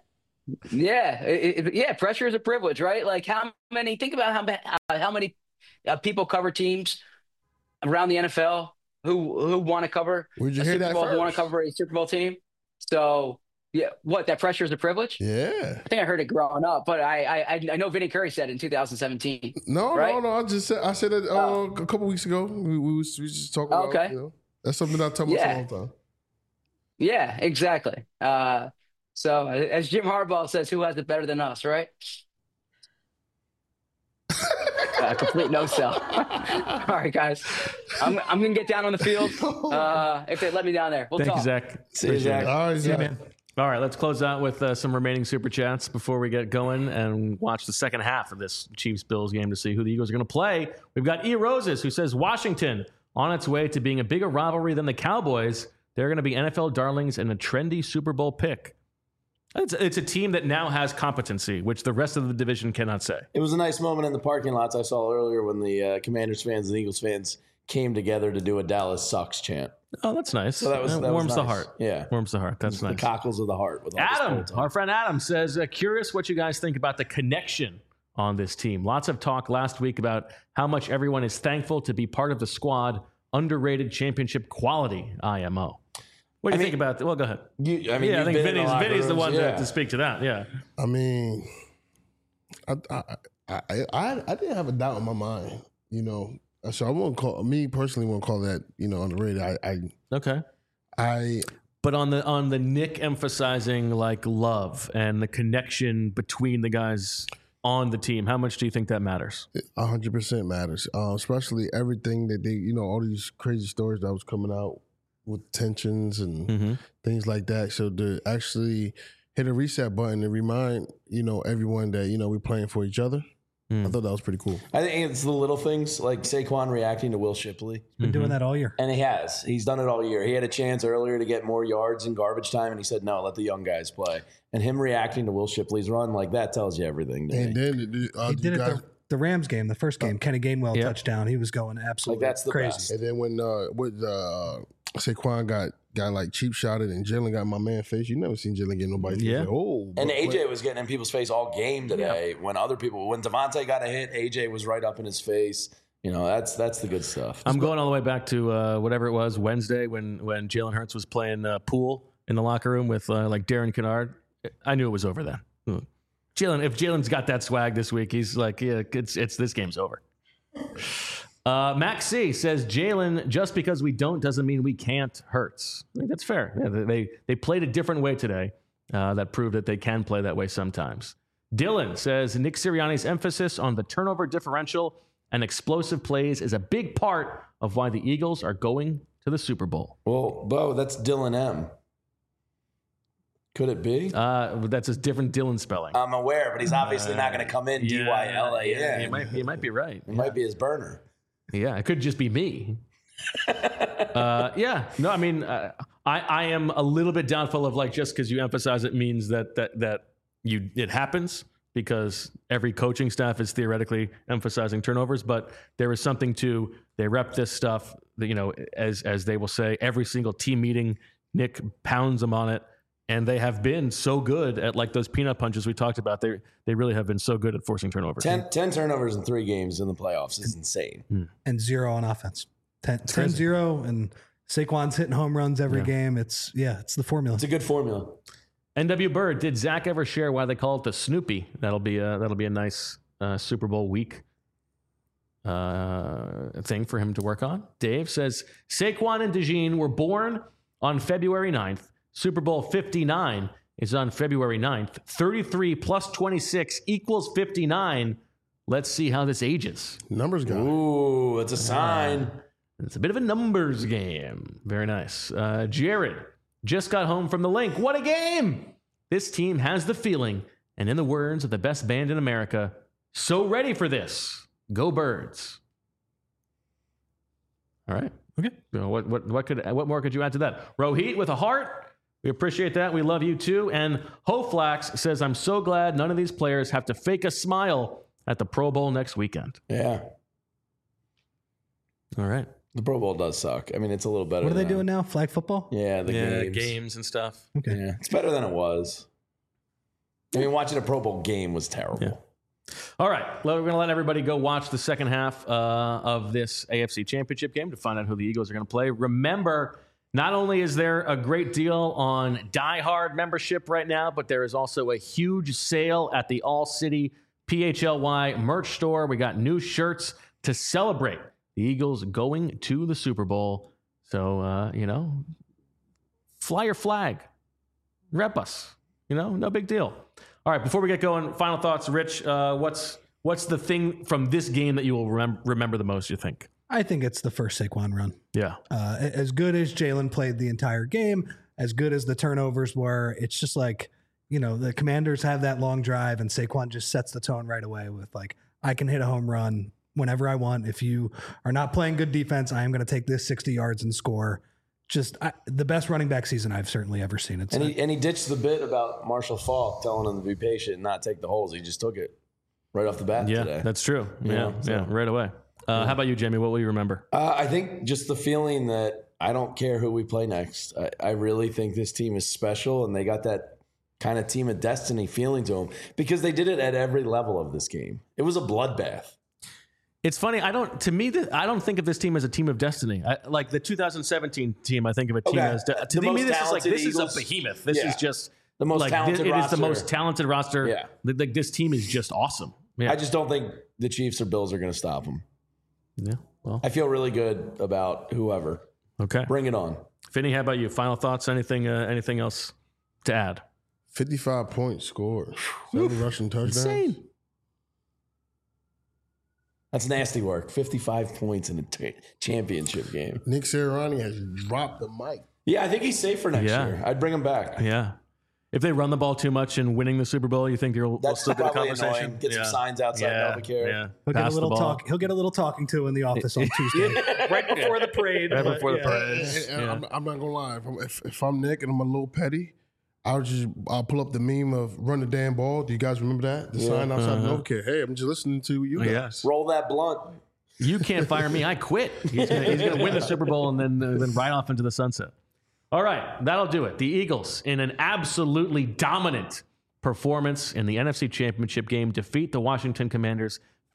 Yeah. Pressure is a privilege, right? Like think about how many people cover teams around the NFL who want to cover Where'd you hear that Bowl, first? who want to cover a Super Bowl team. So yeah, that pressure is a privilege? Yeah. I think I heard it growing up, but I know Vinny Curry said it in 2017. No. I said it Oh. a couple weeks ago. We just talking about. Okay. That's something I tell myself all the time. Yeah, exactly. So as Jim Harbaugh says, who has it better than us, right? A complete no sell. All right, guys. I'm gonna get down on the field. If they let me down there, we'll Thank talk. you, Zach. See you, Zach. All right, Zach. man. All right, let's close out with some remaining super chats before we get going and watch the second half of this Chiefs-Bills game to see who the Eagles are going to play. We've got E. Roses, who says Washington on its way to being a bigger rivalry than the Cowboys. They're going to be NFL darlings and a trendy Super Bowl pick. It's a team that now has competency, which the rest of the division cannot say. It was a nice moment in the parking lots I saw earlier when the Commanders fans and Eagles fans came together to do a Dallas sucks chant. Oh, that's nice. So that warms was the nice. heart. Yeah. Warms the heart. That's The nice. cockles of the heart. With all Adam, this our friend Adam, says, curious what you guys think about the connection on this team. Lots of talk last week about how much everyone is thankful to be part of the squad. Underrated championship quality, IMO. What do you think about that? Well, go ahead. I I think Vinny's the one yeah. to speak to that. Yeah. I mean, I didn't have a doubt in my mind, So I won't call that, underrated. Okay. But on the Nick emphasizing like love and the connection between the guys on the team, how much do you think that matters? 100% matters, especially everything that they, all these crazy stories that was coming out with tensions and things like that. So to actually hit a reset button and remind, everyone that, we're playing for each other. I thought that was pretty cool. I think it's the little things like Saquon reacting to Will Shipley. Been doing that all year. And he has. He's done it all year. He had a chance earlier to get more yards in garbage time, and he said, no, let the young guys play. And him reacting to Will Shipley's run, like that tells you everything to And me. then He did it the Rams game, the first game. Kenny Gainwell touchdown. He was going absolutely Like that's the crazy. best. And then when Saquon got like cheap shotted and Jalen got in my man face, you never seen Jalen get nobody. Yeah. And AJ was getting in people's face all game today. When Devontae got a hit, AJ was right up in his face. That's the good stuff. I'm going all the way back to whatever it was, Wednesday, when Jalen Hurts was playing pool in the locker room with like Darren Kennard. I knew it was over then. If Jalen's got that swag this week, he's like, yeah, it's this game's over. Max C says Jalen, just because we don't doesn't mean we can't Hurts. I think that's fair. Yeah, they played a different way today. That proved that they can play that way sometimes. Dylan says Nick Sirianni's emphasis on the turnover differential and explosive plays is a big part of why the Eagles are going to the Super Bowl. Well, Bo, that's Dylan M. Could it be? That's a different Dylan spelling. I'm aware, but he's obviously not going to come in D-Y-L-A-N. He might be right. It might be his burner. Yeah, it could just be me. I am a little bit doubtful of like just because you emphasize it means that it happens, because every coaching staff is theoretically emphasizing turnovers, but there is something to they rep this stuff that, as they will say, every single team meeting, Nick pounds them on it. And they have been so good at like those peanut punches we talked about. They really have been so good at forcing turnovers. 10 turnovers in 3 games in the playoffs is insane. And 0 on offense. 10-0, and Saquon's hitting home runs every game. It's the formula. It's a good formula. NW Bird, did Zach ever share why they call it the Snoopy? That'll be a nice Super Bowl week thing for him to work on. Dave says Saquon and DeJean were born on February 9th. Super Bowl 59 is on February 9th. 33 plus 26 equals 59. Let's see how this ages. Numbers guy. Ooh, it's a sign. It's a bit of a numbers game. Very nice. Jared just got home from the Link. What a game! This team has the feeling, and in the words of the best band in America, so ready for this. Go Birds. All right. Okay. What more could you add to that? Rohit with a heart. We appreciate that. We love you too. And Hoflax says, I'm so glad none of these players have to fake a smile at the Pro Bowl next weekend. Yeah. All right. The Pro Bowl does suck. I mean, it's a little better. What are they doing now? Flag football? Yeah, the games and stuff. Okay. Yeah, it's better than it was. I mean, watching a Pro Bowl game was terrible. Yeah. All right. Well, we're going to let everybody go watch the second half of this AFC Championship game to find out who the Eagles are going to play. Remember, not only is there a great deal on Die Hard membership right now, but there is also a huge sale at the All City PHLY merch store. We got new shirts to celebrate the Eagles going to the Super Bowl. So, fly your flag. Rep us. No big deal. All right, before we get going, final thoughts. Rich, what's the thing from this game that you will remember the most, you think? I think it's the first Saquon run. Yeah. As good as Jalen played the entire game, as good as the turnovers were, it's just like, the Commanders have that long drive and Saquon just sets the tone right away with like, I can hit a home run whenever I want. If you are not playing good defense, I am going to take this 60 yards and score. Just the best running back season I've certainly ever seen. And he ditched the bit about Marshall Faulk telling him to be patient and not take the holes. He just took it right off the bat today. Yeah, that's true. Yeah, right away. How about you, Jamie? What will you remember? I think just the feeling that I don't care who we play next. I really think this team is special, and they got that kind of team of destiny feeling to them because they did it at every level of this game. It was a bloodbath. It's funny. I don't think of this team as a team of destiny. Like the 2017 team, I think of a team as to me. This is a behemoth. This is just the most talented roster. It is the most talented roster. Yeah. Like this team is just awesome. Yeah. I just don't think the Chiefs or Bills are going to stop them. Yeah. Well, I feel really good about whoever. Okay. Bring it on. Finney, how about you? Final thoughts? Anything else to add? 55 points scored. 7 rushing touchdowns. Insane. That's nasty work. 55 points in a championship game. Nick Sirianni has dropped the mic. Yeah, I think he's safe for next year. I'd bring him back. Yeah. If they run the ball too much in winning the Super Bowl, you think we'll still get a conversation? Annoying. Get some signs outside Novacare. Yeah. He'll get a little talk. He'll get a little talking to in the office on Tuesday, right before the parade. Right before the parade. I'm not gonna lie. If I'm Nick and I'm a little petty, I'll pull up the meme of run the damn ball. Do you guys remember that? The sign outside of Novacare. Hey, I'm just listening to you guys. Yes. Roll that blunt. You can't fire me. I quit. He's gonna win the Super Bowl and then ride off into the sunset. All right, that'll do it. The Eagles, in an absolutely dominant performance in the NFC Championship game, defeat the Washington Commanders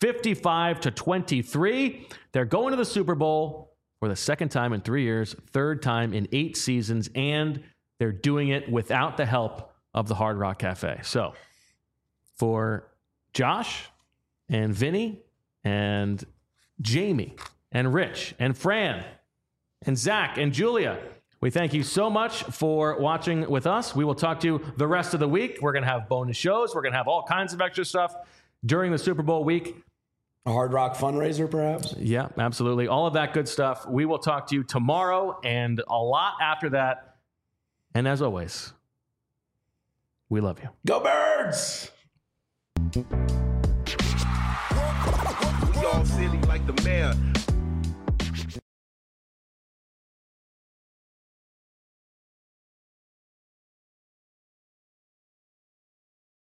55-23. They're going to the Super Bowl for the second time in 3 years, third time in 8 seasons, and they're doing it without the help of the Hard Rock Cafe. So, for Josh and Vinny and Jamie and Rich and Fran and Zach and Julia, we thank you so much for watching with us. We will talk to you the rest of the week. We're going to have bonus shows. We're going to have all kinds of extra stuff during the Super Bowl week. A Hard Rock fundraiser, perhaps? Yeah, absolutely. All of that good stuff. We will talk to you tomorrow and a lot after that. And as always, we love you. Go Birds! We all silly like the mayor.